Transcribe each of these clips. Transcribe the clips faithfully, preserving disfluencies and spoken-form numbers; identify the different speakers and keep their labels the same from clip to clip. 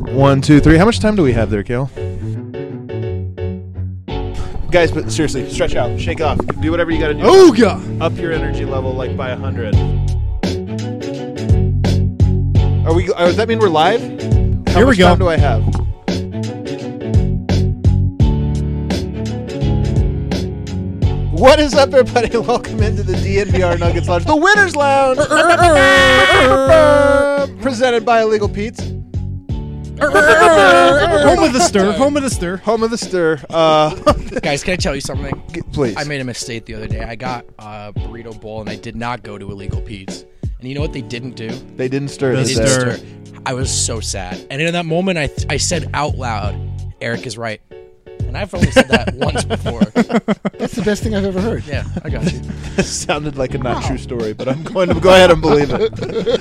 Speaker 1: One, two, three. How much time do we have there, Kale? Guys, but seriously, stretch out, shake off, do whatever you got to do.
Speaker 2: Oh, God.
Speaker 1: Up your energy level like by a hundred. Are we? Uh, does that mean we're live? How
Speaker 2: Here
Speaker 1: much
Speaker 2: we go.
Speaker 1: time do I have? What is up, everybody? Welcome into the D N V R Nuggets Lounge, the Winners Lounge, presented by Illegal Pete's.
Speaker 2: Home of the stir. Home of the stir.
Speaker 1: Home of the stir. Uh,
Speaker 3: Guys, can I tell you something?
Speaker 1: please.
Speaker 3: I made a mistake the other day. I got a burrito bowl and I did not go to Illegal Pete's. And you know what they didn't do?
Speaker 1: They didn't stir.
Speaker 2: They
Speaker 3: They
Speaker 1: did
Speaker 3: didn't
Speaker 1: they?
Speaker 2: stir.
Speaker 3: stir. I was so sad. And in that moment, I I said out loud, Eric is right. And I've only said that once before.
Speaker 4: That's the best thing I've ever heard.
Speaker 3: Yeah, I got you.
Speaker 1: This sounded like a not
Speaker 4: Wow.
Speaker 1: true story, but I'm going to go ahead and believe it.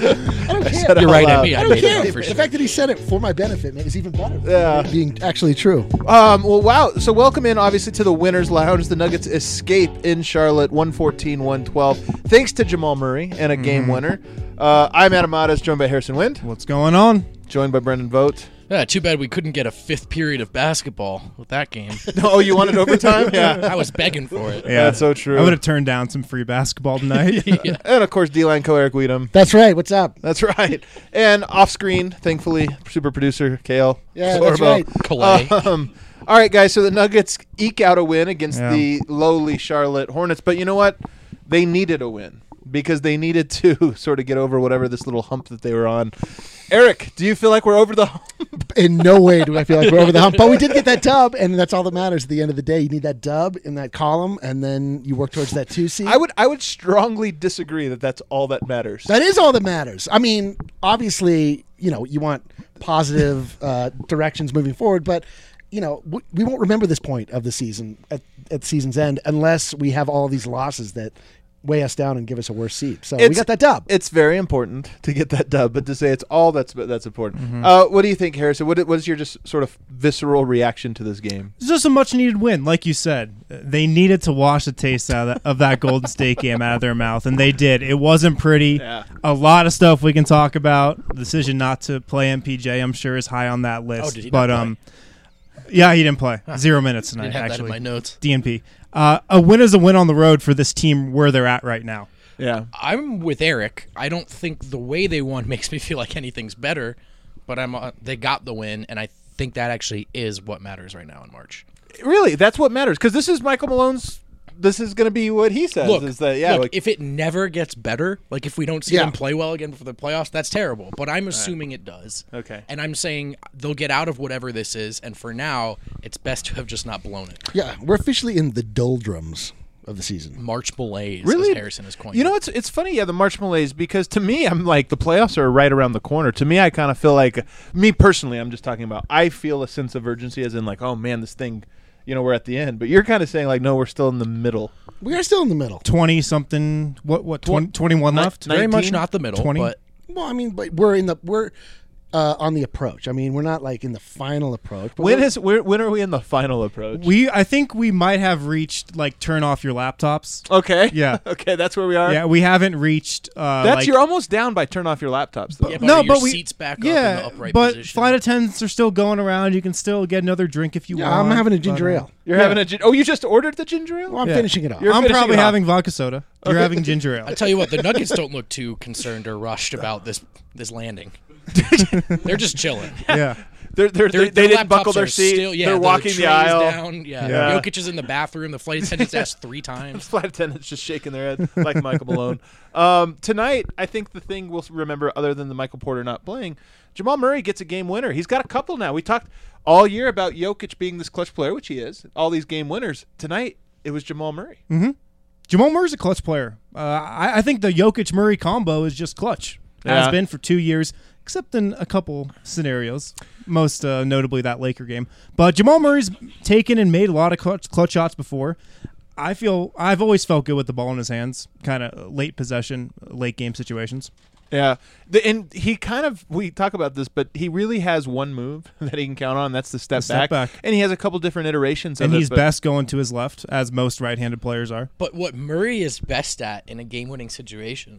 Speaker 4: I don't
Speaker 1: I
Speaker 4: care.
Speaker 1: said it
Speaker 3: You're
Speaker 1: out
Speaker 3: right,
Speaker 1: loud.
Speaker 3: Emmy.
Speaker 4: I
Speaker 3: I
Speaker 4: don't
Speaker 3: made it
Speaker 4: care.
Speaker 3: up
Speaker 4: The
Speaker 3: for sure.
Speaker 4: fact that he said it for my benefit is even better.
Speaker 1: Yeah.
Speaker 4: Being actually true.
Speaker 1: Um, well, wow. So welcome in, obviously, to the Winners Lounge. The Nuggets escape in Charlotte, one fourteen, one twelve, thanks to Jamal Murray and a game
Speaker 2: Mm-hmm.
Speaker 1: winner. Uh, I'm Adam Matas, joined by Harrison Wind,
Speaker 2: What's going on?
Speaker 1: joined by Brendan Vogt.
Speaker 3: Yeah, too bad we couldn't get a fifth period of basketball with that game.
Speaker 1: Oh, you wanted overtime? Yeah.
Speaker 3: I was begging for it.
Speaker 2: Yeah,
Speaker 1: That's so true.
Speaker 2: I would have turned down some free basketball tonight.
Speaker 3: Yeah.
Speaker 1: And, of course, D-line co Eric Weedham.
Speaker 4: That's right. What's up?
Speaker 1: That's right. And off-screen, thankfully, super producer Kale.
Speaker 4: Yeah, that's
Speaker 1: Sorbo.
Speaker 4: right.
Speaker 3: Calais.
Speaker 1: Um, all right, guys. So the Nuggets eke out a win against
Speaker 2: Yeah.
Speaker 1: the lowly Charlotte Hornets. But you know what? They needed a win because they needed to sort of get over whatever this little hump that they were on. Eric, do you feel like we're over the hump?
Speaker 4: In no way do I feel like we're over the hump, but we did get that dub, and that's all that matters at the end of the day. You need that dub in that column, and then you work towards that two seed.
Speaker 1: I would I would strongly disagree that that's all that matters.
Speaker 4: That is all that matters. I mean, obviously, you know, you want positive uh, directions moving forward, but you know, we, we won't remember this point of the season at, at season's end unless we have all these losses that weigh us down and give us a worse seed. So we
Speaker 1: It's-
Speaker 4: got that dub.
Speaker 1: It's very important to get that dub, but to say it's all that's that's important.
Speaker 2: Mm-hmm.
Speaker 1: Uh, what do you think, Harrison? What what is your just sort of visceral reaction to this game?
Speaker 2: It's just a much needed win, like you said. They needed to wash the taste out of that, of that Golden State game out of their mouth, and they did. It wasn't pretty.
Speaker 1: Yeah.
Speaker 2: A lot of stuff we can talk about. The decision not to play M P J, I'm sure, is high on that list.
Speaker 3: Oh, did he not
Speaker 2: but
Speaker 3: play?
Speaker 2: um, yeah, he didn't play. Zero minutes
Speaker 3: I
Speaker 2: tonight.
Speaker 3: didn't have that
Speaker 2: actually,
Speaker 3: in my notes.
Speaker 2: D N P. Uh, a win is a win on the road for this team where they're at right now.
Speaker 1: Yeah.
Speaker 3: I'm with Eric. I don't think the way they won makes me feel like anything's better, but I'm uh, they got the win, and I think that actually is what matters right now in March.
Speaker 1: Really, that's what matters because this is Michael Malone's. This is going to be what he says.
Speaker 3: Look,
Speaker 1: is that yeah?
Speaker 3: look,
Speaker 1: like,
Speaker 3: if it never gets better, like if we don't see
Speaker 4: Yeah.
Speaker 3: them play well again for the playoffs, that's terrible. But I'm assuming it does.
Speaker 1: Okay.
Speaker 3: And I'm saying they'll get out of whatever this is, and for now, it's best to have just not blown it.
Speaker 4: Yeah, we're officially in the doldrums of the season.
Speaker 3: March malaise,
Speaker 1: Really?
Speaker 3: as Harrison has coined.
Speaker 1: you know, it's it's funny, yeah, the March malaise because to me, I'm like the playoffs are right around the corner. To me, I kind of feel like me personally. I'm just talking about. I feel a sense of urgency, as in like, oh man, this thing, you know, we're at the end. But you're kind of saying like, no, we're still in the middle.
Speaker 4: We are still in the middle.
Speaker 2: twenty something. What? What? twenty, twenty-one
Speaker 1: Ni-
Speaker 2: left.
Speaker 3: very much
Speaker 1: nineteen?
Speaker 3: not the middle,
Speaker 2: twenty?
Speaker 3: but
Speaker 4: Well, I mean, but we're in the we're uh, on the approach. I mean, we're not like in the final approach. But
Speaker 1: When
Speaker 4: we're-
Speaker 1: is when, when are we in the final approach?
Speaker 2: We, I think we might have reached like turn off your laptops.
Speaker 1: okay.
Speaker 2: Yeah.
Speaker 1: okay, that's where we are.
Speaker 2: Yeah, we haven't reached. Uh,
Speaker 1: That's
Speaker 2: like,
Speaker 1: you're almost down by turn off your laptops though.
Speaker 3: yeah, but
Speaker 2: no,
Speaker 3: are your
Speaker 2: but we
Speaker 3: seats back
Speaker 2: yeah,
Speaker 3: up in the upright
Speaker 2: but
Speaker 3: position.
Speaker 2: flight attendants are still going around. You can still get another drink if you
Speaker 4: yeah,
Speaker 2: want.
Speaker 4: I'm having a
Speaker 2: but,
Speaker 4: ginger
Speaker 2: uh,
Speaker 4: ale.
Speaker 1: You're
Speaker 2: Yeah.
Speaker 1: having a gin- oh, you just ordered the ginger ale?
Speaker 4: Well, I'm
Speaker 2: Yeah.
Speaker 4: finishing it off.
Speaker 1: You're
Speaker 2: I'm
Speaker 1: finishing
Speaker 2: probably
Speaker 1: it off.
Speaker 2: having vodka soda. You're
Speaker 1: Okay.
Speaker 2: having ginger ale.
Speaker 3: I tell you what, the Nuggets don't look too concerned or rushed about this this landing. They're just chilling.
Speaker 2: yeah.
Speaker 1: They're, they're,
Speaker 3: Their,
Speaker 1: they they
Speaker 3: their
Speaker 1: didn't buckle
Speaker 3: laptops
Speaker 1: their
Speaker 3: are
Speaker 1: seat.
Speaker 3: Still, yeah,
Speaker 1: they're walking the
Speaker 3: tray's
Speaker 1: aisle.
Speaker 3: Down. Yeah.
Speaker 1: Yeah.
Speaker 3: Jokic is in the bathroom. The flight attendants asked three times.
Speaker 1: Flight attendants just shaking their head like Michael Malone. Um, tonight, I think the thing we'll remember, other than the Michael Porter not playing, Jamal Murray gets a game winner. He's got a couple now. We talked all year about Jokic being this clutch player, which he is. All these game winners. Tonight, it was Jamal Murray.
Speaker 2: Mm-hmm. Jamal Murray's a clutch player. Uh, I, I think the Jokic Murray combo is just clutch.
Speaker 1: Yeah.
Speaker 2: Has been for two years, except in a couple scenarios. Most uh, notably that Laker game. But Jamal Murray's taken and made a lot of clutch, clutch shots before. I feel I've always felt good with the ball in his hands, kind of late possession, late game situations.
Speaker 1: Yeah, the, and he kind of we talk about this, but he really has one move that he can count on. And that's the step,
Speaker 2: The step
Speaker 1: back.
Speaker 2: back.
Speaker 1: and he has a couple different iterations.
Speaker 2: And
Speaker 1: of
Speaker 2: he's
Speaker 1: it, but
Speaker 2: best going to his left, as most right-handed players are.
Speaker 3: But what Murray is best at in a game-winning situation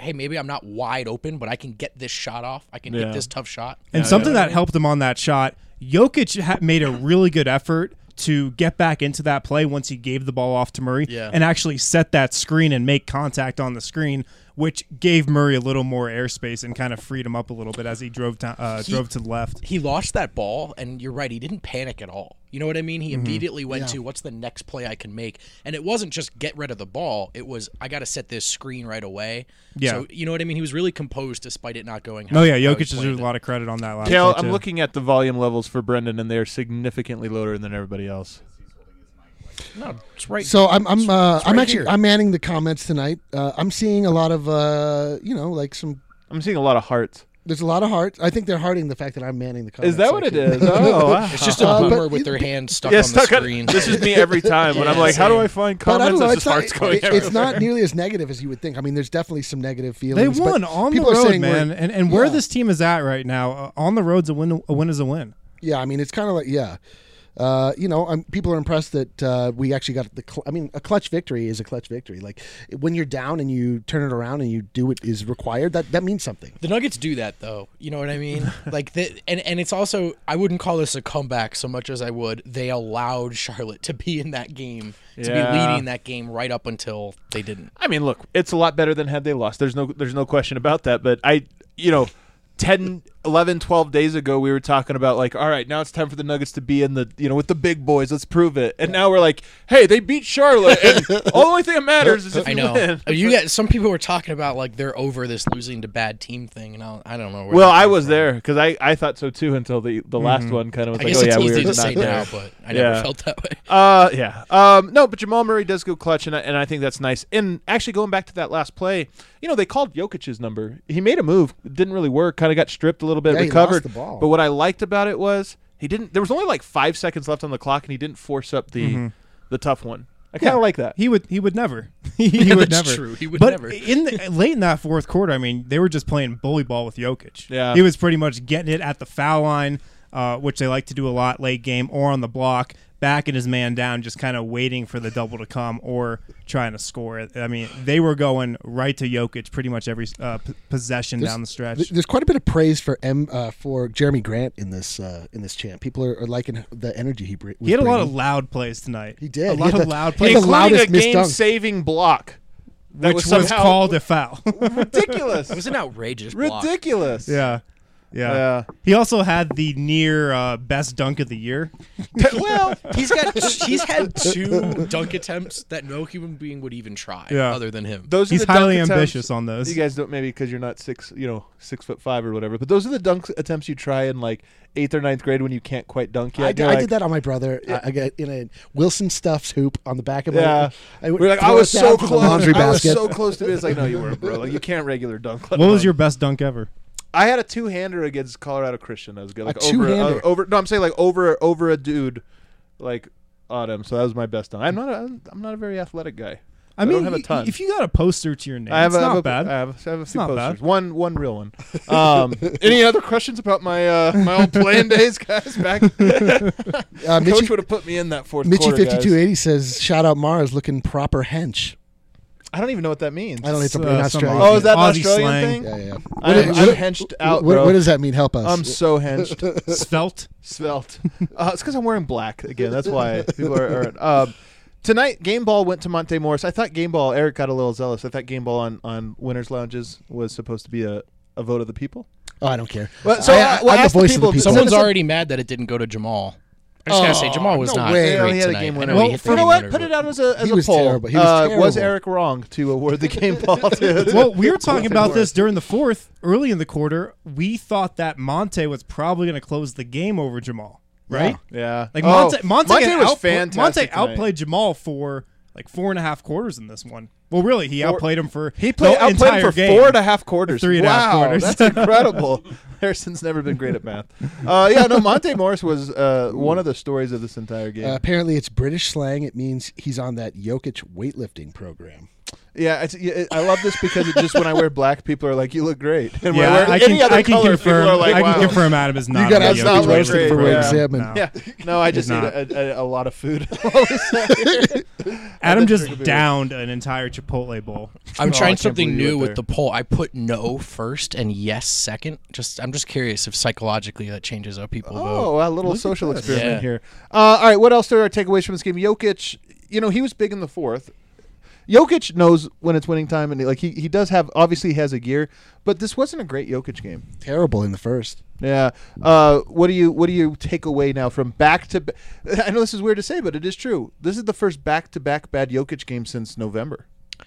Speaker 3: hey, maybe I'm not wide open, but I can get this shot off. I can
Speaker 1: Yeah.
Speaker 3: hit this tough shot.
Speaker 2: And
Speaker 1: Yeah,
Speaker 2: something
Speaker 1: yeah.
Speaker 2: that helped him on that shot, Jokic ha- made a really good effort to get back into that play once he gave the ball off to Murray
Speaker 3: Yeah.
Speaker 2: and actually set that screen and make contact on the screen, which gave Murray a little more airspace and kind of freed him up a little bit as he drove to, uh,
Speaker 3: He-
Speaker 2: drove to the left.
Speaker 3: He lost that ball, and you're right. He didn't panic at all. You know what I mean? He immediately went
Speaker 4: Yeah.
Speaker 3: to what's the next play I can make, and it wasn't just get rid of the ball. It was I got to set this screen right away.
Speaker 2: Yeah.
Speaker 3: So you know what I mean? He was really composed despite it not going. How,
Speaker 2: Oh, yeah,
Speaker 3: how
Speaker 2: Jokic
Speaker 3: he
Speaker 2: deserves
Speaker 3: planned
Speaker 2: a
Speaker 3: it.
Speaker 2: lot of credit on that last
Speaker 1: Kale,
Speaker 2: play,
Speaker 1: I'm
Speaker 2: too.
Speaker 1: looking at the volume levels for Brendan, and they are significantly lower than everybody else.
Speaker 3: No, it's right.
Speaker 4: So I'm I'm uh,
Speaker 3: it's
Speaker 4: I'm
Speaker 3: right
Speaker 4: actually
Speaker 3: here.
Speaker 4: I'm manning the comments tonight. Uh, I'm seeing a lot of uh, you know like some.
Speaker 1: I'm seeing a lot of hearts.
Speaker 4: There's a lot of hearts. I think they're hearting the fact that I'm manning the comments.
Speaker 1: Is that what it
Speaker 4: section.
Speaker 1: is? Oh, wow.
Speaker 3: It's just a
Speaker 4: Uh, but
Speaker 3: boomer with
Speaker 4: it-
Speaker 3: their hand stuck
Speaker 1: yeah,
Speaker 3: on the
Speaker 1: stuck on-
Speaker 3: screen.
Speaker 1: this is me every time when I'm
Speaker 3: Yeah,
Speaker 1: like, how do
Speaker 3: same.
Speaker 1: I find
Speaker 4: But I
Speaker 1: comments?
Speaker 4: don't know.
Speaker 1: There's
Speaker 4: It's
Speaker 1: just
Speaker 4: not,
Speaker 1: hearts going
Speaker 4: it-
Speaker 1: everywhere.
Speaker 4: it's not nearly as negative as you would think. I mean, there's definitely some negative
Speaker 2: They
Speaker 4: feelings. but
Speaker 2: won on the
Speaker 4: people are
Speaker 2: road,
Speaker 4: saying we're-
Speaker 2: man. And, and where
Speaker 4: Yeah.
Speaker 2: this team is at right now, uh, on the road's a win, a win is a win.
Speaker 4: Yeah, I mean, it's kind of like yeah. Uh, you know, um, people are impressed that uh, we actually got the. Cl- I mean, a clutch victory is a clutch victory. Like when you're down and you turn it around and you do what is required, that that means something.
Speaker 3: The Nuggets do that though. You know what I mean? Like the, and and it's also I wouldn't call this a comeback so much as I would they allowed Charlotte to be in that game, to
Speaker 1: Yeah.
Speaker 3: be leading that game right up until they didn't.
Speaker 1: I mean, look, it's a lot better than had they lost. There's no there's no question about that. But I, you know, ten, eleven, twelve days ago, we were talking about like, all right, now it's time for the Nuggets to be in the, you know, with the big boys. Let's prove it. And now we're like, hey, they beat Charlotte, and the only thing that matters is if
Speaker 3: I
Speaker 1: you
Speaker 3: know.
Speaker 1: win.
Speaker 3: You got some people were talking about like they're over this losing to bad team thing, and I, I don't know. Where
Speaker 1: Well,
Speaker 3: that
Speaker 1: I
Speaker 3: came
Speaker 1: was
Speaker 3: from.
Speaker 1: there because I, I thought so too until the, the last one kind of was
Speaker 3: I
Speaker 1: like,
Speaker 3: guess
Speaker 1: oh
Speaker 3: it's
Speaker 1: yeah, we
Speaker 3: easy
Speaker 1: were
Speaker 3: to
Speaker 1: not
Speaker 3: say
Speaker 1: there.
Speaker 3: now, but I never
Speaker 1: Yeah.
Speaker 3: felt that way.
Speaker 1: Uh, yeah. Um, no, but Jamal Murray does go clutch, and I, and I think that's nice. And actually, going back to that last play, you know, they called Jokic's number. He made a move. It didn't really work. Kind of got stripped a little bit,
Speaker 4: Yeah, he
Speaker 1: recovered.
Speaker 4: lost the ball.
Speaker 1: But what I liked about it was he didn't. There was only like five seconds left on the clock, and he didn't force up the the tough one. I kind of like that.
Speaker 2: He would he would never. he he would
Speaker 3: That's
Speaker 2: never.
Speaker 3: true. He would
Speaker 2: but
Speaker 3: never.
Speaker 2: in the, late in that fourth quarter, I mean, they were just playing bully ball with Jokic.
Speaker 1: Yeah.
Speaker 2: He was pretty much getting it at the foul line, uh, which they like to do a lot late game, or on the block, backing his man down, just kind of waiting for the double to come or trying to score it. I mean, they were going right to Jokic pretty much every uh, p- possession
Speaker 4: There's-
Speaker 2: down the stretch.
Speaker 4: Th- There's quite a bit of praise for M uh, for Jeremy Grant in this uh, in this chant. People are, are liking the energy he br- was
Speaker 2: He had a lot of
Speaker 4: bringing.
Speaker 2: loud plays tonight.
Speaker 4: He did.
Speaker 2: A
Speaker 4: He
Speaker 2: lot
Speaker 4: had
Speaker 2: of
Speaker 4: the-
Speaker 2: loud
Speaker 4: he
Speaker 2: plays,
Speaker 4: had the
Speaker 1: Including
Speaker 4: loudest
Speaker 1: a
Speaker 4: missed dunk.
Speaker 1: game-saving block. That
Speaker 2: which
Speaker 1: was,
Speaker 2: was,
Speaker 1: somehow
Speaker 2: called a foul.
Speaker 1: ridiculous.
Speaker 3: It was an outrageous block.
Speaker 1: ridiculous.
Speaker 2: yeah. Yeah.
Speaker 1: Yeah.
Speaker 2: He also had the near uh, best dunk of the year.
Speaker 3: Well, he's got he's had two dunk attempts that no human being would even try,
Speaker 2: Yeah.
Speaker 3: other than him.
Speaker 1: Those are
Speaker 2: He's
Speaker 1: the dunk
Speaker 2: highly
Speaker 1: attempts-
Speaker 2: ambitious on those.
Speaker 1: You guys don't maybe because you're not six, you know, six foot five or whatever. But those are the dunk attempts you try in like eighth or ninth grade when you can't quite dunk yet.
Speaker 4: I,
Speaker 1: And
Speaker 4: did,
Speaker 1: you're
Speaker 4: I
Speaker 1: like,
Speaker 4: did that on my brother. I, I got in a Wilson Stuffs hoop on the back of my.
Speaker 1: Yeah,
Speaker 4: I, would
Speaker 1: we're like,
Speaker 4: throw
Speaker 1: I was
Speaker 4: it down
Speaker 1: so
Speaker 4: from the
Speaker 1: close.
Speaker 4: laundry
Speaker 1: I was
Speaker 4: basket.
Speaker 1: so close to it. It's like, no, you weren't, bro. Like, you can't regular dunk. let
Speaker 2: What was
Speaker 1: alone-
Speaker 2: your best dunk ever?
Speaker 1: I had a two hander against Colorado Christian. That was good. Like
Speaker 4: A
Speaker 1: over,
Speaker 4: two-hander?
Speaker 1: uh, over. No, I'm saying like over over a dude, like on him. So that was my best dunk. I'm not. A, I'm not a very athletic guy.
Speaker 2: I
Speaker 1: I
Speaker 2: mean,
Speaker 1: don't have a
Speaker 2: y-
Speaker 1: ton.
Speaker 2: if you got a poster to your name,
Speaker 1: I have,
Speaker 2: it's
Speaker 1: a, I have
Speaker 2: not
Speaker 1: a,
Speaker 2: bad.
Speaker 1: I have, I have a few
Speaker 2: not
Speaker 1: posters.
Speaker 2: bad.
Speaker 1: One, one real one. Um, any other questions about my uh, my old playing days, guys? Back,
Speaker 4: Uh,
Speaker 1: Coach
Speaker 4: Mitchie,
Speaker 1: would have put me in that fourth
Speaker 4: Mitchie
Speaker 1: quarter.
Speaker 4: fifty two
Speaker 1: guys.
Speaker 4: eighty says, "Shout out Mars, looking proper hench."
Speaker 1: I don't even know what that means.
Speaker 4: I don't know. It's,
Speaker 2: It's,
Speaker 4: a, an
Speaker 2: uh, some
Speaker 4: Australian.
Speaker 1: Oh, is that an
Speaker 2: Aussie
Speaker 1: Australian
Speaker 2: slang.
Speaker 1: thing?
Speaker 4: Yeah, yeah.
Speaker 1: I,
Speaker 4: What-
Speaker 1: I'm
Speaker 4: what-
Speaker 1: henched out,
Speaker 4: what,
Speaker 1: bro.
Speaker 4: what does that mean? Help us.
Speaker 1: I'm so henched.
Speaker 2: Svelte.
Speaker 1: Svelte. Uh, it's because I'm wearing black again. That's why people are. are um, tonight, Game Ball went to Monte Morris. I thought Game Ball. Eric got a little zealous. I thought Game Ball on, on Winners Lounges was supposed to be a, a vote of the people.
Speaker 4: oh, I don't care.
Speaker 1: Well, so
Speaker 4: I,
Speaker 1: uh,
Speaker 4: I,
Speaker 1: well,
Speaker 4: I'm the
Speaker 1: ask the
Speaker 4: voice of the
Speaker 1: people-
Speaker 4: people.
Speaker 1: Send
Speaker 3: Someone's
Speaker 1: us a-
Speaker 3: already mad that it didn't go to Jamal. I just gotta say,
Speaker 1: Oh,
Speaker 3: Jamal was
Speaker 1: no
Speaker 3: not
Speaker 1: way.
Speaker 3: great
Speaker 1: He had a
Speaker 3: tonight.
Speaker 1: game
Speaker 3: I
Speaker 1: winner.
Speaker 3: know
Speaker 1: Well,
Speaker 3: he hit the
Speaker 1: you know
Speaker 3: game
Speaker 1: what?
Speaker 3: winner,
Speaker 1: Put
Speaker 3: but-
Speaker 1: it out as a, as
Speaker 4: He
Speaker 1: a
Speaker 4: was
Speaker 1: poll.
Speaker 4: terrible. He was
Speaker 1: uh, was
Speaker 4: terrible.
Speaker 1: Eric wrong to award the Game Ball to?
Speaker 2: Well, we were talking
Speaker 1: Monte
Speaker 2: about
Speaker 1: Morris.
Speaker 2: this during the fourth, early in the quarter. We thought that Monte was probably going to close the game over Jamal, right?
Speaker 1: Yeah.
Speaker 2: Like
Speaker 1: Oh,
Speaker 2: Monte, Monte,
Speaker 1: Monte
Speaker 2: had
Speaker 1: was
Speaker 2: outpla-
Speaker 1: fantastic.
Speaker 2: Monte
Speaker 1: tonight.
Speaker 2: outplayed Jamal for like four and a half quarters in this one. Well, really, he
Speaker 1: Four-
Speaker 2: outplayed him for
Speaker 1: He played
Speaker 2: the
Speaker 1: outplayed
Speaker 2: entire
Speaker 1: for
Speaker 2: game.
Speaker 1: four and a half quarters.
Speaker 2: Three and a
Speaker 1: wow,
Speaker 2: half quarters.
Speaker 1: That's incredible. Harrison's never been great at math. Uh, yeah, no, Monte Morris was uh, one of the stories of this entire game.
Speaker 4: Uh, apparently, it's British slang. It means he's on that Jokic weightlifting program.
Speaker 1: Yeah, it's, yeah, I love this because it just when I wear black, people are like, "You look great," and when
Speaker 2: Yeah,
Speaker 1: I wear
Speaker 2: I
Speaker 1: any
Speaker 2: can,
Speaker 1: other
Speaker 2: I can
Speaker 1: color,
Speaker 2: confirm.
Speaker 1: people are like,
Speaker 2: I
Speaker 1: "Wow."
Speaker 2: can confirm Adam is not.
Speaker 4: You got
Speaker 2: a
Speaker 4: us
Speaker 1: Jokic
Speaker 4: not
Speaker 1: great.
Speaker 4: roasted for
Speaker 1: Yeah.
Speaker 4: wearing
Speaker 1: Yeah.
Speaker 4: salmon.
Speaker 2: No.
Speaker 1: Yeah, no, I just
Speaker 2: He's
Speaker 1: ate
Speaker 2: not.
Speaker 1: a, a, a lot of food.
Speaker 2: Adam
Speaker 1: That's
Speaker 2: just
Speaker 1: gonna be
Speaker 2: downed an entire Chipotle bowl.
Speaker 3: I'm
Speaker 1: Oh, I
Speaker 3: trying
Speaker 1: can't
Speaker 3: something
Speaker 1: believe you
Speaker 3: new
Speaker 1: went
Speaker 3: with the poll. I put no first and yes second. Just I'm just curious if psychologically that changes how people vote.
Speaker 1: Oh, a little
Speaker 2: Look at
Speaker 1: social
Speaker 2: this.
Speaker 1: experiment
Speaker 3: Yeah.
Speaker 1: here. Uh, all right, what else are our takeaways from this game? Jokic, you know, he was big in the fourth. Jokic knows when it's winning time, and like he, he does have obviously he has a gear, but this wasn't a great Jokic game.
Speaker 4: Terrible in the first.
Speaker 1: Yeah. Uh, what do you what do you take away now from back to? Ba- I know this is weird to say, but it is true. This is the first back to back bad Jokic game since November.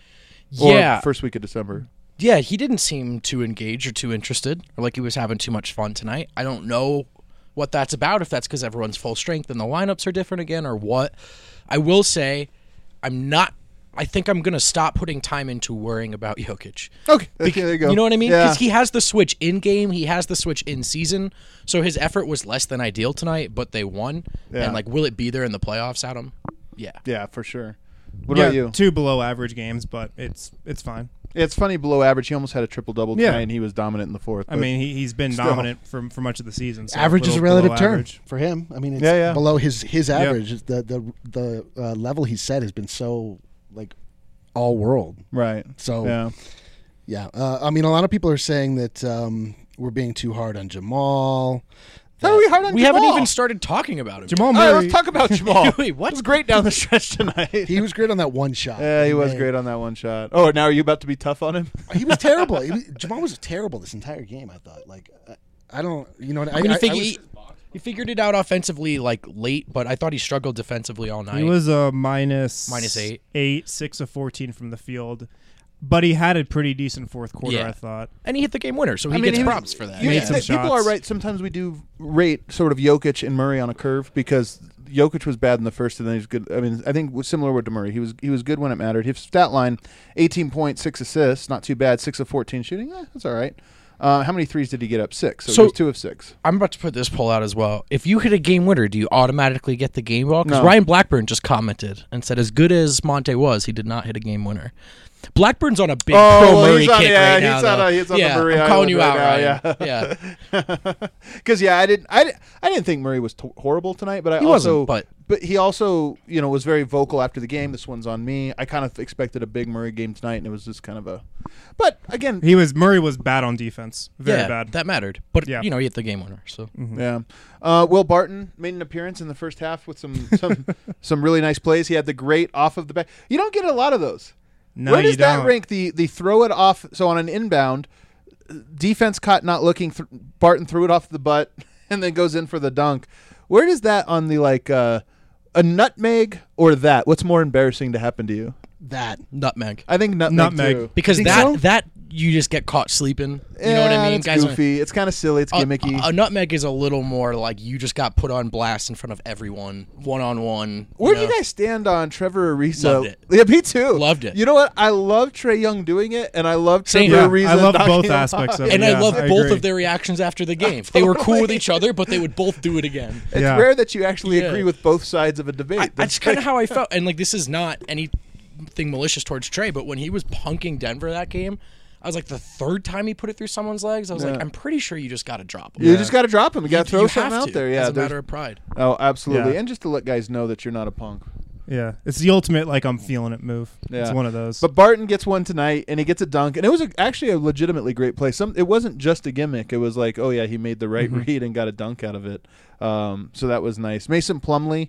Speaker 1: Or
Speaker 3: Yeah,
Speaker 1: first week of December.
Speaker 3: yeah. He didn't seem too engaged or too interested, or like he was having too much fun tonight. I don't know what that's about. If that's because everyone's full strength and the lineups are different again, or what. I will say, I'm not. I think I'm gonna stop putting time into worrying about Jokic.
Speaker 1: Okay, okay, there you go.
Speaker 3: You know what I mean?
Speaker 1: Yeah.
Speaker 3: Because he has the switch in game, he has the switch in season. So his effort was less than ideal tonight, but they won.
Speaker 1: Yeah.
Speaker 3: And like, will it be there in the playoffs, Adam? Yeah.
Speaker 1: Yeah, for sure. What
Speaker 2: yeah,
Speaker 1: about you?
Speaker 2: two below average games, but it's it's fine.
Speaker 1: Yeah, it's funny, below average. He almost had a triple double
Speaker 2: Yeah.
Speaker 1: tonight, and he was dominant in the fourth.
Speaker 2: I
Speaker 1: but-
Speaker 2: mean, he, he's been
Speaker 1: Still.
Speaker 2: dominant for for much of the season. So
Speaker 4: Average is a
Speaker 2: little
Speaker 4: relative
Speaker 2: below
Speaker 4: term
Speaker 2: average.
Speaker 4: for him. I mean, it's
Speaker 1: Yeah, yeah.
Speaker 4: below his his
Speaker 2: Yep.
Speaker 4: average. The the the uh, level he set has been so like all world.
Speaker 1: right.
Speaker 4: So
Speaker 1: Yeah.
Speaker 4: yeah, uh, I mean, a lot of people are saying that um, we're being too hard on Jamal.
Speaker 1: How are we hard on
Speaker 3: We
Speaker 1: Jamal?
Speaker 3: haven't even started talking about him.
Speaker 2: Jamal
Speaker 1: All right,
Speaker 2: Murray.
Speaker 1: let's talk about Jamal.
Speaker 3: Wait, what?
Speaker 1: It was great down the stretch tonight.
Speaker 4: He was great on that one shot.
Speaker 1: yeah, he was
Speaker 4: Man.
Speaker 1: great on that one shot. Oh, now are you about to be tough on him?
Speaker 4: He was terrible. He was, Jamal was terrible this entire game. I thought. Like, I, I don't. You know. What,
Speaker 3: I mean,
Speaker 4: I,
Speaker 3: you think
Speaker 4: I
Speaker 3: he,
Speaker 4: was-
Speaker 3: he figured it out offensively like late, but I thought he struggled defensively all night.
Speaker 2: He was a minus
Speaker 3: Minus eight.
Speaker 2: eight, six of fourteen from the field, but he had a pretty decent fourth quarter.
Speaker 3: Yeah.
Speaker 2: I thought.
Speaker 3: and he hit the game winner, so he
Speaker 1: I mean,
Speaker 3: gets
Speaker 1: he was-
Speaker 3: props for that.
Speaker 1: You-
Speaker 2: Made
Speaker 3: Yeah.
Speaker 2: some
Speaker 1: th- people are
Speaker 2: shots.
Speaker 1: right. Sometimes we do rate sort of Jokic and Murray on a curve because Jokic was bad in the first, and then he's good. I mean, I think it was similar with Murray. He was he was good when it mattered. His stat line: eighteen points, six assists, not too bad. Six of fourteen shooting, eh, that's all right. Uh, how many threes did he get up? Six. So,
Speaker 3: So-
Speaker 1: it was two of six.
Speaker 3: I'm about to put this poll out as well. If you hit a game winner, do you automatically get the game ball? Because
Speaker 1: No.
Speaker 3: Ryan Blackburn just commented and said, as good as Monte was, he did not hit a game winner. Blackburn's on a big
Speaker 1: Oh,
Speaker 3: pro
Speaker 1: well,
Speaker 3: Murray
Speaker 1: he's on-
Speaker 3: kick
Speaker 1: yeah,
Speaker 3: right now.
Speaker 1: he's on
Speaker 3: though.
Speaker 1: a- he's on the
Speaker 3: yeah,
Speaker 1: Murray
Speaker 3: I'm calling
Speaker 1: Island
Speaker 3: you
Speaker 1: right
Speaker 3: out,
Speaker 1: now,
Speaker 3: Ryan. Yeah.
Speaker 1: Because yeah, I didn't, I, di- I didn't think Murray was t- horrible tonight, but I
Speaker 3: He
Speaker 1: also,
Speaker 3: wasn't, but-
Speaker 1: but he also, you know, was very vocal after the game. This one's on me. I kind of expected a big Murray game tonight, and it was just kind of a. But again,
Speaker 2: He was Murray was bad on defense, very
Speaker 3: yeah,
Speaker 2: bad.
Speaker 3: that mattered. But,
Speaker 2: Yeah.
Speaker 3: you know, he hit the game winner. So
Speaker 1: yeah. Uh, Will Barton made an appearance in the first half with some some some really nice plays. He had the great off of the back. You don't get a lot of those.
Speaker 2: no,
Speaker 1: Where does
Speaker 2: you
Speaker 1: that
Speaker 2: don't.
Speaker 1: rank? The the throw it off. So on an inbound, defense caught not looking. Th- Barton threw it off the butt and then goes in for the dunk. Where does that on the like uh, a nutmeg or that? What's more embarrassing to happen to you?
Speaker 4: that.
Speaker 3: nutmeg.
Speaker 1: I think nutmeg,
Speaker 2: Nutmeg.
Speaker 1: too.
Speaker 3: Because
Speaker 4: Think
Speaker 3: that,
Speaker 4: so?
Speaker 3: that you just get caught sleeping. You know what
Speaker 1: Yeah,
Speaker 3: I mean?
Speaker 1: It's
Speaker 3: Guys are-
Speaker 1: goofy. It's kind of silly. It's
Speaker 3: A,
Speaker 1: gimmicky.
Speaker 3: a, a nutmeg is a little more like you just got put on blast in front of everyone, one on one.
Speaker 1: Where do you guys stand on Trevor Ariza?
Speaker 3: Loved it.
Speaker 1: Yeah, me too.
Speaker 3: Loved it.
Speaker 1: You know what? I love Trey Young doing it, and I love
Speaker 3: Same
Speaker 1: Trevor
Speaker 3: here.
Speaker 1: Ariza.
Speaker 2: I love
Speaker 1: knocking
Speaker 2: both
Speaker 1: him
Speaker 2: aspects
Speaker 1: off.
Speaker 2: of it.
Speaker 3: And
Speaker 2: Yeah,
Speaker 3: I love
Speaker 2: I
Speaker 3: both
Speaker 2: agree.
Speaker 3: of their reactions after the game. They were cool with each other, but they would both do it again.
Speaker 1: It's
Speaker 2: Yeah.
Speaker 1: rare that you actually
Speaker 3: Yeah.
Speaker 1: agree with both sides of a debate.
Speaker 3: I,
Speaker 1: That's
Speaker 3: that's kind of how I felt. And like, this is not anything malicious towards Trey, but when he was punking Denver that game, I was like, the third time he put it through someone's legs, I was
Speaker 1: Yeah.
Speaker 3: like, I'm pretty sure you just got to drop him.
Speaker 1: You just got to drop him. You got to throw
Speaker 3: you
Speaker 1: something
Speaker 3: have
Speaker 1: out
Speaker 3: to,
Speaker 1: there. Yeah,
Speaker 3: as a
Speaker 1: there's-
Speaker 3: matter of pride.
Speaker 1: Oh, absolutely.
Speaker 2: Yeah.
Speaker 1: And just to let guys know that you're not a punk.
Speaker 2: Yeah, it's the ultimate like I'm feeling it move.
Speaker 1: Yeah.
Speaker 2: It's one of those.
Speaker 1: But Barton gets one tonight, and he gets a dunk, and it was a, actually a legitimately great play. Some it wasn't just a gimmick. It was like, oh yeah, he made the right
Speaker 2: Mhm.
Speaker 1: read and got a dunk out of it. Um, so that was nice. Mason Plumlee,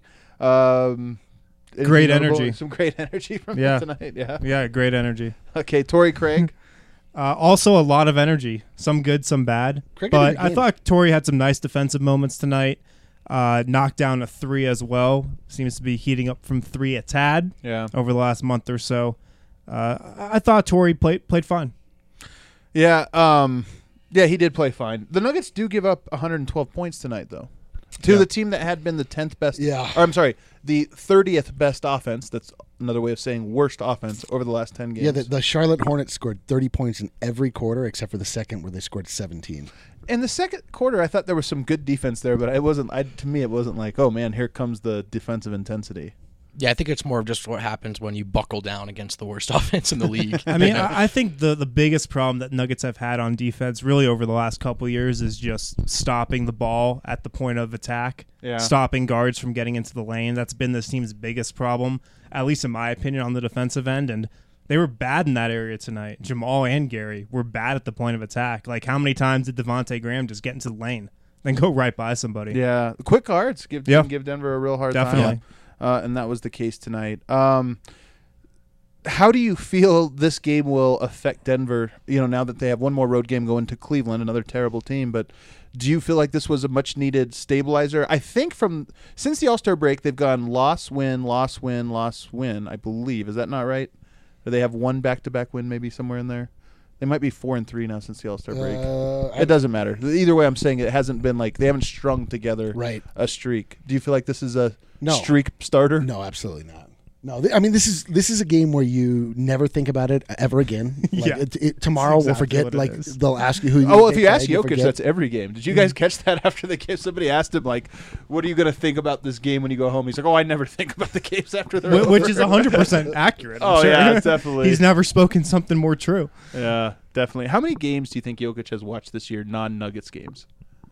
Speaker 1: um, anything
Speaker 2: Great
Speaker 1: notable?
Speaker 2: energy.
Speaker 1: Some great energy from
Speaker 2: Yeah.
Speaker 1: him tonight. Yeah.
Speaker 2: yeah, great energy.
Speaker 1: Okay, Torrey Craig.
Speaker 2: Uh, also, a lot of energy. Some good, some bad.
Speaker 4: Craig had a
Speaker 2: But
Speaker 4: good
Speaker 2: I
Speaker 4: game.
Speaker 2: thought Torrey had some nice defensive moments tonight. Uh, knocked down a three as well. Seems to be heating up from three a tad
Speaker 1: Yeah.
Speaker 2: over the last month or so. Uh, I I thought Torrey played played fine.
Speaker 1: Yeah. Um, yeah, he did play fine. The Nuggets do give up one hundred twelve points tonight, though, to
Speaker 2: Yeah.
Speaker 1: the team that had been the tenth best.
Speaker 4: Yeah.
Speaker 1: Or I'm sorry, the thirtieth best offense. That's another way of saying worst offense over the last ten games.
Speaker 4: Yeah, the, the Charlotte Hornets scored thirty points in every quarter except for the second where they scored seventeen.
Speaker 1: In the second quarter, I thought there was some good defense there, but it wasn't. I, to me, it wasn't like, oh man, here comes the defensive intensity.
Speaker 3: Yeah, I think it's more of just what happens when you buckle down against the worst offense in the league.
Speaker 2: I mean, I I think the, the biggest problem that Nuggets have had on defense really over the last couple of years is just stopping the ball at the point of attack,
Speaker 1: Yeah.
Speaker 2: stopping guards from getting into the lane. That's been this team's biggest problem, at least in my opinion, on the defensive end. And they were bad in that area tonight. Jamal and Gary were bad at the point of attack. Like, how many times did Devontae Graham just get into the lane, then go right by somebody?
Speaker 1: Yeah, quick cards give
Speaker 2: Yeah.
Speaker 1: can give Denver a real hard
Speaker 2: Definitely.
Speaker 1: time. Uh, and that was the case tonight. Um, how do you feel this game will affect Denver? You know, now that they have one more road game going to Cleveland, another terrible team. But do you feel like this was a much needed stabilizer? I think from since the All-Star break, they've gone loss, win, loss, win, loss, win. I believe is that not right? Or they have one back-to-back win, maybe somewhere in there. They might be four and three now since the All-Star break.
Speaker 4: Uh, I-
Speaker 1: It doesn't matter. Either way, I'm saying it hasn't been like they haven't strung together
Speaker 4: Right.
Speaker 1: a streak. Do you feel like this is a
Speaker 4: No.
Speaker 1: streak starter?
Speaker 4: No, absolutely not. No, th- I mean this is this is a game where you never think about it ever again. Like,
Speaker 2: Yeah.
Speaker 4: it, it, tomorrow
Speaker 2: That's
Speaker 4: we'll
Speaker 2: exactly
Speaker 4: forget.
Speaker 2: what it
Speaker 4: Like
Speaker 2: is.
Speaker 4: they'll ask you who. You
Speaker 1: Oh, well, if
Speaker 4: picked,
Speaker 1: you ask
Speaker 4: right? You'll
Speaker 1: Jokic,
Speaker 4: forget.
Speaker 1: that's every game. Did you guys catch that after the game? Somebody asked him, like, what are you going to think about this game when you go home? He's like, oh, I never think about the games after they're
Speaker 2: Wh-
Speaker 1: over.
Speaker 2: Which is one hundred percent accurate. I'm
Speaker 1: Oh,
Speaker 2: sure.
Speaker 1: yeah, definitely.
Speaker 2: He's never spoken something more true.
Speaker 1: Yeah, definitely. How many games do you think Jokic has watched this year, non-Nuggets games?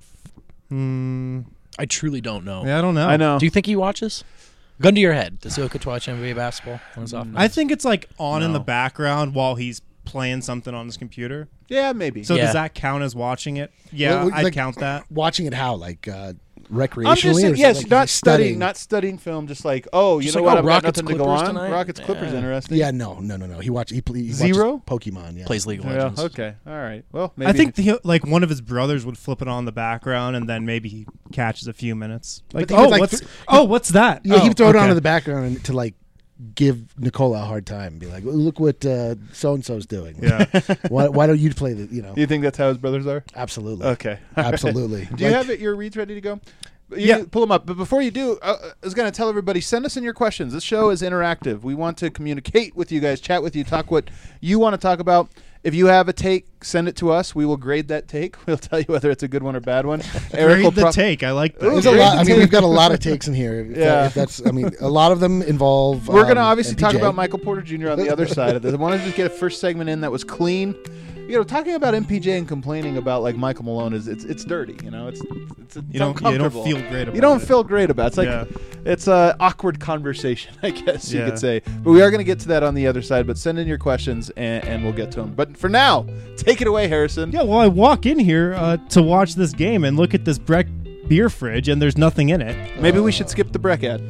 Speaker 2: Hmm.
Speaker 3: I truly don't know.
Speaker 2: Yeah, I don't know.
Speaker 1: I know.
Speaker 3: Do you think he watches? Gun to your head. Does Jokic watch N B A basketball on his off
Speaker 2: I
Speaker 3: nights?
Speaker 2: think it's like on in
Speaker 1: No.
Speaker 2: the background while he's playing something on his computer.
Speaker 1: Yeah, maybe.
Speaker 2: So
Speaker 3: Yeah.
Speaker 2: does that count as watching it? Yeah,
Speaker 4: Well,
Speaker 2: I'd
Speaker 4: like-
Speaker 2: count that.
Speaker 4: Watching it how like uh, recreationally.
Speaker 1: I'm just
Speaker 4: or
Speaker 1: saying,
Speaker 4: is it
Speaker 1: yes,
Speaker 4: like
Speaker 1: not
Speaker 4: you're
Speaker 1: studying, not studying film, just like, oh, you
Speaker 3: Just
Speaker 1: know
Speaker 3: like,
Speaker 1: what,
Speaker 3: oh,
Speaker 1: I've
Speaker 3: Rockets
Speaker 1: got nothing to go
Speaker 3: Clippers
Speaker 1: on.
Speaker 3: tonight?
Speaker 1: Rockets Clippers,
Speaker 3: Yeah.
Speaker 1: interesting.
Speaker 4: Yeah, no, no, no, no. He watch he, ple- he
Speaker 1: Zero?
Speaker 4: watches Pokemon. Yeah,
Speaker 3: Plays League of
Speaker 1: Yeah,
Speaker 3: Legends.
Speaker 1: okay, all right. Well, maybe.
Speaker 2: I think the, like one of his brothers would flip it on the background, and then maybe he catches a few minutes. Like,
Speaker 4: he would,
Speaker 2: oh,
Speaker 4: like,
Speaker 2: what's
Speaker 4: th-
Speaker 2: oh, what's that?
Speaker 4: Yeah,
Speaker 2: oh,
Speaker 4: he'd throw it
Speaker 2: okay.
Speaker 4: on in the background and, to like give Nicola a hard time. Be like, look what uh, so and so's doing.
Speaker 2: Yeah.
Speaker 4: why, why don't you play the? You know,
Speaker 1: you think that's how his brothers are?
Speaker 4: absolutely.
Speaker 1: Okay.
Speaker 4: Absolutely.
Speaker 1: Do you
Speaker 4: Like-
Speaker 1: have it, your reads ready to go? You
Speaker 2: Yeah.
Speaker 1: can pull them up. But before you do, uh, I was going to tell everybody, send us in your questions. This show is interactive. We want to communicate with you guys, chat with you, talk what you want to talk about. If you have a take, send it to us. We will grade that take. We'll tell you whether it's a good one or bad one. Eric will
Speaker 2: Grade the
Speaker 1: pro-
Speaker 2: take. I like that.
Speaker 1: Ooh,
Speaker 4: There's a
Speaker 1: Grade
Speaker 4: lot.
Speaker 1: the
Speaker 4: I mean,
Speaker 1: tape.
Speaker 4: we've got a lot of takes in here. If
Speaker 1: Yeah.
Speaker 4: that- if that's. I mean, a lot of them involve.
Speaker 1: We're going to
Speaker 4: um,
Speaker 1: obviously
Speaker 4: M P
Speaker 1: talk
Speaker 4: J.
Speaker 1: about Michael Porter Junior on the other side of this. I wanted to just get a first segment in that was clean. You know, talking about M P J and complaining about like Michael Malone is it's it's dirty. You know, it's it's, it's
Speaker 2: You don't. You don't
Speaker 1: uncomfortable.
Speaker 2: feel great about
Speaker 1: You don't
Speaker 2: it.
Speaker 1: feel great about it. It's like
Speaker 2: Yeah.
Speaker 1: it's a awkward conversation, I guess you
Speaker 2: Yeah.
Speaker 1: could say. But we are going to get to that on the other side. But send in your questions and, and we'll get to them. But for now, take it away, Harrison.
Speaker 2: Yeah. Well, I walk in here uh, to watch this game and look at this Breck beer fridge, and there's nothing in it.
Speaker 1: Maybe we should skip the Breck ad.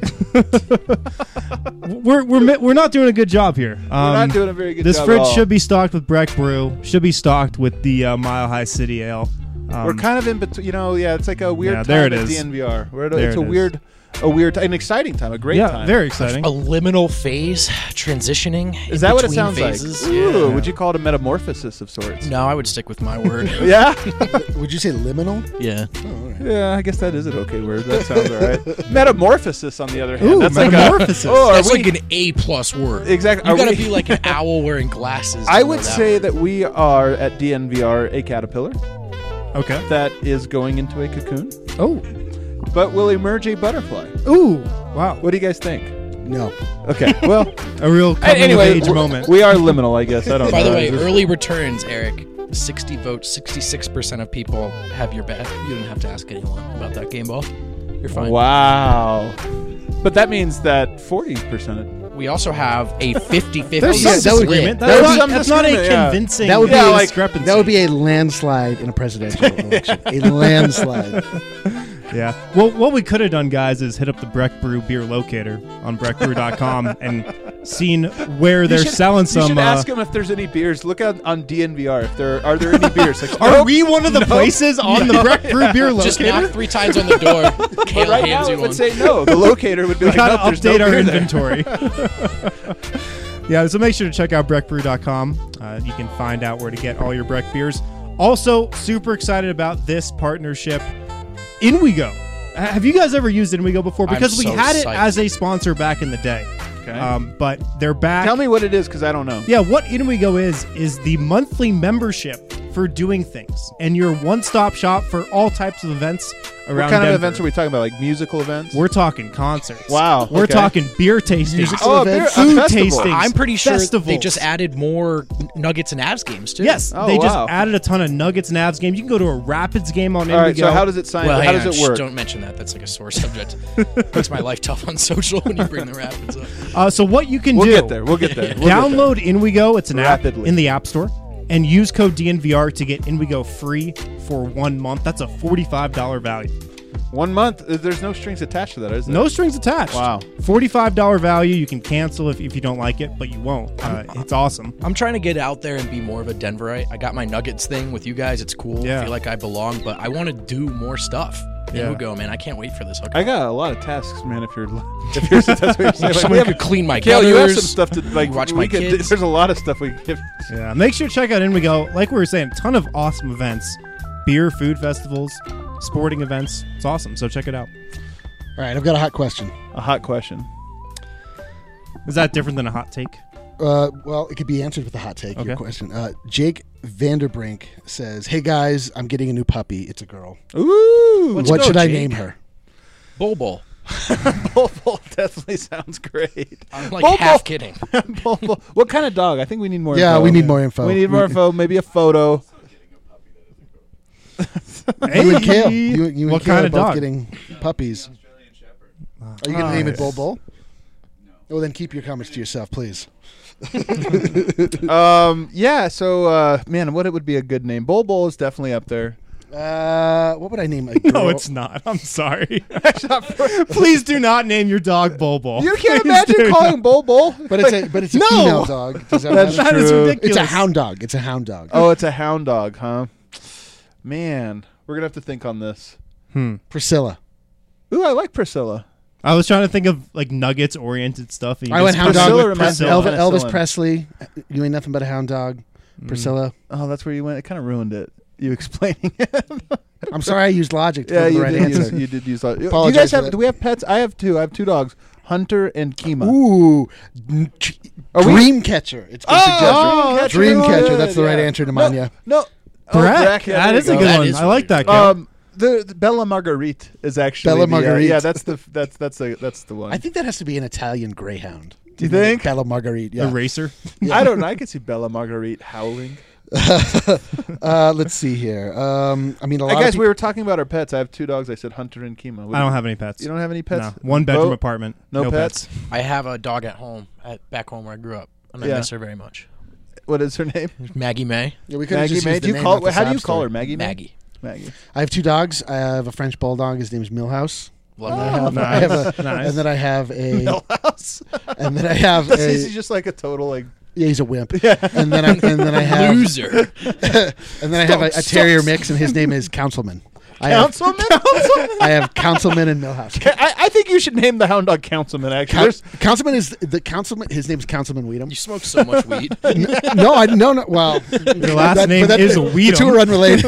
Speaker 2: We're we're mi- we're not doing a good job here. Um,
Speaker 1: We're not doing a very good
Speaker 2: This
Speaker 1: job.
Speaker 2: fridge
Speaker 1: at all.
Speaker 2: should be stocked with Breck Brew. Should be stocked with the uh, Mile High City Ale. Um,
Speaker 1: We're kind of in between. You know, yeah, it's like a weird
Speaker 2: Yeah,
Speaker 1: time
Speaker 2: there it
Speaker 1: at
Speaker 2: is.
Speaker 1: D N V R. We're at a,
Speaker 2: There
Speaker 1: it's a
Speaker 2: it is.
Speaker 1: weird, a weird, an exciting time, a great
Speaker 2: yeah,
Speaker 1: time.
Speaker 2: very exciting.
Speaker 3: A liminal phase, transitioning.
Speaker 1: Is
Speaker 3: in
Speaker 1: that what it
Speaker 3: between
Speaker 1: sounds
Speaker 3: phases.
Speaker 1: like? Ooh,
Speaker 3: Yeah.
Speaker 1: would you call it a metamorphosis of sorts?
Speaker 3: No, I would stick with my word.
Speaker 1: Yeah.
Speaker 4: Would you say liminal?
Speaker 3: yeah.
Speaker 4: Oh, all right.
Speaker 1: Yeah, I guess that is an okay word. That sounds all right. Metamorphosis, on the other hand,
Speaker 2: Ooh,
Speaker 1: that's
Speaker 2: metamorphosis.
Speaker 1: like a. Oh, are
Speaker 3: That's
Speaker 1: we-
Speaker 3: like an A plus word.
Speaker 1: Exactly.
Speaker 3: You
Speaker 1: Are
Speaker 3: gotta
Speaker 1: we-
Speaker 3: be like an owl wearing glasses. to
Speaker 1: I
Speaker 3: know
Speaker 1: would
Speaker 3: that
Speaker 1: say
Speaker 3: word.
Speaker 1: that we are at D N V R a caterpillar
Speaker 2: Okay.
Speaker 1: that is going into a cocoon,
Speaker 2: Oh.
Speaker 1: but will emerge a butterfly.
Speaker 2: Ooh. Wow.
Speaker 1: What do you guys think?
Speaker 4: No.
Speaker 1: Okay, well,
Speaker 2: A real coming
Speaker 1: anyway,
Speaker 2: of age
Speaker 1: w-
Speaker 2: moment.
Speaker 1: we are liminal, I guess. I don't
Speaker 3: By
Speaker 1: know.
Speaker 3: the way,
Speaker 1: It's just-
Speaker 3: early returns, Eric. sixty votes, sixty-six percent of people have your back. You don't have to ask anyone about that game ball. You're fine.
Speaker 1: Wow. But that means that forty percent.
Speaker 3: We also have a fifty-fifty
Speaker 2: There's
Speaker 4: Yeah,
Speaker 2: some
Speaker 4: that would-
Speaker 2: disagreement.
Speaker 1: that
Speaker 2: That's,
Speaker 1: would be
Speaker 2: not,
Speaker 1: some
Speaker 2: that's not a
Speaker 1: disagreement, yeah.
Speaker 2: convincing
Speaker 4: That would be
Speaker 1: Yeah, like-
Speaker 2: discrepancy.
Speaker 4: That would be a landslide in a presidential election. A landslide.
Speaker 2: Yeah. Well, what we could have done, guys, is hit up the Breck Brew beer locator on breck brew dot com and seen where they're
Speaker 1: You should-
Speaker 2: selling
Speaker 1: You
Speaker 2: some.
Speaker 1: should
Speaker 2: Uh,
Speaker 1: ask them if there's any beers. Look out on D N V R if there are there any beers. Like,
Speaker 2: are
Speaker 1: nope.
Speaker 2: we one of the
Speaker 1: No.
Speaker 2: places on the Breck Brew beer locator?
Speaker 3: Just knock three times on the door.
Speaker 1: But
Speaker 3: Kale
Speaker 1: right
Speaker 3: hands
Speaker 1: now
Speaker 3: you
Speaker 1: it would
Speaker 3: one.
Speaker 1: say no. The locator would be
Speaker 2: we
Speaker 1: like,
Speaker 2: gotta
Speaker 1: nope, there's no
Speaker 2: update our
Speaker 1: beer there.
Speaker 2: inventory. Yeah, so make sure to check out breck brew dot com. Uh, you can find out where to get all your Breck beers. Also, super excited about this partnership. Inwigo. Uh, Have you guys ever used Inwigo before?
Speaker 3: I'm
Speaker 2: Because we
Speaker 3: so
Speaker 2: had it
Speaker 3: psyched.
Speaker 2: as a sponsor back in the day.
Speaker 1: Okay.
Speaker 2: Um, but they're back.
Speaker 1: Tell me what it is because I don't know.
Speaker 2: Yeah, what Inwigo is is the monthly membership for doing things, and your one-stop shop for all types of events around
Speaker 1: What kind
Speaker 2: Denver.
Speaker 1: of events are we talking about? Like musical events?
Speaker 2: We're talking concerts.
Speaker 1: Wow,
Speaker 2: We're
Speaker 1: okay.
Speaker 2: talking beer tastings.
Speaker 4: Musical
Speaker 1: Oh, a beer-
Speaker 4: events.
Speaker 1: a
Speaker 2: Food
Speaker 1: festival.
Speaker 2: tastings.
Speaker 3: I'm pretty sure they
Speaker 2: festivals.
Speaker 3: just added more Nuggets and Avs games too.
Speaker 2: Yes,
Speaker 1: Oh,
Speaker 2: they just
Speaker 1: wow.
Speaker 2: added a ton of Nuggets and Avs games. You can go to a Rapids game on
Speaker 1: All right,
Speaker 2: Indigo.
Speaker 1: so how does it sign?
Speaker 3: Well,
Speaker 1: how
Speaker 3: hang
Speaker 1: does
Speaker 3: on,
Speaker 1: it
Speaker 3: shh,
Speaker 1: work?
Speaker 3: don't mention that. That's like a sore subject. Makes my life tough on social when you bring the Rapids up.
Speaker 2: Uh, so what you can
Speaker 1: We'll
Speaker 2: do?
Speaker 1: get there. We'll get there. We'll
Speaker 2: download Inwigo. It's an
Speaker 1: Rapidly.
Speaker 2: app in the App Store, and use code D N V R to get Inwigo free for one month. That's a forty-five dollars value.
Speaker 1: Get there. One month. uh, There's no strings attached to that, is there?
Speaker 2: No strings attached.
Speaker 1: Wow.
Speaker 2: forty-five dollars value. You can cancel if, if you don't like it, but you won't. Uh, it's awesome.
Speaker 3: I'm trying to get out there and be more of a Denverite. I got my Nuggets thing with you guys. It's cool.
Speaker 2: Yeah.
Speaker 3: I feel like I belong, but I want to do more stuff.
Speaker 2: Yeah.
Speaker 3: There we go, man. I can't wait for this hookup.
Speaker 1: I got a lot of tasks, man. If you're, if you're, that's what you're saying. Like,
Speaker 3: Someone
Speaker 1: we have-
Speaker 3: could clean my
Speaker 1: Kale, you have some
Speaker 3: gutters.
Speaker 1: stuff to like.
Speaker 3: watch
Speaker 1: we
Speaker 3: my
Speaker 1: could-
Speaker 3: kids.
Speaker 1: There's a lot of stuff we can give.
Speaker 2: Yeah. Make sure to check out Inwigo. Like we were saying, a ton of awesome events, beer, food festivals, sporting events. It's awesome. So check it out.
Speaker 4: All right, I've got a hot question.
Speaker 1: A hot question.
Speaker 2: Is that different than a hot take?
Speaker 4: Uh, well, it could be answered with a hot take. Your
Speaker 2: Okay.
Speaker 4: question. Uh, Jake Vanderbrink says, "Hey guys, I'm getting a new puppy. It's a girl.
Speaker 1: Ooh.
Speaker 3: Let's
Speaker 4: what
Speaker 3: go,
Speaker 4: should I
Speaker 3: Jake.
Speaker 4: name her?"
Speaker 3: Bull Bull.
Speaker 1: Bull Bull definitely sounds great.
Speaker 3: I'm like
Speaker 1: Bull
Speaker 3: half
Speaker 1: Bull.
Speaker 3: kidding.
Speaker 1: Bull Bull. What kind of dog? I think we need more.
Speaker 4: Yeah,
Speaker 1: info.
Speaker 4: we need more info.
Speaker 1: We need more info. Maybe a photo.
Speaker 4: You and Kale. You, you and
Speaker 2: What
Speaker 4: Kale
Speaker 2: kind
Speaker 4: are
Speaker 2: of
Speaker 4: both
Speaker 2: dog?
Speaker 4: getting puppies. Are you going to
Speaker 2: Oh,
Speaker 4: name it
Speaker 2: yes.
Speaker 4: Bull Bull? Well, then keep your comments to yourself, please.
Speaker 1: Um. Yeah. So, uh, man, what it would be a good name? Bull Bull is definitely up there.
Speaker 4: Uh, what would I name a girl?
Speaker 2: No, it's not. I'm sorry. Please do not name your dog Bobo.
Speaker 1: You can't
Speaker 2: Please
Speaker 1: imagine
Speaker 2: do
Speaker 1: calling Bull Bull.
Speaker 4: But it's a but it's a
Speaker 2: No!
Speaker 4: female dog. Does that
Speaker 1: That's
Speaker 4: matter?
Speaker 2: That is
Speaker 1: true.
Speaker 2: ridiculous.
Speaker 4: It's a hound dog. It's a hound dog.
Speaker 1: Oh, it's a hound dog, huh? Man, we're gonna have to think on this.
Speaker 2: Hmm.
Speaker 4: Priscilla.
Speaker 1: Ooh, I like Priscilla.
Speaker 2: I was trying to think of like Nuggets oriented stuff. and you
Speaker 4: I went
Speaker 2: just-
Speaker 4: hound dog
Speaker 1: Priscilla
Speaker 4: with
Speaker 1: reminds
Speaker 4: Pres-
Speaker 1: me of
Speaker 4: Elvis,
Speaker 1: Penicillin.
Speaker 4: Elvis Presley. You ain't nothing but a hound dog. Priscilla.
Speaker 1: Oh, that's where you went. It kind of ruined it. You explaining it.
Speaker 4: I'm sorry I used logic to
Speaker 1: yeah,
Speaker 4: come to
Speaker 1: you
Speaker 4: the right
Speaker 1: did. Use,
Speaker 4: answer.
Speaker 1: you did use. that. Do you
Speaker 4: Apologize
Speaker 1: guys
Speaker 4: for
Speaker 1: have?
Speaker 4: that.
Speaker 1: Do we have pets? I have two. I have two dogs, Hunter and Kima.
Speaker 4: Ooh, n- ch-
Speaker 1: Are we-
Speaker 4: dream catcher. It's been
Speaker 1: Oh,
Speaker 4: suggested.
Speaker 1: Dream
Speaker 4: Dream
Speaker 1: Catcher.
Speaker 4: catcher. That's the right
Speaker 1: Yeah.
Speaker 4: answer to
Speaker 1: No,
Speaker 4: Manya.
Speaker 1: No,
Speaker 2: Correct.
Speaker 1: Oh, yeah,
Speaker 2: that
Speaker 1: there
Speaker 2: is
Speaker 1: you
Speaker 2: a
Speaker 1: go.
Speaker 2: good
Speaker 3: That
Speaker 2: one.
Speaker 3: is
Speaker 2: I like that. Kel.
Speaker 1: Um, the, the Bella Marguerite is actually
Speaker 4: Bella
Speaker 1: the, uh,
Speaker 4: Marguerite.
Speaker 1: yeah, that's the that's that's the that's the one.
Speaker 4: I think that has to be an Italian greyhound.
Speaker 1: Do you think?
Speaker 4: Bella Marguerite?
Speaker 2: The
Speaker 4: Yeah.
Speaker 2: racer.
Speaker 1: I don't know. I could see Bella Marguerite howling.
Speaker 4: uh, let's see here. Um, I mean, a
Speaker 1: Hey
Speaker 4: lot
Speaker 1: guys,
Speaker 4: of
Speaker 1: we were talking about our pets. I have two dogs. I said Hunter and Kima. What
Speaker 2: I
Speaker 1: do
Speaker 2: don't
Speaker 1: you-
Speaker 2: have any pets.
Speaker 1: You don't have any pets?
Speaker 2: No. One bedroom
Speaker 1: Bo?
Speaker 2: apartment.
Speaker 1: No, pets?
Speaker 3: I have a dog at home, at back home where I grew up, and I
Speaker 1: Yeah.
Speaker 3: miss her very much.
Speaker 1: What is her name?
Speaker 3: Maggie May.
Speaker 4: yeah, we could have
Speaker 1: Maggie
Speaker 4: just
Speaker 1: May.
Speaker 4: used
Speaker 1: Do
Speaker 4: the
Speaker 1: you
Speaker 4: name,
Speaker 1: call?
Speaker 4: not the
Speaker 1: How do you
Speaker 4: sob
Speaker 1: call her?
Speaker 4: story.
Speaker 1: Maggie. May?
Speaker 3: Maggie.
Speaker 1: Maggie.
Speaker 4: I have two dogs. I have a French bulldog. His name is Millhouse.
Speaker 3: Love
Speaker 4: And then I
Speaker 3: that.
Speaker 4: have,
Speaker 2: nice.
Speaker 4: I have a,
Speaker 2: Nice.
Speaker 4: and then I have a,
Speaker 1: Millhouse.
Speaker 4: and then I have a,
Speaker 1: Is he just like a total like?
Speaker 4: yeah, he's a wimp. And then I, and then I have,
Speaker 3: Loser.
Speaker 4: and then I have a, a terrier mix, and his name is Councilman. I have,
Speaker 1: Councilman.
Speaker 4: I have Councilman and Millhouse.
Speaker 1: I, I think you should name the hound dog Councilman. Actually,
Speaker 4: Coun-
Speaker 1: There's-
Speaker 4: Councilman is the Councilman. His name is Councilman Weedham.
Speaker 3: You smoke so much weed.
Speaker 4: N- no, I no no. Well,
Speaker 2: Your last name is
Speaker 4: The
Speaker 2: Weedham.
Speaker 4: two are unrelated.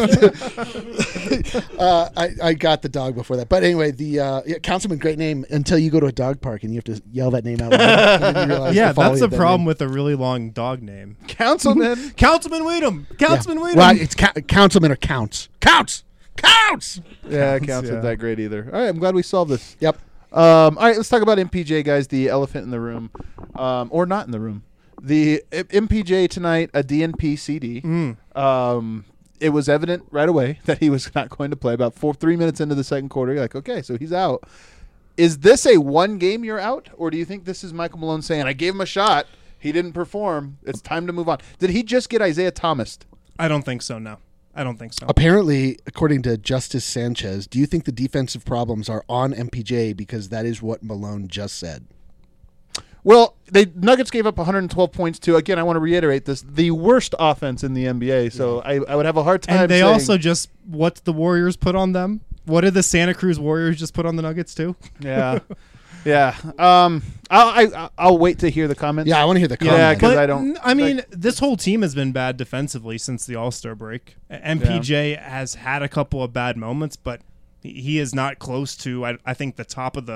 Speaker 4: uh, I I got the dog before that, but anyway, the uh, yeah, Councilman, great name. Until you go to a dog park and you have to yell that name out loud. and then you realize
Speaker 2: Yeah,
Speaker 4: the folly
Speaker 2: that's the
Speaker 4: of that
Speaker 2: problem
Speaker 4: name.
Speaker 2: with a really long dog name.
Speaker 1: Councilman.
Speaker 2: Councilman Weedham.
Speaker 4: Yeah.
Speaker 2: Councilman Weedham.
Speaker 4: Well, it's ca- Councilman or Counts. Counts. Counts.
Speaker 1: Yeah, counts
Speaker 2: yeah.
Speaker 1: not that great either. All right, I'm glad we solved this.
Speaker 4: Yep.
Speaker 1: Um, all right, let's talk about M P J, guys. The elephant in the room, um, or not in the room. The uh, M P J tonight, a D N P C D.
Speaker 2: Mm.
Speaker 1: Um, it was evident right away that he was not going to play. About four, three minutes into the second quarter, you're like, okay, so he's out. Is this a one game you're out, or do you think this is Michael Malone saying, I gave him a shot, he didn't perform, it's time to move on? Did he just get Isaiah Thomas?
Speaker 2: I don't think so. No, I don't think so.
Speaker 4: Apparently, according to Justice Sanchez, do you think the defensive problems are on M P J because that is what Malone just said?
Speaker 1: Well, they Nuggets gave up one hundred twelve points to, again, I want to reiterate this, the worst offense in the N B A. So I, I would have a hard time
Speaker 2: And they
Speaker 1: saying,
Speaker 2: also just what the Warriors put on them. What did the Santa Cruz Warriors just put on the Nuggets too?
Speaker 1: yeah, yeah. Um, I'll I, I'll wait to hear the comments.
Speaker 4: Yeah, I want to hear the
Speaker 1: Yeah,
Speaker 4: comment.
Speaker 1: 'cause
Speaker 2: But,
Speaker 1: I don't-
Speaker 2: n- I mean,
Speaker 1: like-
Speaker 2: this whole team has been bad defensively since the All Star break. M P J has had a couple of bad moments, but he- he is not close to, I, I think, the top of the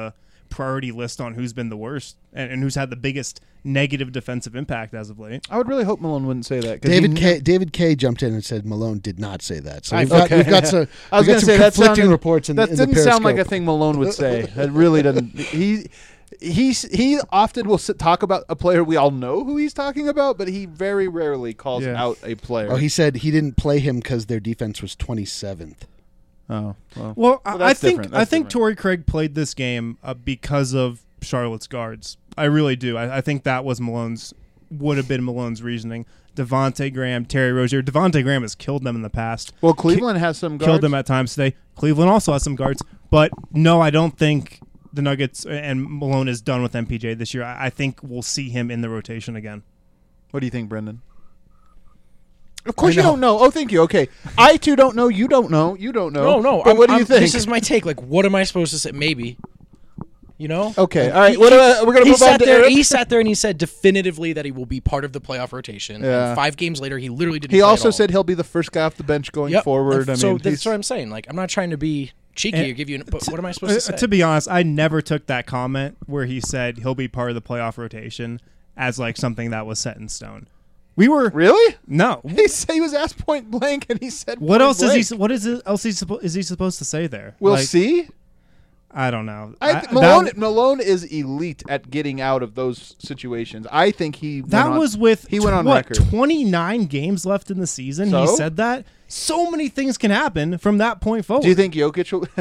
Speaker 2: priority list on who's been the worst and, and who's had the biggest negative defensive impact as of late.
Speaker 1: I would really hope Malone wouldn't say that. 'cause
Speaker 4: David
Speaker 1: he-
Speaker 4: K. David K. jumped in and said Malone did not say that. So we've
Speaker 1: Okay.
Speaker 4: got, we've got some,
Speaker 1: I was
Speaker 4: we've got
Speaker 1: gonna
Speaker 4: some
Speaker 1: say that
Speaker 4: conflicting
Speaker 1: sounded-
Speaker 4: reports in,
Speaker 1: that
Speaker 4: in the
Speaker 1: didn't sound like a
Speaker 4: Periscope.
Speaker 1: thing Malone would say. That really doesn't. He he he often will sit, talk about a player we all know who he's talking about, but he very rarely calls
Speaker 2: Yeah.
Speaker 1: out a player.
Speaker 4: Oh, he said he didn't play him because their defense was twenty-seventh.
Speaker 1: oh well.
Speaker 2: Well, I- I
Speaker 1: that's
Speaker 2: think
Speaker 1: different.
Speaker 2: I
Speaker 1: That's
Speaker 2: think
Speaker 1: different.
Speaker 2: Torrey Craig played this game uh, because of Charlotte's guards. I really do. I, I think that was Malone's would have been Malone's reasoning. Devontae Graham, Terry Rozier. Devontae Graham has killed them in the past.
Speaker 1: Well, Cleveland has some guards.
Speaker 2: Killed them at times today. Cleveland also has some guards, but no, I don't think the Nuggets and Malone is done with M P J this year. I, I think we'll see him in the rotation again.
Speaker 1: What do you think, Brendan? Of course
Speaker 4: I
Speaker 1: you
Speaker 4: know.
Speaker 1: don't know. Oh, thank you. Okay, I too don't know. You don't know. You don't know.
Speaker 3: No, no.
Speaker 1: But
Speaker 3: I'm-
Speaker 1: what do you
Speaker 3: I'm-
Speaker 1: think?
Speaker 3: This is my take. Like, what am I supposed to say? Maybe. You know?
Speaker 1: Okay, all right.
Speaker 3: He-
Speaker 1: What,
Speaker 3: he-
Speaker 1: uh, we're gonna
Speaker 3: he
Speaker 1: move on
Speaker 3: sat
Speaker 1: to
Speaker 3: there.
Speaker 1: Eric.
Speaker 3: He sat there and he said definitively that he will be part of the playoff rotation.
Speaker 1: Yeah.
Speaker 3: And five games later, he literally didn't.
Speaker 1: He
Speaker 3: play at
Speaker 1: also
Speaker 3: all.
Speaker 1: said he'll be the first guy off the bench going
Speaker 3: Yep.
Speaker 1: forward.
Speaker 3: And
Speaker 1: I
Speaker 3: so
Speaker 1: mean,
Speaker 3: that's
Speaker 1: he's-
Speaker 3: what I'm saying. Like, I'm not trying to be cheeky
Speaker 2: And-
Speaker 3: or give you. An, but what am I supposed
Speaker 2: Uh,
Speaker 3: to say?
Speaker 2: to be honest, I never took that comment where he said he'll be part of the playoff rotation as like something that was set in stone. We were
Speaker 1: really.
Speaker 2: no.
Speaker 1: He said he was asked point blank, and he said,
Speaker 2: What
Speaker 1: point
Speaker 2: else
Speaker 1: blank.
Speaker 2: is he? What is it, else he suppo- is he supposed to say there?
Speaker 1: We'll
Speaker 2: Like,
Speaker 1: see.
Speaker 2: I don't know.
Speaker 1: I
Speaker 2: I-
Speaker 1: th- Malone,
Speaker 2: that,
Speaker 1: Malone is elite at getting out of those situations. I think he
Speaker 2: that
Speaker 1: went on-
Speaker 2: was with
Speaker 1: he went on
Speaker 2: what,
Speaker 1: record.
Speaker 2: twenty-nine games left in the season.
Speaker 1: So?
Speaker 2: He said that. So many things can happen from that point forward.
Speaker 1: Do you think Jokic will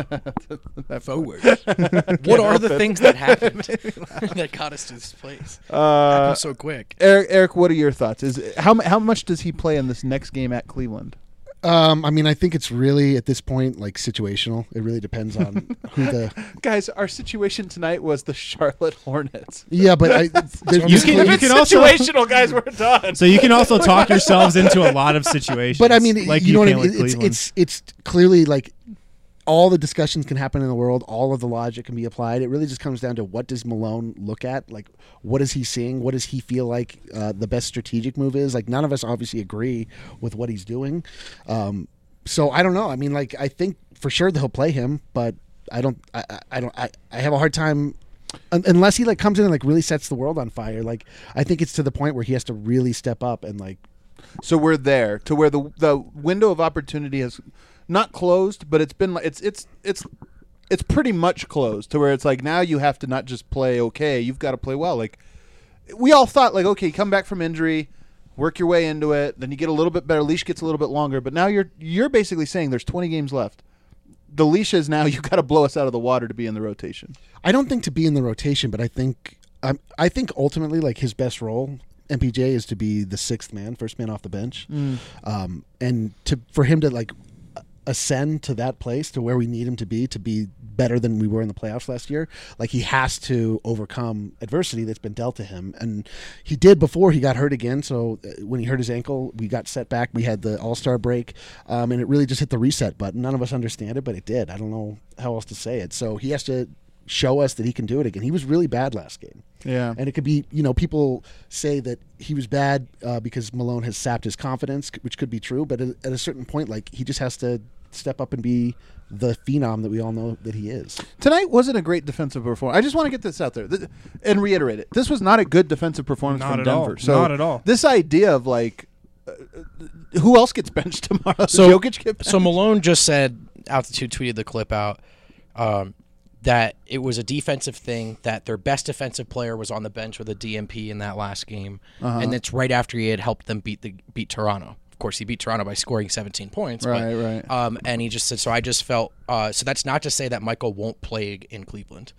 Speaker 1: that
Speaker 3: Forward. What are the things that happened that got us to this place?
Speaker 1: Uh,
Speaker 3: Happened so quick.
Speaker 1: Eric, Eric, what are your thoughts? Is how mu- how much does he play in this next game at Cleveland?
Speaker 4: Um, I mean, I think it's really at this point like situational. It really depends on who the.
Speaker 1: Guys, our situation tonight was the Charlotte Hornets.
Speaker 4: Yeah, but I, there's,
Speaker 2: You can-
Speaker 1: If
Speaker 2: you
Speaker 1: it's
Speaker 2: can also-
Speaker 1: situational, guys, we're done.
Speaker 2: So you can also talk yourselves into a lot of situations.
Speaker 4: But I mean,
Speaker 2: like
Speaker 4: you know what I
Speaker 2: can
Speaker 4: mean.
Speaker 2: with
Speaker 4: It's,
Speaker 2: Cleveland.
Speaker 4: it's it's clearly like all the discussions can happen in the world. All of the logic can be applied. It really just comes down to what does Malone look at? Like, what is he seeing? What does he feel like uh, the best strategic move is? Like, none of us obviously agree with what he's doing. Um, so I don't know. I mean, like, I think for sure that he'll play him, but I don't. I, I, I don't. I, I have a hard time. un- Unless he like comes in and like really sets the world on fire, like I think it's to the point where he has to really step up and like
Speaker 1: So we're there to where the the window of opportunity has not closed, but it's been like it's it's it's it's pretty much closed to where it's like now you have to not just play okay, you've got to play well. Like we all thought, like okay, come back from injury, work your way into it, then you get a little bit better. Leash gets a little bit longer, but now you're you're basically saying there's twenty games left. The leash is now you got to blow us out of the water to be in the rotation.
Speaker 4: I don't think to be in the rotation, but I think um, I think ultimately like his best role, M P J, is to be the sixth man, first man off the bench, um, and to for him to like ascend to that place to where we need him to be to be better than we were in the playoffs last year. Like he has to overcome adversity that's been dealt to him, and he did before he got hurt again. So uh, when he hurt his ankle, we got set back. We had the All Star break, um, and it really just hit the reset button. None of us understand it, but it did. I don't know how else to say it. So he has to show us that he can do it again. He was really bad last game.
Speaker 1: Yeah.
Speaker 4: And it could be, you know, people say that he was bad uh, because Malone has sapped his confidence, which could be true. But at, at a certain point, like, he just has to step up and be the phenom that we all know that he is.
Speaker 1: Tonight wasn't a great defensive performance. I just want to get this out there th- and reiterate it. This was not a good defensive performance
Speaker 2: Not
Speaker 1: from
Speaker 2: at all.
Speaker 1: Denver. So
Speaker 2: Not at all.
Speaker 1: This idea of like, uh, who else gets benched tomorrow?
Speaker 3: So-
Speaker 1: Does Jokic get benched?
Speaker 3: So Malone just said, Altitude tweeted the clip out, um, that it was a defensive thing, that their best defensive player was on the bench with a D M P in that last game,
Speaker 1: Uh-huh.
Speaker 3: and that's right after he had helped them beat the beat Toronto. Of course, he beat Toronto by scoring seventeen points.
Speaker 1: Right,
Speaker 3: but,
Speaker 1: right.
Speaker 3: Um, and he just said, so I just felt, uh, so that's not to say that Michael won't play in Cleveland.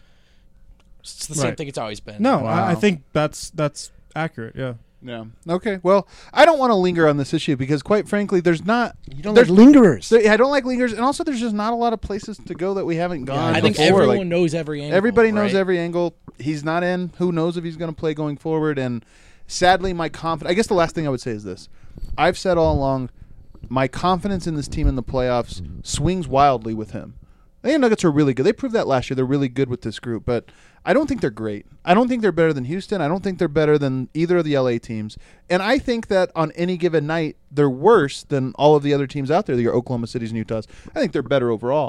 Speaker 3: It's the same
Speaker 2: Right.
Speaker 3: thing it's always been.
Speaker 2: no,
Speaker 1: Wow.
Speaker 2: I, I think that's that's accurate. Yeah.
Speaker 1: Yeah. Okay. Well, I don't want to linger on this issue because, quite frankly, there's not.
Speaker 4: You don't
Speaker 1: there's
Speaker 4: like lingerers.
Speaker 1: there- I don't like lingers, and also there's just not a lot of places to go that we haven't gone.
Speaker 3: I think
Speaker 1: before.
Speaker 3: everyone
Speaker 1: Like,
Speaker 3: knows every angle.
Speaker 1: everybody knows
Speaker 3: right?
Speaker 1: every angle. He's not in. Who knows if he's going to play going forward? And sadly, my confidence. I guess the last thing I would say is this: I've said all along, my confidence in this team in the playoffs swings wildly with him. I think the Nuggets are really good. They proved that last year. They're really good with this group, but I don't think they're great. I don't think they're better than Houston. I don't think they're better than either of the L A teams. And I think that on any given night, they're worse than all of the other teams out there, your Oklahoma Cities and Utahs. I think they're better overall.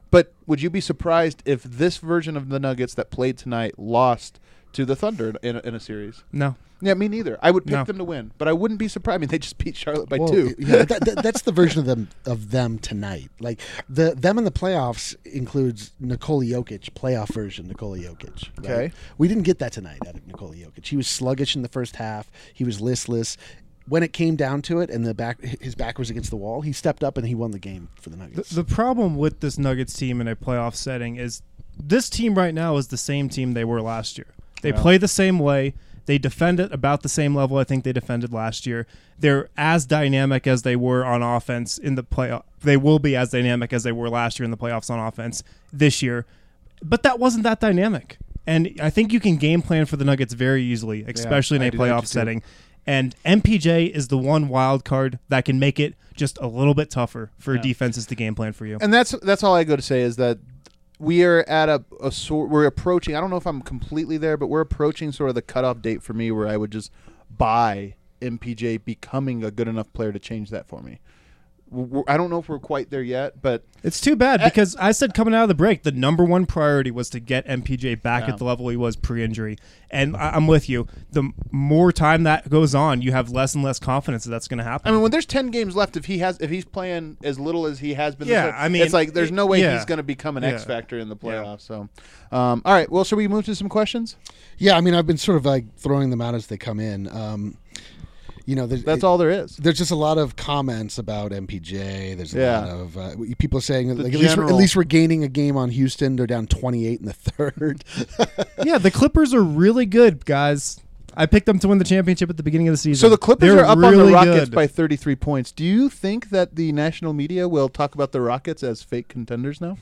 Speaker 1: But would you be surprised if this version of the Nuggets that played tonight lost to the Thunder in a, in a series?
Speaker 2: No.
Speaker 1: Yeah, me neither. I would pick
Speaker 2: No.
Speaker 1: them to win, but I wouldn't be surprised. I mean, they just beat Charlotte by
Speaker 4: Well,
Speaker 1: two.
Speaker 4: yeah, that, that, that's the version of them of them tonight. Like the them in the playoffs includes Nikola Jokic, playoff version Nikola Jokic. right?
Speaker 1: Okay.
Speaker 4: We didn't get that tonight out of Nikola Jokic. He was sluggish in the first half. He was listless. When it came down to it, and the back his back was against the wall, he stepped up and he won the game for the
Speaker 2: The,
Speaker 4: Nuggets.
Speaker 2: the problem with this Nuggets team in a playoff setting is this team right now is the same team they were last year. They
Speaker 1: Yeah.
Speaker 2: play the same way. They defend it about the same level I think they defended last year. They're as dynamic as they were on offense in the playoff. They will be as dynamic as they were last year in the playoffs on offense this year. But that wasn't that dynamic. And I think you can game plan for the Nuggets very easily, especially
Speaker 1: I
Speaker 2: in a
Speaker 1: do that
Speaker 2: playoff
Speaker 1: too.
Speaker 2: setting. And M P J is the one wild card that can make it just a little bit tougher for
Speaker 1: Yeah.
Speaker 2: defenses to game plan for you.
Speaker 1: And that's that's all I go to say is that we are at a, a sort. We're approaching. I don't know if I'm completely there, but we're approaching sort of the cutoff date for me where I would just buy M P J becoming a good enough player to change that for me. We're, I don't know if we're quite there yet, but
Speaker 2: It's too bad
Speaker 1: Eh.
Speaker 2: because I said coming out of the break, the number one priority was to get M P J back
Speaker 1: Yeah.
Speaker 2: at the level he was pre-injury. And I, I'm with you. The more time that goes on, you have less and less confidence that that's going to happen.
Speaker 1: I mean, when there's ten games left, if he has, if he's playing as little as he has been, this
Speaker 2: Yeah,
Speaker 1: year,
Speaker 2: I mean,
Speaker 1: it's like there's no way
Speaker 2: yeah.
Speaker 1: he's going to become an X
Speaker 2: Yeah.
Speaker 1: factor in the
Speaker 2: Yeah.
Speaker 1: playoffs. So, um, all right. Well, should we move to some questions?
Speaker 4: Yeah, I mean, I've been sort of like throwing them out as they come in. Um, you know, there's,
Speaker 1: That's
Speaker 4: it-
Speaker 1: all there is.
Speaker 4: There's just a lot of comments about M P J. There's a
Speaker 1: Yeah.
Speaker 4: lot of uh, people saying that
Speaker 1: The
Speaker 4: like, at, least we're, at
Speaker 1: general-
Speaker 4: least we're gaining a game on Houston. They're down twenty-eight in the third.
Speaker 2: yeah, the Clippers are really good, guys. I picked them to win the championship at the beginning of the season.
Speaker 1: So the Clippers
Speaker 2: They're
Speaker 1: are up on the
Speaker 2: really
Speaker 1: Rockets
Speaker 2: good.
Speaker 1: by thirty-three points. Do you think that the national media will talk about the Rockets as fake contenders now?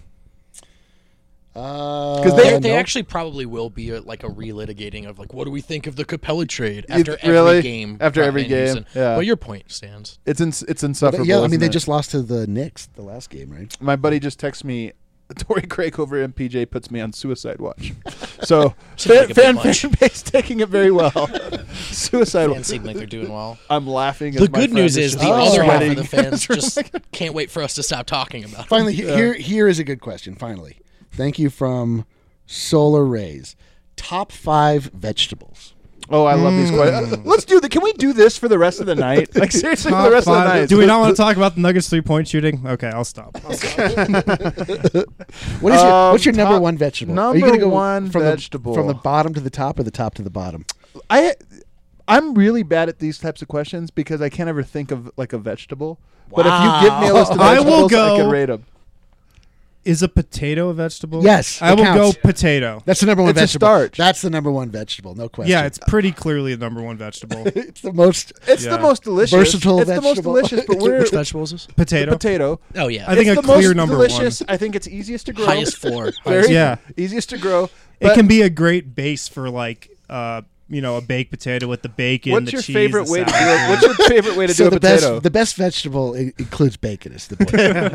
Speaker 4: Because
Speaker 1: they-
Speaker 3: They, they actually probably will be a, like a relitigating of like, what do we think of the Capella trade after every
Speaker 1: really?
Speaker 3: game?
Speaker 1: After every
Speaker 3: in
Speaker 1: game,
Speaker 3: Houston.
Speaker 1: yeah.
Speaker 3: Well, your point stands.
Speaker 1: It's ins- it's insufferable.
Speaker 4: yeah, I mean,
Speaker 1: isn't
Speaker 4: they
Speaker 1: it?
Speaker 4: just lost to the Knicks the last game, right?
Speaker 1: My buddy just texted me. Torrey Craig over M P J puts me on suicide watch. So
Speaker 3: Seems like
Speaker 1: fan,
Speaker 3: a bit
Speaker 1: fan,
Speaker 3: much.
Speaker 1: fan base taking it very well. Suicide
Speaker 3: Fans
Speaker 1: watch.
Speaker 3: seem like they're doing well.
Speaker 1: I'm laughing.
Speaker 3: The
Speaker 1: as my
Speaker 3: good
Speaker 1: friend
Speaker 3: news is
Speaker 1: just
Speaker 3: the
Speaker 4: Oh.
Speaker 3: other half
Speaker 1: sweating.
Speaker 3: of the fans just can't wait for us to stop talking about it.
Speaker 4: Finally, he- here here is a good question. Finally, thank you from Solar Rays. Top five vegetables.
Speaker 1: Oh, I love these questions. Uh, Let's do the. Can we do this for the rest of the night? Like seriously, for the
Speaker 2: Top
Speaker 1: rest
Speaker 2: five-
Speaker 1: of the night.
Speaker 2: Do we not want to talk about the Nuggets three-point shooting? Okay, I'll stop. I'll stop.
Speaker 4: What is your
Speaker 1: Um,
Speaker 4: what's your number
Speaker 1: top-
Speaker 4: one vegetable? Are
Speaker 1: number
Speaker 4: you gonna go
Speaker 1: one
Speaker 4: from
Speaker 1: vegetable.
Speaker 4: the, from the bottom to the top or the top to the bottom?
Speaker 1: I I'm really bad at these types of questions because I can't ever think of like a vegetable. But if you give me a list of
Speaker 2: Wow. I
Speaker 1: vegetables,
Speaker 2: will
Speaker 1: I
Speaker 2: go-
Speaker 1: can rate them.
Speaker 2: Is a potato a vegetable?
Speaker 4: Yes,
Speaker 2: I
Speaker 4: it
Speaker 2: will
Speaker 4: counts.
Speaker 2: go potato.
Speaker 4: That's the number one
Speaker 1: It's a
Speaker 4: vegetable.
Speaker 1: starch.
Speaker 4: That's the number one vegetable, no question.
Speaker 2: Yeah, it's pretty clearly the number one vegetable.
Speaker 4: it's the most.
Speaker 1: It's
Speaker 2: Yeah.
Speaker 1: the most delicious.
Speaker 4: Versatile
Speaker 1: it's the most
Speaker 4: vegetable.
Speaker 1: delicious, but we're
Speaker 3: Which vegetable is this?
Speaker 2: Potato.
Speaker 1: potato.
Speaker 3: Oh yeah,
Speaker 2: I think
Speaker 1: it's
Speaker 2: a
Speaker 1: the
Speaker 2: clear
Speaker 1: most
Speaker 2: number
Speaker 1: delicious.
Speaker 2: one.
Speaker 1: I think it's easiest to grow.
Speaker 3: highest floor.
Speaker 1: Very
Speaker 2: Yeah.
Speaker 1: easiest to grow.
Speaker 2: It
Speaker 1: But
Speaker 2: can be a great base for like uh you know a baked potato with the bacon.
Speaker 1: What's
Speaker 2: the
Speaker 1: your
Speaker 2: cheese,
Speaker 1: favorite
Speaker 2: the
Speaker 1: way to do
Speaker 2: sour
Speaker 1: it? What's your favorite way to
Speaker 4: so
Speaker 1: do a
Speaker 4: the
Speaker 1: potato?
Speaker 4: best the best vegetable i- includes bacon. Is the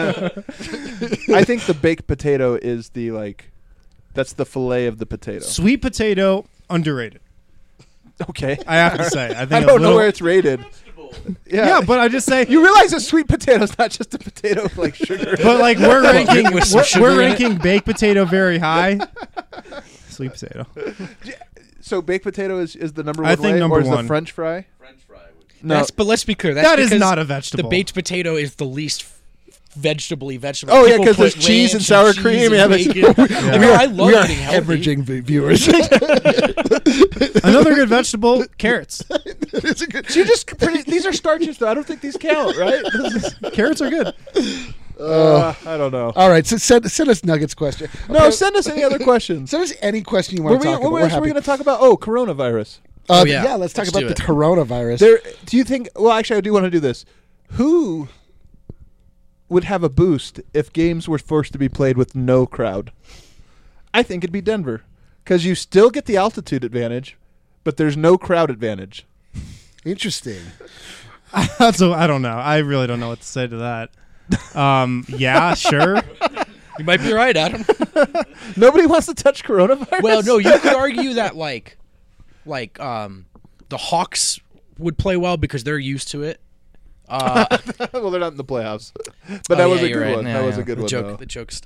Speaker 4: point.
Speaker 1: I think the baked potato is the like. That's the fillet of the potato.
Speaker 2: Sweet potato underrated.
Speaker 1: Okay.
Speaker 2: I have to say. I think
Speaker 1: I
Speaker 2: a
Speaker 1: don't know
Speaker 2: little-
Speaker 1: where it's rated. Yeah.
Speaker 2: Yeah, but I just say
Speaker 1: you realize a sweet potato is not just a potato with like sugar.
Speaker 2: But like we're ranking,
Speaker 3: with some
Speaker 2: we're,
Speaker 3: sugar
Speaker 2: we're
Speaker 3: in it?
Speaker 2: ranking baked potato very high. Sweet potato.
Speaker 1: So baked potato is, is the number
Speaker 2: I
Speaker 1: one
Speaker 2: think
Speaker 1: way,
Speaker 2: number
Speaker 1: or is the
Speaker 2: one.
Speaker 1: French fry?
Speaker 5: French fry would
Speaker 1: No.
Speaker 3: That's, but let's be clear. That's
Speaker 2: That is
Speaker 3: because
Speaker 2: not a
Speaker 3: The
Speaker 2: vegetable.
Speaker 3: baked potato is the least vegetably vegetable.
Speaker 1: Oh, yeah,
Speaker 3: People
Speaker 1: 'cause there's
Speaker 3: put
Speaker 1: cheese and
Speaker 3: ranch
Speaker 1: sour
Speaker 3: cheese
Speaker 1: cream,
Speaker 3: and
Speaker 1: yeah, there's-
Speaker 3: bacon. I mean, I love
Speaker 4: we are
Speaker 3: eating healthy.
Speaker 4: hemorrhaging v- viewers.
Speaker 2: Another good vegetable, carrots.
Speaker 1: So you just pretty, these are starches though. I don't think these count, right?
Speaker 2: Carrots are good.
Speaker 1: Uh, I don't know.
Speaker 4: All right, so send, send us Nuggets question.
Speaker 1: No,
Speaker 4: Okay,
Speaker 1: send us any other questions.
Speaker 4: send us any question you
Speaker 1: Were
Speaker 4: want
Speaker 1: we,
Speaker 4: to talk
Speaker 1: what
Speaker 4: about.
Speaker 1: else
Speaker 4: We're
Speaker 1: were
Speaker 4: happy.
Speaker 1: we going to talk about? Oh, coronavirus.
Speaker 4: Uh,
Speaker 3: Oh, yeah.
Speaker 4: yeah, let's talk
Speaker 3: Let's
Speaker 4: about
Speaker 3: do
Speaker 4: the
Speaker 3: it.
Speaker 4: coronavirus.
Speaker 1: There. Do you think? Well, actually, I do want to do this. Who would have a boost if games were forced to be played with no crowd? I think it'd be Denver, because you still get the altitude advantage, but there's no crowd advantage.
Speaker 4: Interesting.
Speaker 2: That's a, I don't know. I really don't know what to say to that. Um, yeah, sure.
Speaker 3: You might be right, Adam.
Speaker 1: Nobody wants to touch coronavirus.
Speaker 3: Well, no, you could argue that like, like um, the Hawks would play well because they're used to it. Uh,
Speaker 1: well, they're not in the playoffs, but
Speaker 3: oh,
Speaker 1: that was
Speaker 3: yeah,
Speaker 1: a
Speaker 3: you're
Speaker 1: good
Speaker 3: right.
Speaker 1: one.
Speaker 3: Yeah,
Speaker 1: that was
Speaker 3: yeah.
Speaker 1: a good
Speaker 3: the
Speaker 1: one.
Speaker 3: joke,
Speaker 1: though.
Speaker 3: The joke stood.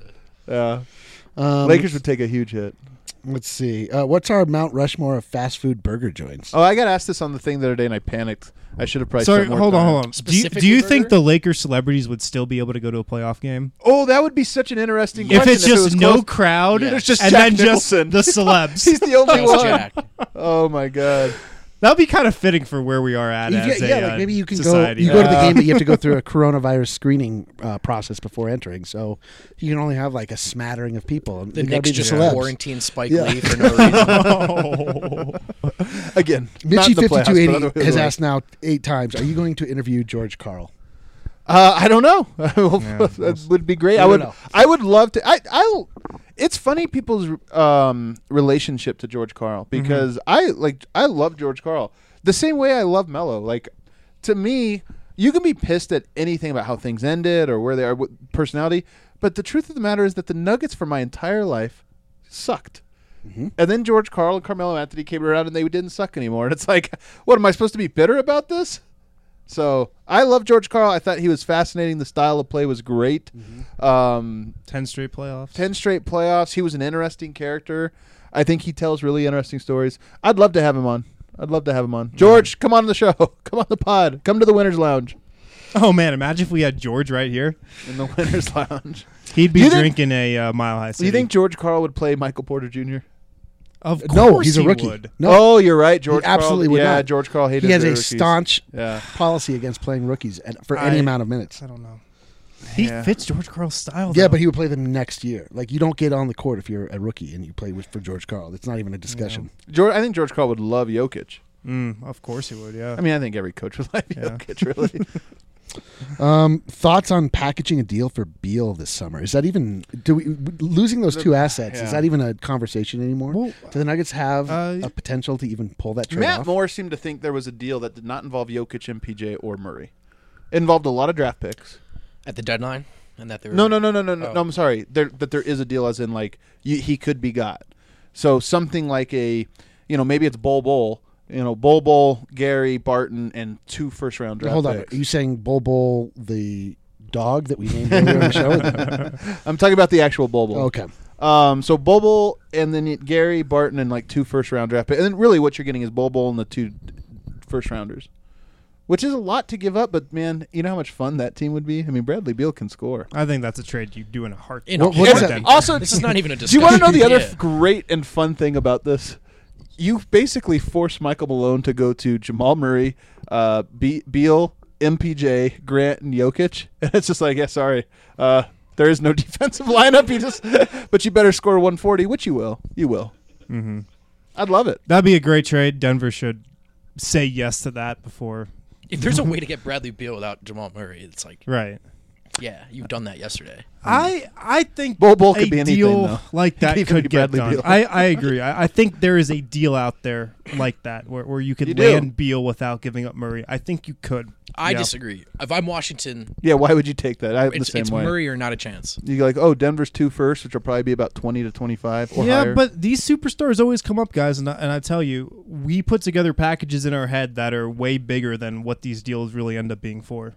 Speaker 1: Yeah.
Speaker 4: Um,
Speaker 1: Lakers would take a huge hit.
Speaker 4: Let's see. Uh, what's our Mount Rushmore of fast food burger joints?
Speaker 1: Oh, I got asked this on the thing the other day, and I panicked. I should have probably.
Speaker 2: Sorry,
Speaker 1: spent more
Speaker 2: hold on,
Speaker 1: time.
Speaker 2: hold on. Do you, do
Speaker 3: Specifically
Speaker 2: you think
Speaker 3: burger?
Speaker 2: the Lakers celebrities would still be able to go to a playoff game?
Speaker 1: Oh, that would be such an interesting
Speaker 2: If
Speaker 1: question.
Speaker 2: it's just
Speaker 1: was
Speaker 2: no
Speaker 1: close.
Speaker 2: crowd,
Speaker 3: Yeah.
Speaker 1: There's just
Speaker 2: and
Speaker 1: Jack
Speaker 2: then just
Speaker 1: Nicholson.
Speaker 2: the celebs.
Speaker 1: He's the only
Speaker 3: Just
Speaker 1: one.
Speaker 3: Jack.
Speaker 1: Oh my god.
Speaker 2: That'd be kind of fitting for where we are at
Speaker 4: You
Speaker 2: as
Speaker 4: get-
Speaker 2: a
Speaker 4: yeah,
Speaker 2: uh,
Speaker 4: like maybe you can
Speaker 2: society.
Speaker 4: go. You go to the
Speaker 1: Yeah.
Speaker 4: game, but you have to go through a coronavirus screening uh, process before entering. So you can only have like a smattering of people. And
Speaker 3: The
Speaker 4: they gotta
Speaker 3: Knicks
Speaker 4: be the
Speaker 3: just
Speaker 4: celebs.
Speaker 3: quarantine Spike
Speaker 4: Yeah.
Speaker 3: Lee for no reason.
Speaker 1: Again, not
Speaker 4: Mitchie
Speaker 1: in the playoffs,
Speaker 4: fifty-two
Speaker 1: but
Speaker 4: eighty
Speaker 1: otherwise-
Speaker 4: has asked now eight times. Are you going to interview George Carl?
Speaker 1: Uh, I don't know.
Speaker 2: Yeah,
Speaker 1: that would be great.
Speaker 4: We
Speaker 1: I
Speaker 4: don't
Speaker 1: would.
Speaker 4: know.
Speaker 1: I would love to. I. I. It's funny people's um, relationship to George Carl because I like. I love George Carl the same way I love Melo. Like, to me, you can be pissed at anything about how things ended or where they are with personality, but the truth of the matter is that the Nuggets for my entire life sucked.
Speaker 4: Mm-hmm.
Speaker 1: And then George Carl and Carmelo Anthony came around and they didn't suck anymore. And it's like, what am I supposed to be bitter about this? So I love George Carl. I thought he was fascinating. The style of play was great.
Speaker 4: Mm-hmm.
Speaker 1: Um,
Speaker 2: ten straight playoffs.
Speaker 1: Ten straight playoffs. He was an interesting character. I think he tells really interesting stories. I'd love to have him on. I'd love to have him on. George, come on the show. Come on the pod. Come to the Winners Lounge.
Speaker 2: Oh man, imagine if we had George right here.
Speaker 1: In the Winners Lounge.
Speaker 2: He'd be
Speaker 1: You think-
Speaker 2: drinking a uh, Mile High
Speaker 1: Do
Speaker 2: City.
Speaker 1: you think George Carl would play Michael Porter Junior?
Speaker 2: Of course
Speaker 4: No, he's a
Speaker 2: he
Speaker 4: rookie.
Speaker 2: would.
Speaker 4: No,
Speaker 1: Oh, you're right. George
Speaker 4: he absolutely
Speaker 1: Carl.
Speaker 4: would
Speaker 1: yeah,
Speaker 4: not.
Speaker 1: George Carl hated
Speaker 4: he has
Speaker 1: the
Speaker 4: a
Speaker 1: rookies.
Speaker 4: staunch
Speaker 1: Yeah.
Speaker 4: policy against playing rookies and for
Speaker 2: I-
Speaker 4: any amount of minutes.
Speaker 2: I don't know. He
Speaker 1: Yeah.
Speaker 2: fits George Carl's style.
Speaker 4: Yeah,
Speaker 2: though.
Speaker 4: but he would play them next year. Like you don't get on the court if you're a rookie and you play with for George Carl. It's not even a discussion.
Speaker 1: George, I think George Carl would love Jokic.
Speaker 2: Mm, of course he would. Yeah.
Speaker 1: I mean, I think every coach would like
Speaker 2: Yeah.
Speaker 1: Jokic, really.
Speaker 4: Um, thoughts on packaging a deal for Beal this summer? Is that even do we losing those two assets?
Speaker 1: yeah.
Speaker 4: Is that even a conversation anymore?
Speaker 2: Well,
Speaker 4: do the Nuggets have
Speaker 2: uh,
Speaker 4: a potential to even pull that trade
Speaker 1: Matt
Speaker 4: off?
Speaker 1: Moore seemed to think there was a deal that did not involve Jokic, M P J, or Murray. It involved a lot of draft picks.
Speaker 3: At the deadline, and that they were
Speaker 1: No, no, no, no, no, no.
Speaker 3: Oh.
Speaker 1: no I'm sorry. There, that there is a deal, as in like you, he could be got. So something like a, you know, maybe it's Bol Bol. You know, Bol Bol, Gary Barton, and two first round draft
Speaker 4: Hold on.
Speaker 1: picks.
Speaker 4: Are you saying Bol Bol the dog that we named earlier in the show?
Speaker 1: I'm talking about the actual Bol Bol.
Speaker 4: Okay.
Speaker 1: Um, so Bol Bol and then you- Gary Barton and like two first round draft picks. And then really what you're getting is Bol Bol and the two first rounders, which is a lot to give up. But man, you know how much fun that team would be. I mean, Bradley Beal can score.
Speaker 2: I think that's a trade you do in a heartbeat.
Speaker 3: In a
Speaker 4: What- what's
Speaker 3: heartbeat.
Speaker 4: that?
Speaker 1: Also,
Speaker 3: This is not even a
Speaker 1: do
Speaker 3: discussion.
Speaker 1: you want to know the other
Speaker 3: Yeah.
Speaker 1: f- great and fun thing about this? You basically force Michael Malone to go to Jamal Murray, uh, Be- Beal, M P J, Grant, and Jokic, and it's just like, yeah, sorry, uh, there is no defensive lineup. You just, but you better score one forty, which you will. You will.
Speaker 2: Mm-hmm.
Speaker 1: I'd love it.
Speaker 2: That'd be a great trade. Denver should say yes to that before.
Speaker 3: If there's a way to get Bradley Beal without Jamal Murray, it's like,
Speaker 2: Right.
Speaker 3: yeah, you've done that yesterday.
Speaker 2: I I think
Speaker 1: Bol Bol
Speaker 2: a
Speaker 1: could be anything,
Speaker 2: deal
Speaker 1: though.
Speaker 2: like that
Speaker 1: Could even
Speaker 2: could
Speaker 1: be
Speaker 2: get
Speaker 1: Bradley
Speaker 2: done.
Speaker 1: Beal.
Speaker 2: I, I agree. I, I think there is a deal out there like that where, where you could
Speaker 1: You do.
Speaker 2: land Beal without giving up Murray. I think you could.
Speaker 3: I
Speaker 2: Yeah.
Speaker 3: disagree. If I'm Washington,
Speaker 1: Yeah, why would you take that? I'm the
Speaker 3: it's,
Speaker 1: same
Speaker 3: it's
Speaker 1: way.
Speaker 3: Murray or not a chance.
Speaker 1: You go like, oh, Denver's two first, which will probably be about twenty to twenty-five or
Speaker 2: yeah,
Speaker 1: higher.
Speaker 2: but these superstars always come up, guys, and I, and I tell you, we put together packages in our head that are way bigger than what these deals really end up being for.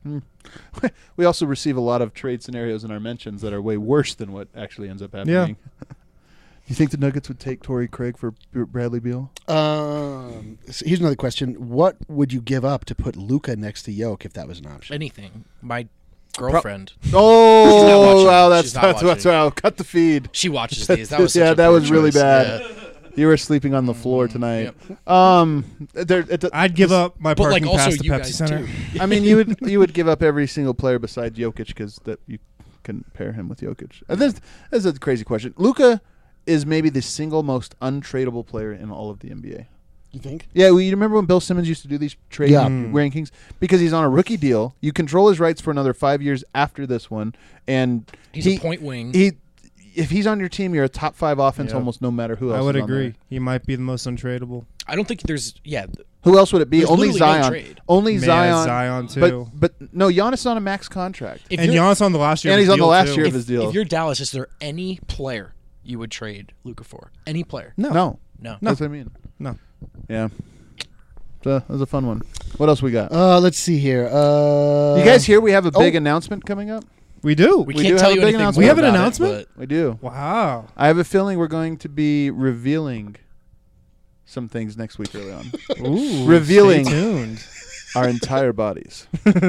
Speaker 1: we also receive a lot of trade scenarios in our mentions that are way worse than what actually ends up happening.
Speaker 2: Yeah.
Speaker 1: You think the Nuggets would take Torrey Craig for B- Bradley Beal?
Speaker 4: Um, so here's another question: what would you give up to put Luca next to Yoke if that was an option?
Speaker 3: Anything. My girlfriend,
Speaker 1: Oh,
Speaker 3: watching.
Speaker 1: wow, that's
Speaker 3: She's not
Speaker 1: that's, that's
Speaker 3: watching.
Speaker 1: wow. Cut the feed.
Speaker 3: she watches these. That was such
Speaker 1: yeah,
Speaker 3: a
Speaker 1: that
Speaker 3: poor
Speaker 1: was really
Speaker 3: choice.
Speaker 1: bad.
Speaker 3: Yeah.
Speaker 1: You were sleeping on the floor tonight.
Speaker 3: Yep.
Speaker 1: Um, there. It,
Speaker 2: I'd give up my
Speaker 3: But like
Speaker 2: parking
Speaker 3: also
Speaker 2: pass to
Speaker 3: you
Speaker 2: Pepsi
Speaker 3: guys
Speaker 2: Center.
Speaker 3: too.
Speaker 1: I mean, you would you would give up every single player besides Jokic because that you can pair him with Jokic. And this, this is a crazy question. Luka is maybe the single most untradeable player in all of the N B A.
Speaker 4: You think?
Speaker 1: Yeah, well, you remember when Bill Simmons used to do these trade
Speaker 4: Yeah.
Speaker 2: Mm.
Speaker 1: rankings? Because he's on a rookie deal. You control his rights for another five years after this one. And
Speaker 3: He's
Speaker 1: he,
Speaker 3: a point wing.
Speaker 1: He, if he's on your team, you're a top five offense
Speaker 2: Yeah.
Speaker 1: almost no matter who else
Speaker 2: I would
Speaker 1: is on
Speaker 2: agree.
Speaker 1: there.
Speaker 2: He might be the most untradeable.
Speaker 3: I don't think there's. Yeah, th-
Speaker 1: Who else would it be?
Speaker 3: There's
Speaker 1: Only
Speaker 3: literally no
Speaker 1: Zion.
Speaker 3: trade.
Speaker 1: Only
Speaker 2: Man,
Speaker 1: Zion.
Speaker 2: Zion too.
Speaker 1: But, but no, Giannis is on a max contract.
Speaker 3: if
Speaker 2: and
Speaker 3: you're,
Speaker 2: Giannis on the last year.
Speaker 1: And
Speaker 2: of his
Speaker 1: he's on the
Speaker 2: deal,
Speaker 1: last
Speaker 2: too.
Speaker 1: year of
Speaker 3: if,
Speaker 1: his deal.
Speaker 3: if you're Dallas, is there any player you would trade Luka for? Any player?
Speaker 2: No.
Speaker 1: No.
Speaker 3: No.
Speaker 1: That's what I mean.
Speaker 2: No.
Speaker 1: Yeah. So that was a fun one. What else we got?
Speaker 4: Uh, let's see here. Uh,
Speaker 1: you guys hear we have a big
Speaker 4: oh.
Speaker 1: announcement coming up?
Speaker 2: We do.
Speaker 3: We,
Speaker 1: We
Speaker 3: can't
Speaker 1: do
Speaker 3: tell
Speaker 1: have a
Speaker 3: you
Speaker 1: big
Speaker 3: anything.
Speaker 1: announcement.
Speaker 3: more
Speaker 2: We have an
Speaker 3: about it,
Speaker 2: announcement?
Speaker 3: but
Speaker 1: We do.
Speaker 2: Wow.
Speaker 1: I have a feeling we're going to be revealing some things next week early on.
Speaker 2: Ooh.
Speaker 1: Revealing.
Speaker 2: Stay tuned.
Speaker 1: Our entire bodies.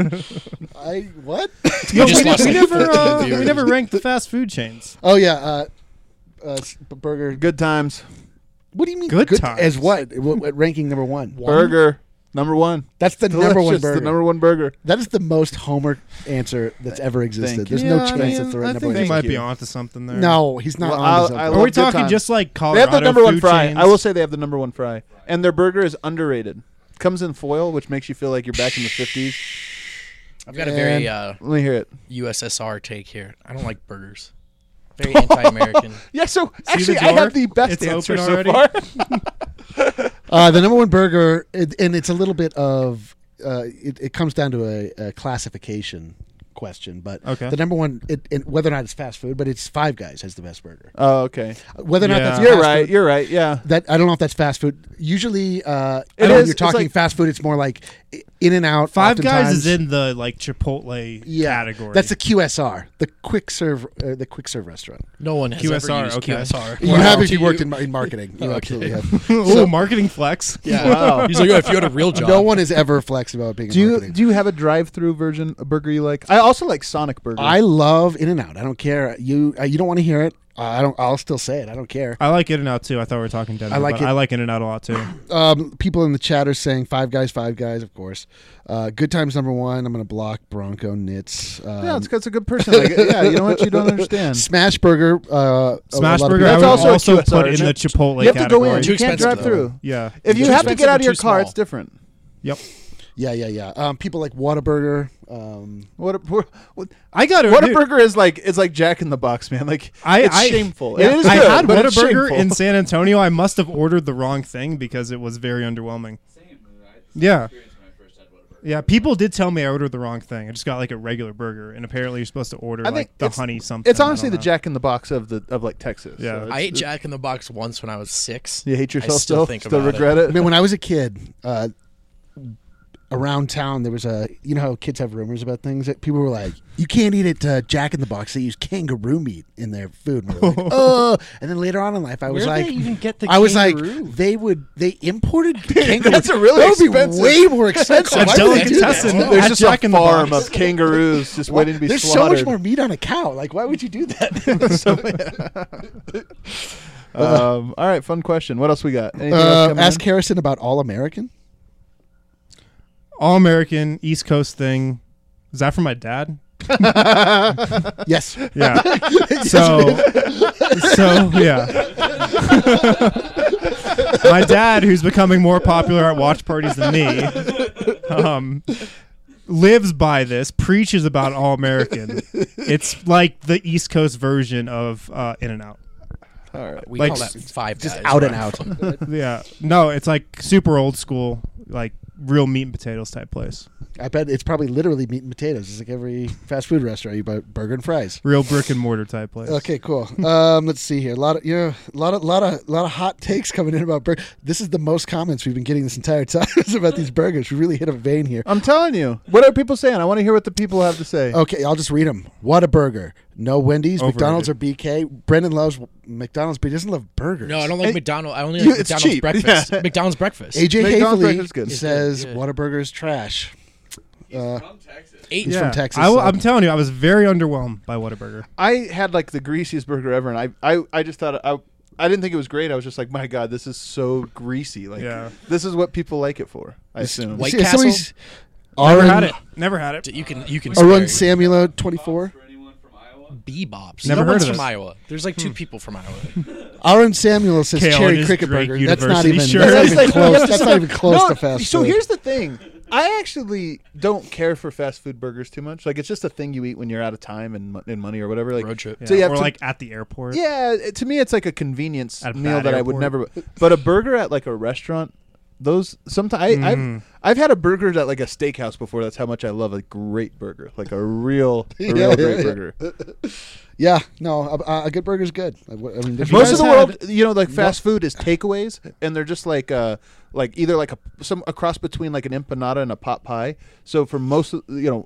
Speaker 4: I what?
Speaker 3: You just
Speaker 2: we,
Speaker 3: lost
Speaker 2: we
Speaker 3: like
Speaker 2: never,
Speaker 3: fourteen
Speaker 2: uh, we
Speaker 3: viewers.
Speaker 2: never ranked the fast food chains.
Speaker 4: Oh yeah, uh, uh, s- b- burger.
Speaker 1: Good times.
Speaker 4: What do you mean
Speaker 2: Good times.
Speaker 4: as what? what? What ranking number one?
Speaker 1: Burger. Number one.
Speaker 4: That's the number one
Speaker 1: Delicious,
Speaker 4: burger.
Speaker 1: The number one burger.
Speaker 4: That is the most Homer answer that's ever existed.
Speaker 1: Thank
Speaker 4: There's
Speaker 1: you.
Speaker 4: no
Speaker 1: Yeah, I
Speaker 4: chance
Speaker 1: mean,
Speaker 4: that's the
Speaker 1: I
Speaker 4: right number
Speaker 1: think
Speaker 4: one.
Speaker 2: You might be
Speaker 1: you.
Speaker 2: onto something there.
Speaker 4: No, he's not
Speaker 1: Well,
Speaker 4: on
Speaker 1: I'll-
Speaker 4: to
Speaker 1: I
Speaker 4: something.
Speaker 2: Are
Speaker 1: love
Speaker 2: we
Speaker 1: good
Speaker 2: talking
Speaker 1: times.
Speaker 2: just like
Speaker 1: They
Speaker 2: Colorado
Speaker 1: have the number one
Speaker 2: food
Speaker 1: fry.
Speaker 2: chains?
Speaker 1: I will say they have the number one fry. And their burger is underrated. Comes in foil, which makes you feel like you're back in the fifties.
Speaker 3: I've got a very
Speaker 4: And-
Speaker 3: uh,
Speaker 1: Let me hear it.
Speaker 3: U S S R take here. I don't like burgers. Very anti-American.
Speaker 1: Yeah, so
Speaker 2: See
Speaker 1: actually,
Speaker 2: the
Speaker 1: I
Speaker 2: door?
Speaker 1: have the best
Speaker 2: It's
Speaker 1: answer
Speaker 2: open
Speaker 1: so
Speaker 2: already?
Speaker 1: far.
Speaker 4: Uh, the number one burger, it, and it's a little bit of, uh, it, it comes down to a, a classification question, but
Speaker 2: Okay.
Speaker 4: the number one, it, it, whether or not it's fast food, but it's Five Guys has the best burger.
Speaker 1: Oh, okay.
Speaker 4: Whether or not
Speaker 2: Yeah.
Speaker 4: that's
Speaker 1: You're
Speaker 4: fast
Speaker 1: right.
Speaker 4: food,
Speaker 1: You're right. Yeah.
Speaker 4: that I don't know if that's fast food. Usually, uh, I
Speaker 1: It
Speaker 4: don't know
Speaker 1: is.
Speaker 4: if you're
Speaker 1: It's
Speaker 4: talking
Speaker 1: like-
Speaker 4: fast food. It's more like In and Out.
Speaker 2: Five Guys is
Speaker 4: oftentimes.
Speaker 2: in the like Chipotle
Speaker 4: yeah,
Speaker 2: category.
Speaker 4: That's the Q S R, the quick serve, uh, the quick serve restaurant.
Speaker 3: No one has
Speaker 2: Q S R,
Speaker 3: ever used
Speaker 2: okay.
Speaker 3: Q S R.
Speaker 4: You
Speaker 3: Wow.
Speaker 4: have if you
Speaker 3: To
Speaker 4: worked in, in marketing. You
Speaker 3: Okay.
Speaker 4: absolutely have.
Speaker 2: Ooh, marketing flex.
Speaker 3: Yeah.
Speaker 1: Wow.
Speaker 3: He's like, oh, if you had a real job.
Speaker 4: No one has ever flexed about being
Speaker 1: Do
Speaker 4: in
Speaker 1: you
Speaker 4: marketing.
Speaker 1: do you have a drive-through version a burger you like? I also like Sonic Burger.
Speaker 4: I love In and Out. I don't care. You uh, you don't want to hear it. Uh, I don't. I'll still say it. I don't care.
Speaker 2: I like In and Out too. I thought we were talking Denver.
Speaker 4: I like
Speaker 2: but
Speaker 4: it.
Speaker 2: I like In and Out a lot too.
Speaker 4: Um, people in the chat are saying Five Guys, Five Guys, of course. Uh, Good Times number one. I'm going to block Bronco Nits. Um,
Speaker 1: yeah, it's, it's a good person. Like, yeah, you know what? You don't understand.
Speaker 4: Smash Burger. Uh,
Speaker 2: Smash
Speaker 4: a lot of
Speaker 2: Burger.
Speaker 4: people-
Speaker 2: I
Speaker 1: That's
Speaker 2: would
Speaker 1: also
Speaker 2: also,
Speaker 1: a Q S R,
Speaker 2: put in
Speaker 1: isn't
Speaker 2: the
Speaker 1: it?
Speaker 2: Chipotle
Speaker 1: You have to go
Speaker 2: category.
Speaker 1: in.
Speaker 3: Too
Speaker 1: You can't
Speaker 3: expensive,
Speaker 1: drive through.
Speaker 3: though.
Speaker 2: Yeah.
Speaker 1: If you
Speaker 3: Too
Speaker 1: have to get
Speaker 3: expensive
Speaker 1: out
Speaker 3: and
Speaker 1: of your
Speaker 3: too
Speaker 1: car,
Speaker 3: small.
Speaker 1: it's different.
Speaker 2: Yep.
Speaker 4: Yeah, yeah, yeah. Um, people like Whataburger. Um,
Speaker 1: What a what,
Speaker 2: I got it.
Speaker 1: what a burger is like. It's like Jack in the Box, man. Like
Speaker 2: I,
Speaker 1: it's
Speaker 2: I,
Speaker 1: shameful.
Speaker 2: yeah,
Speaker 1: it is
Speaker 2: I
Speaker 1: good,
Speaker 2: had
Speaker 1: but it's
Speaker 2: Whataburger
Speaker 1: shameful.
Speaker 2: in San Antonio. I must have ordered the wrong thing because it was very underwhelming. Yeah. Yeah, people did tell me I ordered the wrong thing. I just got like a regular burger, and apparently you're supposed to order
Speaker 1: I think
Speaker 2: like the
Speaker 1: it's-
Speaker 2: honey something.
Speaker 1: It's
Speaker 2: I
Speaker 1: honestly
Speaker 2: don't
Speaker 1: the
Speaker 2: know.
Speaker 1: Jack in the Box of the of like Texas.
Speaker 2: Yeah.
Speaker 1: So it's-
Speaker 3: I ate
Speaker 1: it's-
Speaker 3: Jack in the Box once when I was six.
Speaker 1: You hate yourself
Speaker 3: I still
Speaker 1: still?
Speaker 3: think
Speaker 1: still
Speaker 3: about
Speaker 1: regret
Speaker 3: it.
Speaker 1: it?
Speaker 4: I mean, when I was a kid, uh, around town there was a. You know how kids have rumors about things. That people were like, "You can't eat it, uh, Jack in the Box. They use kangaroo meat in their food." And we were like, "Oh!" And then later on in life, I was
Speaker 3: Where do
Speaker 4: like,
Speaker 3: they even get the
Speaker 4: I was
Speaker 3: kangaroo?
Speaker 4: like, they would they imported kangaroo.
Speaker 1: That's a really
Speaker 4: that would
Speaker 1: expensive-
Speaker 4: be way more expensive.
Speaker 2: A
Speaker 4: Why would they do
Speaker 2: delicatessen.
Speaker 4: that?
Speaker 1: There's
Speaker 2: At
Speaker 1: just
Speaker 2: Jack
Speaker 1: a
Speaker 2: in the
Speaker 1: farm
Speaker 2: Box.
Speaker 1: of kangaroos just waiting to be
Speaker 4: There's so
Speaker 1: slaughtered.
Speaker 4: much more meat on a cow. Like, why would you do that?
Speaker 1: um, all right, fun question. What else we got? Anything else
Speaker 4: uh,
Speaker 1: coming
Speaker 4: ask
Speaker 1: in?
Speaker 4: Harrison about All American.
Speaker 2: All American East Coast thing. Is that for my dad?
Speaker 4: Yes.
Speaker 2: Yeah. So, so yeah. My dad, who's becoming more popular at watch parties than me, um, lives by this, preaches about All American. It's like the East Coast version of uh, In and Out.
Speaker 1: All right.
Speaker 3: We
Speaker 2: Like,
Speaker 3: call that Five
Speaker 4: Just
Speaker 3: Guys.
Speaker 4: out and
Speaker 3: right?
Speaker 4: out.
Speaker 2: Yeah. No, it's like super old school, like real meat and potatoes type place.
Speaker 4: I bet it's probably literally meat and potatoes. It's like every fast food restaurant. You buy burger and fries.
Speaker 2: Real brick and mortar type place.
Speaker 4: Okay, cool. Um, let's see here. A lot of you know, a lot of, lot of, lot of hot takes coming in about burger. This is the most comments we've been getting this entire time is about these burgers. We really hit a vein here.
Speaker 1: I'm telling you. What are people saying? I want to hear what the people have to say.
Speaker 4: Okay, I'll just read them. What a burger. No Wendy's,
Speaker 2: Overrated.
Speaker 4: McDonald's, or B K. Brendan loves McDonald's, but he doesn't love burgers.
Speaker 3: No, I don't like
Speaker 1: Hey,
Speaker 3: McDonald's. I only
Speaker 1: you-
Speaker 3: like
Speaker 1: it's
Speaker 3: McDonald's
Speaker 1: cheap.
Speaker 3: breakfast.
Speaker 1: Yeah.
Speaker 3: McDonald's breakfast.
Speaker 4: A J
Speaker 1: McDonald's
Speaker 4: Hayfley
Speaker 1: breakfast is good.
Speaker 4: says
Speaker 3: Yeah.
Speaker 4: Whataburger is trash. Uh,
Speaker 3: Eight.
Speaker 4: He's from Texas,
Speaker 2: I,
Speaker 4: so-
Speaker 2: am telling you, I was very underwhelmed by Whataburger.
Speaker 1: I had like the greasiest burger ever, and I, I, I just thought I, I didn't think it was great. I was just like, my God, this is so greasy. Like,
Speaker 2: Yeah.
Speaker 1: this is what people like it for. I assume.
Speaker 3: White
Speaker 4: see,
Speaker 3: Castle?
Speaker 4: somebody's-
Speaker 2: Never
Speaker 4: Arun-
Speaker 2: had it. Never had it.
Speaker 3: You can you can
Speaker 4: Arun
Speaker 3: spare
Speaker 4: Samuela, twenty-four.
Speaker 3: Bebops.
Speaker 2: Never
Speaker 3: no
Speaker 2: heard
Speaker 3: one's
Speaker 2: of
Speaker 3: from
Speaker 2: this.
Speaker 3: Iowa. There's like two people from Iowa.
Speaker 4: Aaron Samuel says
Speaker 2: Kale and
Speaker 4: cherry
Speaker 2: his
Speaker 4: cricket
Speaker 2: Drake
Speaker 4: burger. That's not
Speaker 2: University
Speaker 4: even.
Speaker 2: shirt.
Speaker 4: That's
Speaker 1: It's
Speaker 4: not
Speaker 1: like,
Speaker 4: even
Speaker 1: you have
Speaker 4: close.
Speaker 1: to
Speaker 4: That's
Speaker 1: stop-
Speaker 4: not even close
Speaker 1: No,
Speaker 4: to fast
Speaker 1: So
Speaker 4: food.
Speaker 1: here's the thing. I actually don't care for fast food burgers too much. Like, it's just a thing you eat when you're out of time and, mo- and money or whatever. Like,
Speaker 3: Road trip.
Speaker 2: Yeah,
Speaker 1: So you have
Speaker 2: or
Speaker 1: to-
Speaker 2: like at the airport.
Speaker 1: yeah, it- to me, it's like a convenience
Speaker 2: At a
Speaker 1: meal
Speaker 2: bad
Speaker 1: that I would
Speaker 2: airport.
Speaker 1: never. But a burger at like a restaurant, those sometimes I,
Speaker 2: Mhm.
Speaker 1: I've I've had a burger at like a steakhouse before. That's how much I love a great burger, like a real, a
Speaker 4: Yeah,
Speaker 1: real
Speaker 4: yeah,
Speaker 1: great
Speaker 4: yeah.
Speaker 1: burger.
Speaker 4: Yeah, no, a, a good burger's good. I, I mean, there's-
Speaker 2: you
Speaker 1: Most
Speaker 2: guys
Speaker 1: of the
Speaker 2: had-
Speaker 1: world, you know, like fast food is takeaways, and they're just like, uh, like either like a some a cross between like an empanada and a pot pie. So for most, of, you know,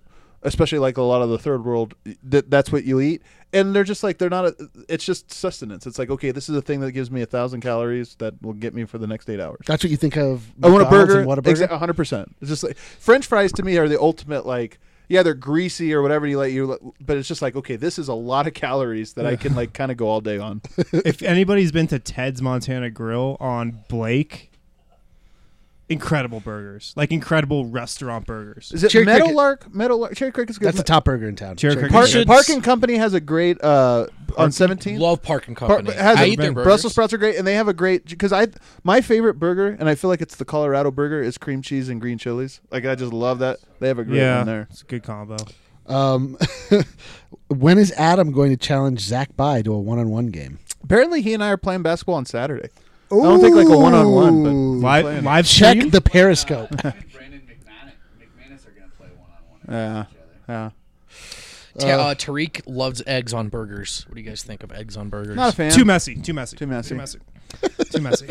Speaker 1: especially like a lot of the third world, that that's what you eat. And they're just like, they're not, a, it's just sustenance. It's like, okay, this is a thing that gives me a thousand calories that will get me for the next eight hours.
Speaker 4: That's what you think of.
Speaker 1: I want a
Speaker 4: McDonald's
Speaker 1: burger.
Speaker 4: and What a burger.
Speaker 1: Exa- one hundred percent. It's just like, French fries to me are the ultimate, like, yeah, they're greasy or whatever you like, you, but it's just like, okay, this is a lot of calories that I can like kind of go all day on.
Speaker 2: If anybody's been to Ted's Montana Grill on Blake, incredible burgers, like incredible restaurant burgers.
Speaker 1: Is it
Speaker 4: Cherry Cricket.
Speaker 1: Meadowlark? Meadowlark. Cherry Cricket's good.
Speaker 4: That's the top burger in town.
Speaker 2: Cherry
Speaker 4: Cherry
Speaker 2: Cricket.
Speaker 1: Park,
Speaker 3: Should-
Speaker 1: Park and Company has a great uh, on seventeenth.
Speaker 3: Love Park and
Speaker 1: Par-
Speaker 3: Company.
Speaker 1: has
Speaker 3: I
Speaker 1: a-
Speaker 3: eat their burgers.
Speaker 1: Brussels sprouts are great, and they have a great because I my favorite burger, and I feel like it's the Colorado burger, is cream cheese and green chilies. Like I just love that. They have a great
Speaker 2: Yeah,
Speaker 1: one there.
Speaker 2: it's a good combo.
Speaker 4: Um, when is Adam going to challenge Zach By to a one-on-one game?
Speaker 1: Apparently, he and I are playing basketball on Saturday. I don't think like a one-on-one, but
Speaker 4: Ooh.
Speaker 2: Live,
Speaker 1: playing.
Speaker 2: live
Speaker 4: Check
Speaker 2: stream?
Speaker 4: the Periscope.
Speaker 5: Brandon McManus, McManus are going to play one-on-one
Speaker 1: Yeah,
Speaker 5: against each other.
Speaker 1: yeah.
Speaker 3: Ta- uh, Tariq loves eggs on burgers. What do you guys think of eggs on burgers?
Speaker 1: Not a fan.
Speaker 2: Too messy. Too messy.
Speaker 1: Too messy.
Speaker 2: Too messy. Too messy.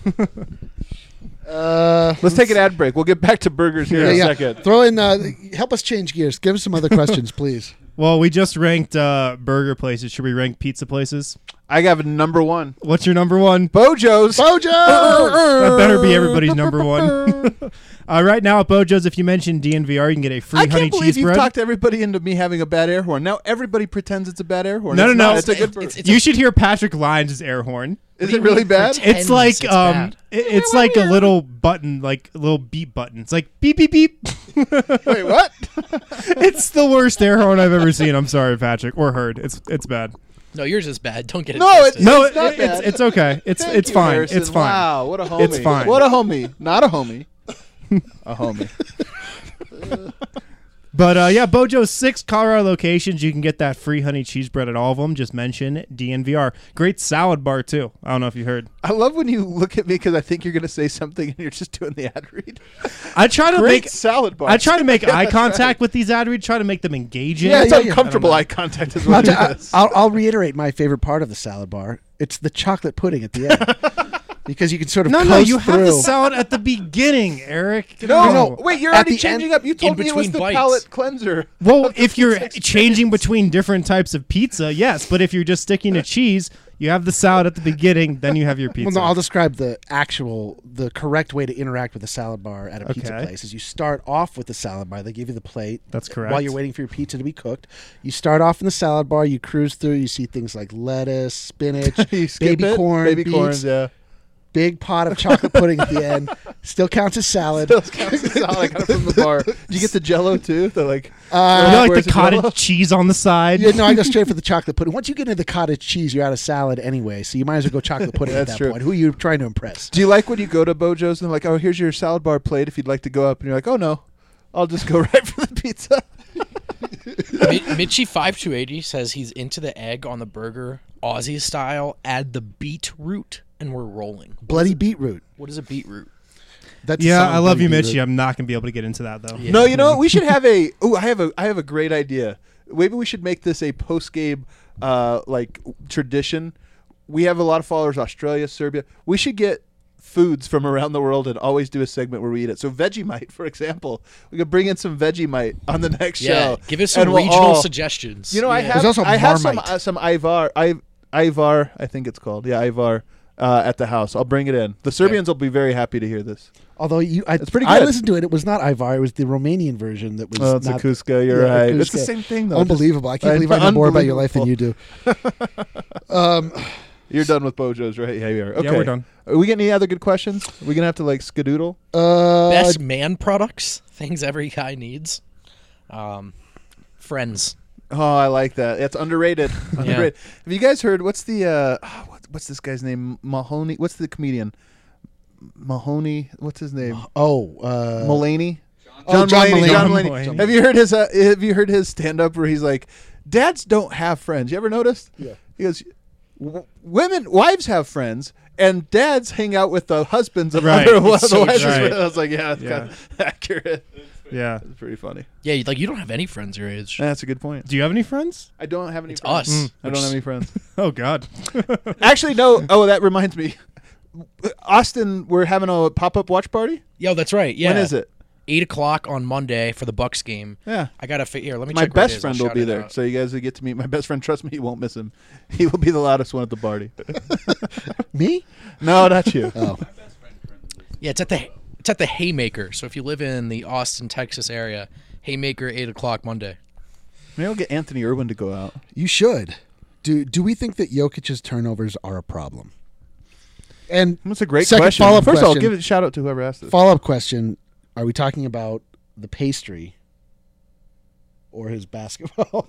Speaker 4: Uh,
Speaker 1: Let's take an ad break. We'll get back to burgers here
Speaker 4: yeah,
Speaker 1: in a
Speaker 4: yeah.
Speaker 1: second.
Speaker 4: Throw in. Uh, help us change gears. Give us some other questions, please.
Speaker 2: Well, we just ranked uh, burger places. Should we rank pizza places?
Speaker 1: I have number one,
Speaker 2: What's your number one?
Speaker 1: Bojo's.
Speaker 4: Bojo.
Speaker 2: That better be everybody's number one. uh, right now at Bojo's, if you mention D N V R, you can get a free
Speaker 1: I
Speaker 2: honey
Speaker 1: can't believe
Speaker 2: cheese
Speaker 1: you've
Speaker 2: bread.
Speaker 1: talked everybody into me having a bad air horn. Now everybody pretends it's a bad air horn.
Speaker 2: No,
Speaker 1: It's
Speaker 2: no,
Speaker 1: not.
Speaker 2: no.
Speaker 1: It's a good.
Speaker 3: It's- it's-
Speaker 2: You should hear Patrick Lyons' air horn.
Speaker 1: Is
Speaker 3: What do
Speaker 1: it
Speaker 3: you
Speaker 1: really
Speaker 3: mean
Speaker 1: bad?
Speaker 3: pretend?
Speaker 2: It's like
Speaker 3: it's
Speaker 2: um,
Speaker 3: bad.
Speaker 2: it- it's like a little button, like a little beep button. It's like beep beep beep.
Speaker 1: Wait, what?
Speaker 2: It's the worst air horn I've ever seen. I'm sorry, Patrick, or heard. It's it's bad.
Speaker 3: No, yours is bad. Don't get it.
Speaker 1: No,
Speaker 3: twisted.
Speaker 1: it's-
Speaker 2: No,
Speaker 1: It's not
Speaker 2: it- it's
Speaker 1: bad.
Speaker 2: it's okay. It's
Speaker 1: Thank
Speaker 2: it's
Speaker 1: you,
Speaker 2: fine.
Speaker 1: Harrison.
Speaker 2: It's fine.
Speaker 1: Wow, what a homie.
Speaker 2: It's fine.
Speaker 1: What a homie. Not a homie. A homie.
Speaker 2: But uh, yeah, Bojo's six Colorado locations. You can get that free honey cheese bread at all of them. Just mention D N V R. Great salad bar too. I don't know if you heard.
Speaker 1: I love when you look at me because I think you're going to say something and you're just doing the ad read.
Speaker 2: I try to
Speaker 1: Great
Speaker 2: make
Speaker 1: salad bar.
Speaker 2: I try to make
Speaker 1: Yeah,
Speaker 2: eye
Speaker 1: that's
Speaker 2: contact
Speaker 1: right.
Speaker 2: with these ad reads. Try to make them engaging.
Speaker 1: Yeah, it's
Speaker 4: yeah, yeah.
Speaker 1: uncomfortable
Speaker 2: I don't
Speaker 1: eye contact is
Speaker 4: I'll,
Speaker 1: what
Speaker 4: t-
Speaker 1: it is.
Speaker 4: I'll, I'll reiterate my favorite part of the salad bar. It's the chocolate pudding at the end. Because you can sort of
Speaker 2: No,
Speaker 4: coast
Speaker 2: no, you have the
Speaker 4: through.
Speaker 2: salad at the beginning, Eric.
Speaker 1: No,
Speaker 4: No.
Speaker 1: wait, you're
Speaker 4: At
Speaker 1: already
Speaker 4: the
Speaker 1: changing
Speaker 4: end-
Speaker 1: up. You told
Speaker 3: in
Speaker 1: me it was
Speaker 3: between
Speaker 1: the
Speaker 3: bites.
Speaker 1: palate cleanser.
Speaker 2: Well,
Speaker 1: of the
Speaker 2: if you're
Speaker 1: pizza experience.
Speaker 2: changing between different types of pizza, yes. But if you're just sticking to cheese, you have the salad at the beginning, then you have your
Speaker 4: Well,
Speaker 2: pizza.
Speaker 4: no, I'll describe the actual, the correct way to interact with a salad bar at a pizza
Speaker 2: Okay.
Speaker 4: place is you start off with the salad bar. They give you the plate.
Speaker 2: That's correct.
Speaker 4: While you're waiting for your pizza to be cooked, you start off in the salad bar. You cruise through. You see things like lettuce, spinach,
Speaker 1: You skip
Speaker 4: baby
Speaker 1: it,
Speaker 4: corn,
Speaker 1: baby
Speaker 4: beets,
Speaker 1: corn, yeah.
Speaker 4: big pot of chocolate pudding at the end. Still counts as salad.
Speaker 1: Still counts as salad. I got it from the bar. Did you get the Jello too? The like.
Speaker 4: Uh,
Speaker 2: you know, like
Speaker 1: Where's
Speaker 2: the
Speaker 1: the
Speaker 2: cottage
Speaker 1: Jell-O?
Speaker 2: cheese on the side.
Speaker 4: Yeah, no, I go straight for the chocolate pudding. Once you get into the cottage cheese, you're out of salad anyway, so you might as well go chocolate pudding at
Speaker 1: That's
Speaker 4: that
Speaker 1: true.
Speaker 4: point. Who are you trying to impress?
Speaker 1: Do you like when you go to Bojo's and they're like, oh, here's your salad bar plate if you'd like to go up, and you're like, oh no, I'll just go right for the pizza.
Speaker 3: Mi- Mitchie five two eighty says he's into the egg on the burger, Aussie style. Add the beetroot, and we're rolling.
Speaker 4: Bloody beetroot.
Speaker 3: What is a beetroot?
Speaker 4: That's the
Speaker 2: Yeah,
Speaker 4: song,
Speaker 2: I love
Speaker 4: Bloody
Speaker 2: you,
Speaker 4: Beetroot.
Speaker 2: Mitchie. I'm not gonna be able to get into that though.
Speaker 3: Yeah.
Speaker 1: No, you know what? We should have a. Oh, I have a. I have a great idea. Maybe we should make this a post game, uh, like tradition. We have a lot of followers, Australia, Serbia. We should get foods from around the world and always do a segment where we eat it. So Vegemite, for example, we could bring in some Vegemite on the next
Speaker 3: Yeah,
Speaker 1: show.
Speaker 3: give us some
Speaker 1: and we'll
Speaker 3: regional
Speaker 1: all-
Speaker 3: suggestions.
Speaker 1: You know, I
Speaker 3: Yeah.
Speaker 1: have.
Speaker 4: There's also
Speaker 1: I have some
Speaker 4: Marmite.
Speaker 1: uh, some Ivar, I, Ivar, I think it's called. Yeah, Ivar. Uh, at the house, I'll bring it in. The Serbians will be very happy to hear this.
Speaker 4: Although you, I,
Speaker 1: It's pretty
Speaker 4: I
Speaker 1: good.
Speaker 4: listened to it. It was not Ivar. It was the Romanian version that was.
Speaker 1: Oh, it's a
Speaker 4: not,
Speaker 1: Kuska. You're
Speaker 4: yeah,
Speaker 1: right.
Speaker 4: Kuska.
Speaker 1: It's the same thing, though.
Speaker 4: Unbelievable! I
Speaker 1: Just-
Speaker 4: can't believe I know more about your life than you
Speaker 1: Unbelievable.
Speaker 4: do. um,
Speaker 1: You're done with Bojo's, right? Yeah, you are. Okay.
Speaker 2: Yeah, we're done.
Speaker 1: Are we getting any other good questions? Are we gonna have to like skadoodle?
Speaker 4: uh,
Speaker 3: Best man products, things every guy needs. Um, friends.
Speaker 1: Oh, I like that. It's underrated. underrated. Have you guys heard? What's the uh, oh, what, what's this guy's name? Mahoney. What's the comedian? Mahoney. What's his name?
Speaker 4: oh, uh,
Speaker 1: Mulaney.
Speaker 4: Oh, John
Speaker 1: Mulaney.
Speaker 4: Mulaney.
Speaker 1: John
Speaker 2: John
Speaker 1: Mulaney.
Speaker 2: Mulaney.
Speaker 1: Have you heard his? Uh, have you heard his stand up where he's like, "Dads don't have friends." You ever noticed?
Speaker 4: Yeah.
Speaker 1: He goes, w- "Women, wives have friends." And dads hang out with the husbands of
Speaker 2: Right.
Speaker 1: other
Speaker 2: It's
Speaker 1: the
Speaker 2: so
Speaker 1: wives.
Speaker 2: true.
Speaker 1: I was like, yeah, that's
Speaker 2: Yeah.
Speaker 1: kind of accurate.
Speaker 2: Yeah.
Speaker 1: It's pretty funny.
Speaker 3: Yeah, you- like you don't have any friends your age.
Speaker 1: That's a good point.
Speaker 2: Do you have any friends?
Speaker 1: I don't have any
Speaker 3: It's
Speaker 1: friends.
Speaker 3: us.
Speaker 1: I don't have any friends.
Speaker 2: Oh God.
Speaker 1: Actually, no. Oh, that reminds me. Austin, we're having a pop-up watch party.
Speaker 3: Yo, that's right. Yeah.
Speaker 1: When is it?
Speaker 3: eight o'clock on Monday for the Bucks game.
Speaker 1: Yeah.
Speaker 3: I gotta fit here. Let me
Speaker 1: My
Speaker 3: check. where it
Speaker 1: best
Speaker 3: is.
Speaker 1: friend
Speaker 3: I'll
Speaker 1: will
Speaker 3: shout
Speaker 1: be
Speaker 3: it
Speaker 1: there,
Speaker 3: out.
Speaker 1: so you guys will get to meet my best friend. Trust me, you won't miss him. He will be the loudest one at the party.
Speaker 4: Me?
Speaker 1: No, not you.
Speaker 4: Oh,
Speaker 3: Yeah, it's at the it's at the Haymaker. So if you live in the Austin, Texas area, Haymaker, eight o'clock Monday.
Speaker 1: Maybe I'll get Anthony Irwin to go out.
Speaker 4: you should. Do Do we think that Jokic's turnovers are a problem? And
Speaker 1: That's a great
Speaker 4: Second
Speaker 1: question.
Speaker 4: follow-up
Speaker 1: First of all,
Speaker 4: question.
Speaker 1: give a shout out to whoever asked this.
Speaker 4: follow up question: are we talking about the pastry or his basketball?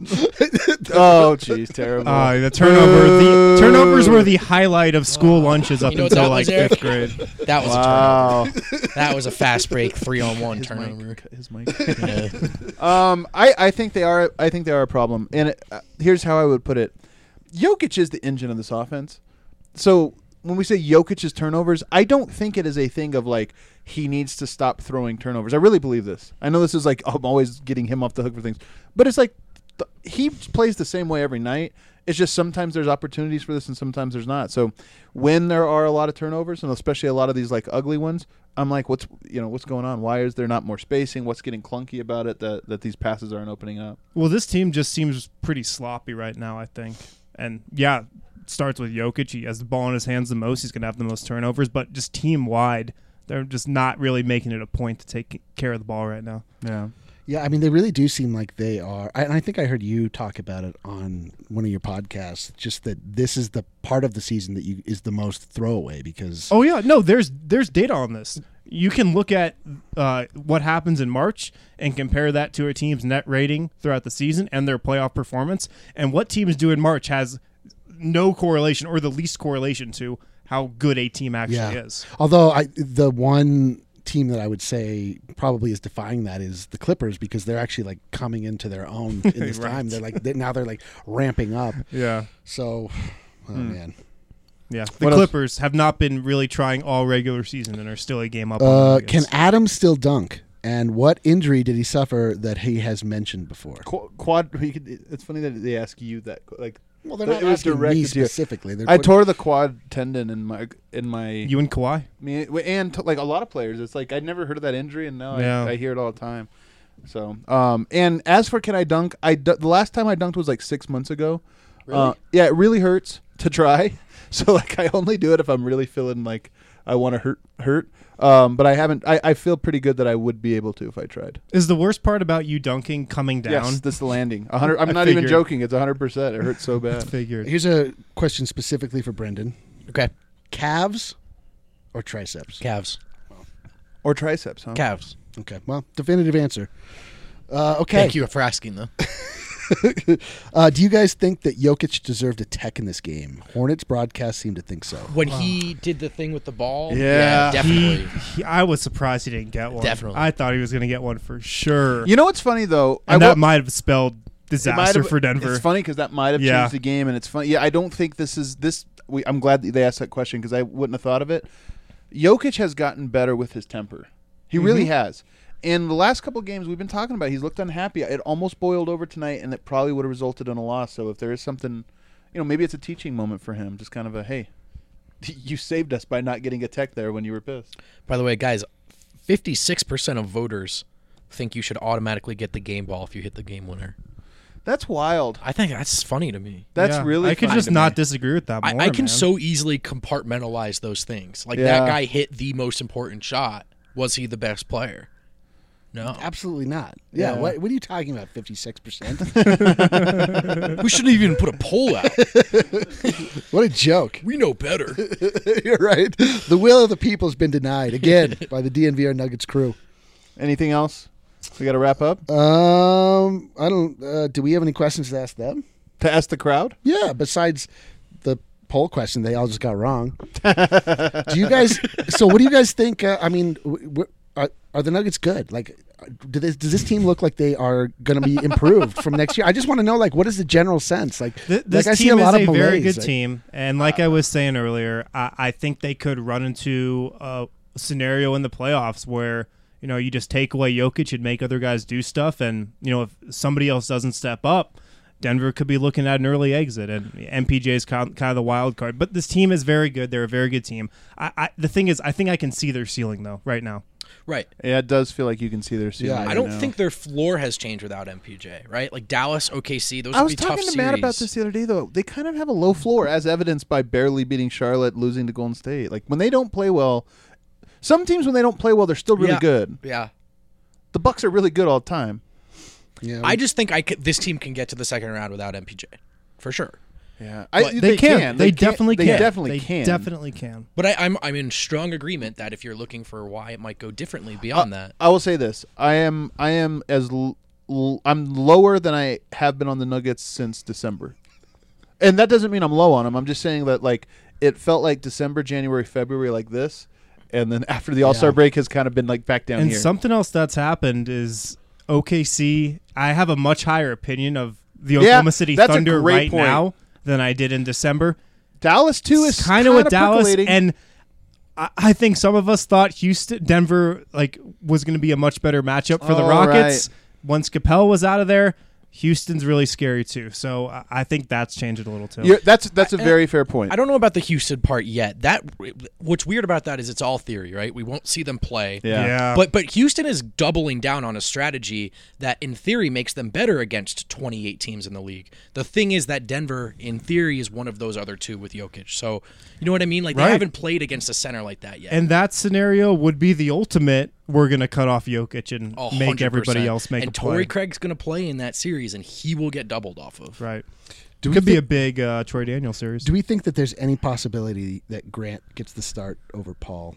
Speaker 1: Oh, jeez, terrible.
Speaker 2: Uh, the turnover, the turnovers were the highlight of school lunches up
Speaker 3: You know what
Speaker 2: until
Speaker 3: that
Speaker 2: like
Speaker 3: was, Eric?
Speaker 2: fifth grade.
Speaker 3: That was a
Speaker 1: wow.
Speaker 3: turnover. That was a fast break three on one
Speaker 1: His
Speaker 3: turnover.
Speaker 1: mic. His mic.
Speaker 3: Yeah.
Speaker 1: Um, I, I think they are. I think they are a problem. And it, uh, here's how I would put it: Jokic is the engine of this offense. So when we say Jokic's turnovers, I don't think it is a thing of like he needs to stop throwing turnovers. I really believe this. I know this is like I'm always getting him off the hook for things, but it's like th- he plays the same way every night. It's just sometimes there's opportunities for this and sometimes there's not. So when there are a lot of turnovers, and especially a lot of these like ugly ones, I'm like, what's you know what's going on? Why is there not more spacing? What's getting clunky about it that that these passes aren't opening up?
Speaker 2: Well, this team just seems pretty sloppy right now, I think. And yeah, it starts with Jokic. He has the ball in his hands the most. He's going to have the most turnovers. But just team wide, they're just not really making it a point to take care of the ball right now.
Speaker 1: Yeah.
Speaker 4: Yeah, I mean, they really do seem like they are. I, and I think I heard you talk about it on one of your podcasts. Just that this is the part of the season that you is the most throwaway because.
Speaker 2: Oh yeah, no, there's there's data on this. You can look at uh, what happens in March and compare that to a team's net rating throughout the season and their playoff performance. And what teams do in March has no correlation or the least correlation to how good a team actually
Speaker 4: yeah.
Speaker 2: is.
Speaker 4: Although I, the one team that I would say probably is defying that is the Clippers because they're actually like coming into their own in this
Speaker 2: Right.
Speaker 4: time. They're like they, now they're like ramping up.
Speaker 2: Yeah.
Speaker 4: So, oh
Speaker 1: Hmm.
Speaker 4: man.
Speaker 2: Yeah, the
Speaker 1: What else?
Speaker 2: Clippers have not been really trying all regular season and are still a game up. on
Speaker 4: Uh,
Speaker 2: the
Speaker 4: can
Speaker 2: Nuggets.
Speaker 4: Adams still dunk? And what injury did he suffer that he has mentioned before?
Speaker 1: Qu- Quad. We could, it's funny that they ask you that. Like,
Speaker 4: Well, they're
Speaker 1: But
Speaker 4: not
Speaker 1: it was
Speaker 4: asking me
Speaker 1: directed to you.
Speaker 4: specifically. They're
Speaker 1: I
Speaker 4: put-
Speaker 1: tore the quad tendon in my in my.
Speaker 2: you and Kawhi?
Speaker 1: me, and t- like a lot of players, it's like I'd never heard of that injury, and now
Speaker 2: Yeah.
Speaker 1: I, I hear it all the time. So, um, and as for can I dunk? I du- the last time I dunked was like six months ago.
Speaker 3: Really?
Speaker 1: Uh, yeah, it really hurts to try. So like I only do it if I'm really feeling like I want to hurt hurt. Um, but I haven't. I, I feel pretty good that I would be able to if I tried.
Speaker 2: Is the worst part about you dunking coming down?
Speaker 1: Yes, this landing. A hundred. I'm
Speaker 2: I
Speaker 1: not even
Speaker 2: figured.
Speaker 1: joking. It's a hundred percent. It hurts so bad.
Speaker 2: Figured.
Speaker 4: Here's a question specifically for Brendan:
Speaker 3: Okay,
Speaker 4: calves or triceps?
Speaker 3: Cavs.
Speaker 1: Or triceps, huh?
Speaker 3: Cavs.
Speaker 4: Okay, well, definitive answer. Uh, okay.
Speaker 3: Thank you for asking, though.
Speaker 4: Uh, do you guys think that Jokic deserved a tech in this game? Hornets broadcast seem to think so.
Speaker 3: When he did the thing with the ball,
Speaker 1: Yeah.
Speaker 2: He,
Speaker 3: definitely.
Speaker 2: he, I was surprised he didn't get one.
Speaker 3: Definitely.
Speaker 2: I thought he was going to get one for sure.
Speaker 1: You know what's funny though?
Speaker 2: and
Speaker 1: I
Speaker 2: that
Speaker 1: will-
Speaker 2: might have spelled
Speaker 1: it might
Speaker 2: disaster
Speaker 1: have-
Speaker 2: for Denver.
Speaker 1: It's funny because that might have
Speaker 2: Yeah.
Speaker 1: changed the game, and it's funny. Yeah, I don't think this is this. We, I'm glad that they asked that question because I wouldn't have thought of it. Jokic has gotten better with his temper. He really has. And the last couple of games we've been talking about, he's looked unhappy. It almost boiled over tonight, and it probably would have resulted in a loss. So if there is something, you know, maybe it's a teaching moment for him. Just kind of a, hey, you saved us by not getting a tech there when you were pissed.
Speaker 3: By the way, guys, fifty-six percent of voters think you should automatically get the game ball if you hit the game winner.
Speaker 1: That's wild.
Speaker 3: I think that's funny to me.
Speaker 1: That's
Speaker 2: Yeah,
Speaker 1: really
Speaker 2: I could
Speaker 1: funny
Speaker 2: just
Speaker 1: to
Speaker 2: not
Speaker 1: me.
Speaker 2: disagree with that
Speaker 3: I,
Speaker 2: more.
Speaker 3: I can
Speaker 2: man.
Speaker 3: so easily compartmentalize those things. Like
Speaker 1: Yeah.
Speaker 3: that guy hit the most important shot. Was he the best player? No.
Speaker 4: Absolutely not. Yeah.
Speaker 1: Yeah.
Speaker 4: What, what are you talking about? Fifty-six percent.
Speaker 3: We shouldn't even put a poll out.
Speaker 4: What a joke.
Speaker 3: We know better.
Speaker 4: You're right. The will of the people has been denied again by the D N V R Nuggets crew.
Speaker 1: Anything else? We got to wrap up
Speaker 4: Um, I don't. Uh, do we have any questions to ask them?
Speaker 1: to ask the crowd.
Speaker 4: Yeah. Besides the poll question, they all just got wrong. Do you guys? So, what do you guys think? Uh, I mean, w- w- are, are the Nuggets good? Like, do this, does this team look like they are going to be improved from next year? I just want to know, like, what is the general sense? Like,
Speaker 2: Th- this
Speaker 4: like I see
Speaker 2: team
Speaker 4: a lot
Speaker 2: is
Speaker 4: of
Speaker 2: a very
Speaker 4: malaise.
Speaker 2: good
Speaker 4: Like,
Speaker 2: team, and like I was saying earlier, I, I think they could run into a scenario in the playoffs where you know you just take away Jokic and make other guys do stuff, and you know if somebody else doesn't step up, Denver could be looking at an early exit, and M P J is kind of the wild card. But this team is very good. They're a very good team. I, I, the thing is, I think I can see their ceiling, though, right now.
Speaker 3: Right.
Speaker 1: Yeah, it does feel like you can see their ceiling.
Speaker 4: Yeah,
Speaker 1: right
Speaker 3: I don't
Speaker 1: now.
Speaker 3: think their floor has changed without M P J, right? Like Dallas, O K C, those
Speaker 1: I
Speaker 3: would
Speaker 1: was
Speaker 3: be tough
Speaker 1: talking to
Speaker 3: series.
Speaker 1: Matt about this the other day, though. They kind of have a low floor, as evidenced by barely beating Charlotte, losing to Golden State. Like, when they don't play well, some teams, when they don't play well, they're still really
Speaker 3: Yeah.
Speaker 1: good.
Speaker 3: Yeah.
Speaker 1: The Bucks are really good all the time.
Speaker 4: Yeah,
Speaker 3: I just think I could, this team can get to the second round without M P J, for sure.
Speaker 1: Yeah,
Speaker 2: But they, can. They,
Speaker 1: can.
Speaker 2: definitely
Speaker 1: They
Speaker 2: can.
Speaker 1: definitely
Speaker 2: they
Speaker 1: can.
Speaker 2: definitely can.
Speaker 3: But I, I'm I'm in strong agreement that if you're looking for why it might go differently beyond that,
Speaker 1: I will say this: I am, I am as, l- l- I'm lower than I have been on the Nuggets since December, and that doesn't mean I'm low on them. I'm just saying that like it felt like December, January, February, like this, and then after the All Star
Speaker 4: Yeah.
Speaker 1: break has kind of been like back down
Speaker 2: And
Speaker 1: here.
Speaker 2: something else that's happened is O K C. I have a much higher opinion of the
Speaker 1: Yeah,
Speaker 2: Oklahoma City
Speaker 1: that's a
Speaker 2: Thunder
Speaker 1: great
Speaker 2: right
Speaker 1: point.
Speaker 2: now than I did in December.
Speaker 1: Dallas too is
Speaker 2: kind of with Dallas,
Speaker 1: percolating.
Speaker 2: and I, I think some of us thought Houston, Denver, like was going to be a much better matchup for the
Speaker 1: Oh,
Speaker 2: Rockets.
Speaker 1: right.
Speaker 2: Once Capel was out of there, Houston's really scary too. So I, I think that's changed it a little too.
Speaker 1: You're, that's that's a
Speaker 3: I-
Speaker 1: very fair point.
Speaker 3: I don't know about the Houston part yet. That what's weird about that is it's all theory, right? We won't see them play.
Speaker 1: Yeah.
Speaker 2: yeah.
Speaker 3: But but Houston is doubling down on a strategy that in theory makes them better against twenty-eight teams in the league. The thing is that Denver in theory is one of those other two with Jokic. So you know what I mean? Like
Speaker 2: Right.
Speaker 3: they haven't played against a center like that yet.
Speaker 2: and that scenario would be the ultimate. We're going to cut off Jokic and
Speaker 3: A
Speaker 2: make
Speaker 3: hundred
Speaker 2: everybody
Speaker 3: percent.
Speaker 2: else make
Speaker 3: and
Speaker 2: a play.
Speaker 3: Torrey Craig's going to play in that series, and he will get doubled off of.
Speaker 2: Right.
Speaker 4: Do we
Speaker 2: Could be
Speaker 4: thi-
Speaker 2: a big uh, Troy Daniel series.
Speaker 4: Do we think that there's any possibility that Grant gets the start over Paul?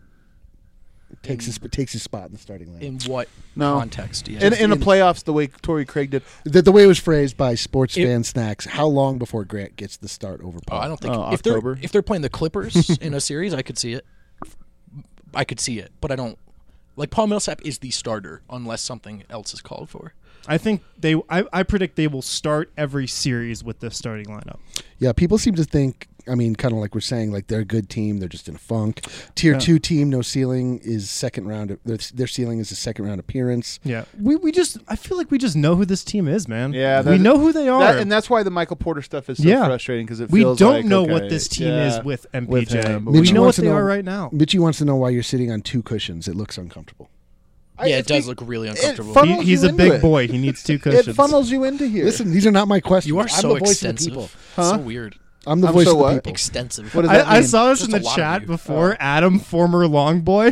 Speaker 4: Takes his takes his spot in the starting line.
Speaker 3: In what
Speaker 1: No.
Speaker 3: context? Yeah.
Speaker 1: in, in the
Speaker 4: in-
Speaker 1: playoffs, the way Torrey Craig did.
Speaker 4: The, the way it was phrased by Sports
Speaker 3: It-
Speaker 4: Fan Snacks, how long before Grant gets the start over
Speaker 3: Oh,
Speaker 4: Paul?
Speaker 3: I don't think
Speaker 1: Oh,
Speaker 3: if they're
Speaker 1: October?
Speaker 3: if they're playing the Clippers in a series, I could see it. I could see it, but I don't. Like Paul Millsap is the starter unless something else is called for.
Speaker 2: I think they. I, I predict they will start every series with this starting lineup.
Speaker 4: Yeah, people seem to think, I mean, kind of like we're saying, like they're a good team, they're just in a funk. Tier
Speaker 1: Yeah.
Speaker 4: two team, no ceiling, is second round. Their, their ceiling is a second round appearance.
Speaker 2: Yeah, we we just. I feel like we just know who this team is, man.
Speaker 1: Yeah,
Speaker 2: we
Speaker 1: that-
Speaker 2: know who they are.
Speaker 1: That, and that's why the Michael Porter stuff is so
Speaker 2: Yeah.
Speaker 1: frustrating because it
Speaker 2: we
Speaker 1: feels
Speaker 2: don't
Speaker 1: like,
Speaker 2: know
Speaker 1: okay,
Speaker 2: what this team
Speaker 1: yeah,
Speaker 2: is with M P J.
Speaker 1: with him, but
Speaker 2: we
Speaker 4: Mitchie
Speaker 2: know what
Speaker 4: wants to
Speaker 2: they
Speaker 4: know-
Speaker 2: are right now.
Speaker 4: Mitchie wants to know why you're sitting on two cushions. It looks uncomfortable.
Speaker 1: I-
Speaker 3: yeah, it
Speaker 1: it's
Speaker 3: does
Speaker 1: be-
Speaker 3: look really
Speaker 1: it
Speaker 3: uncomfortable.
Speaker 1: fun-
Speaker 2: He,
Speaker 1: funnels
Speaker 2: he's
Speaker 1: you
Speaker 2: a
Speaker 1: into
Speaker 2: big
Speaker 1: it.
Speaker 2: boy. He needs two cushions.
Speaker 1: It funnels you into here.
Speaker 4: Listen, these are not my questions.
Speaker 3: you are
Speaker 4: I'm
Speaker 3: so
Speaker 4: the voice
Speaker 3: extensive.
Speaker 4: of the people.
Speaker 1: Huh?
Speaker 3: So weird.
Speaker 4: I'm the
Speaker 1: I'm
Speaker 4: voice
Speaker 1: so
Speaker 4: of the
Speaker 1: what?
Speaker 4: people.
Speaker 3: Extensive.
Speaker 1: What does that
Speaker 2: I, I
Speaker 1: mean?
Speaker 2: saw this
Speaker 3: Just
Speaker 2: in
Speaker 3: a
Speaker 2: the
Speaker 3: lot of
Speaker 2: chat
Speaker 3: you.
Speaker 2: before. Adam, former long boy.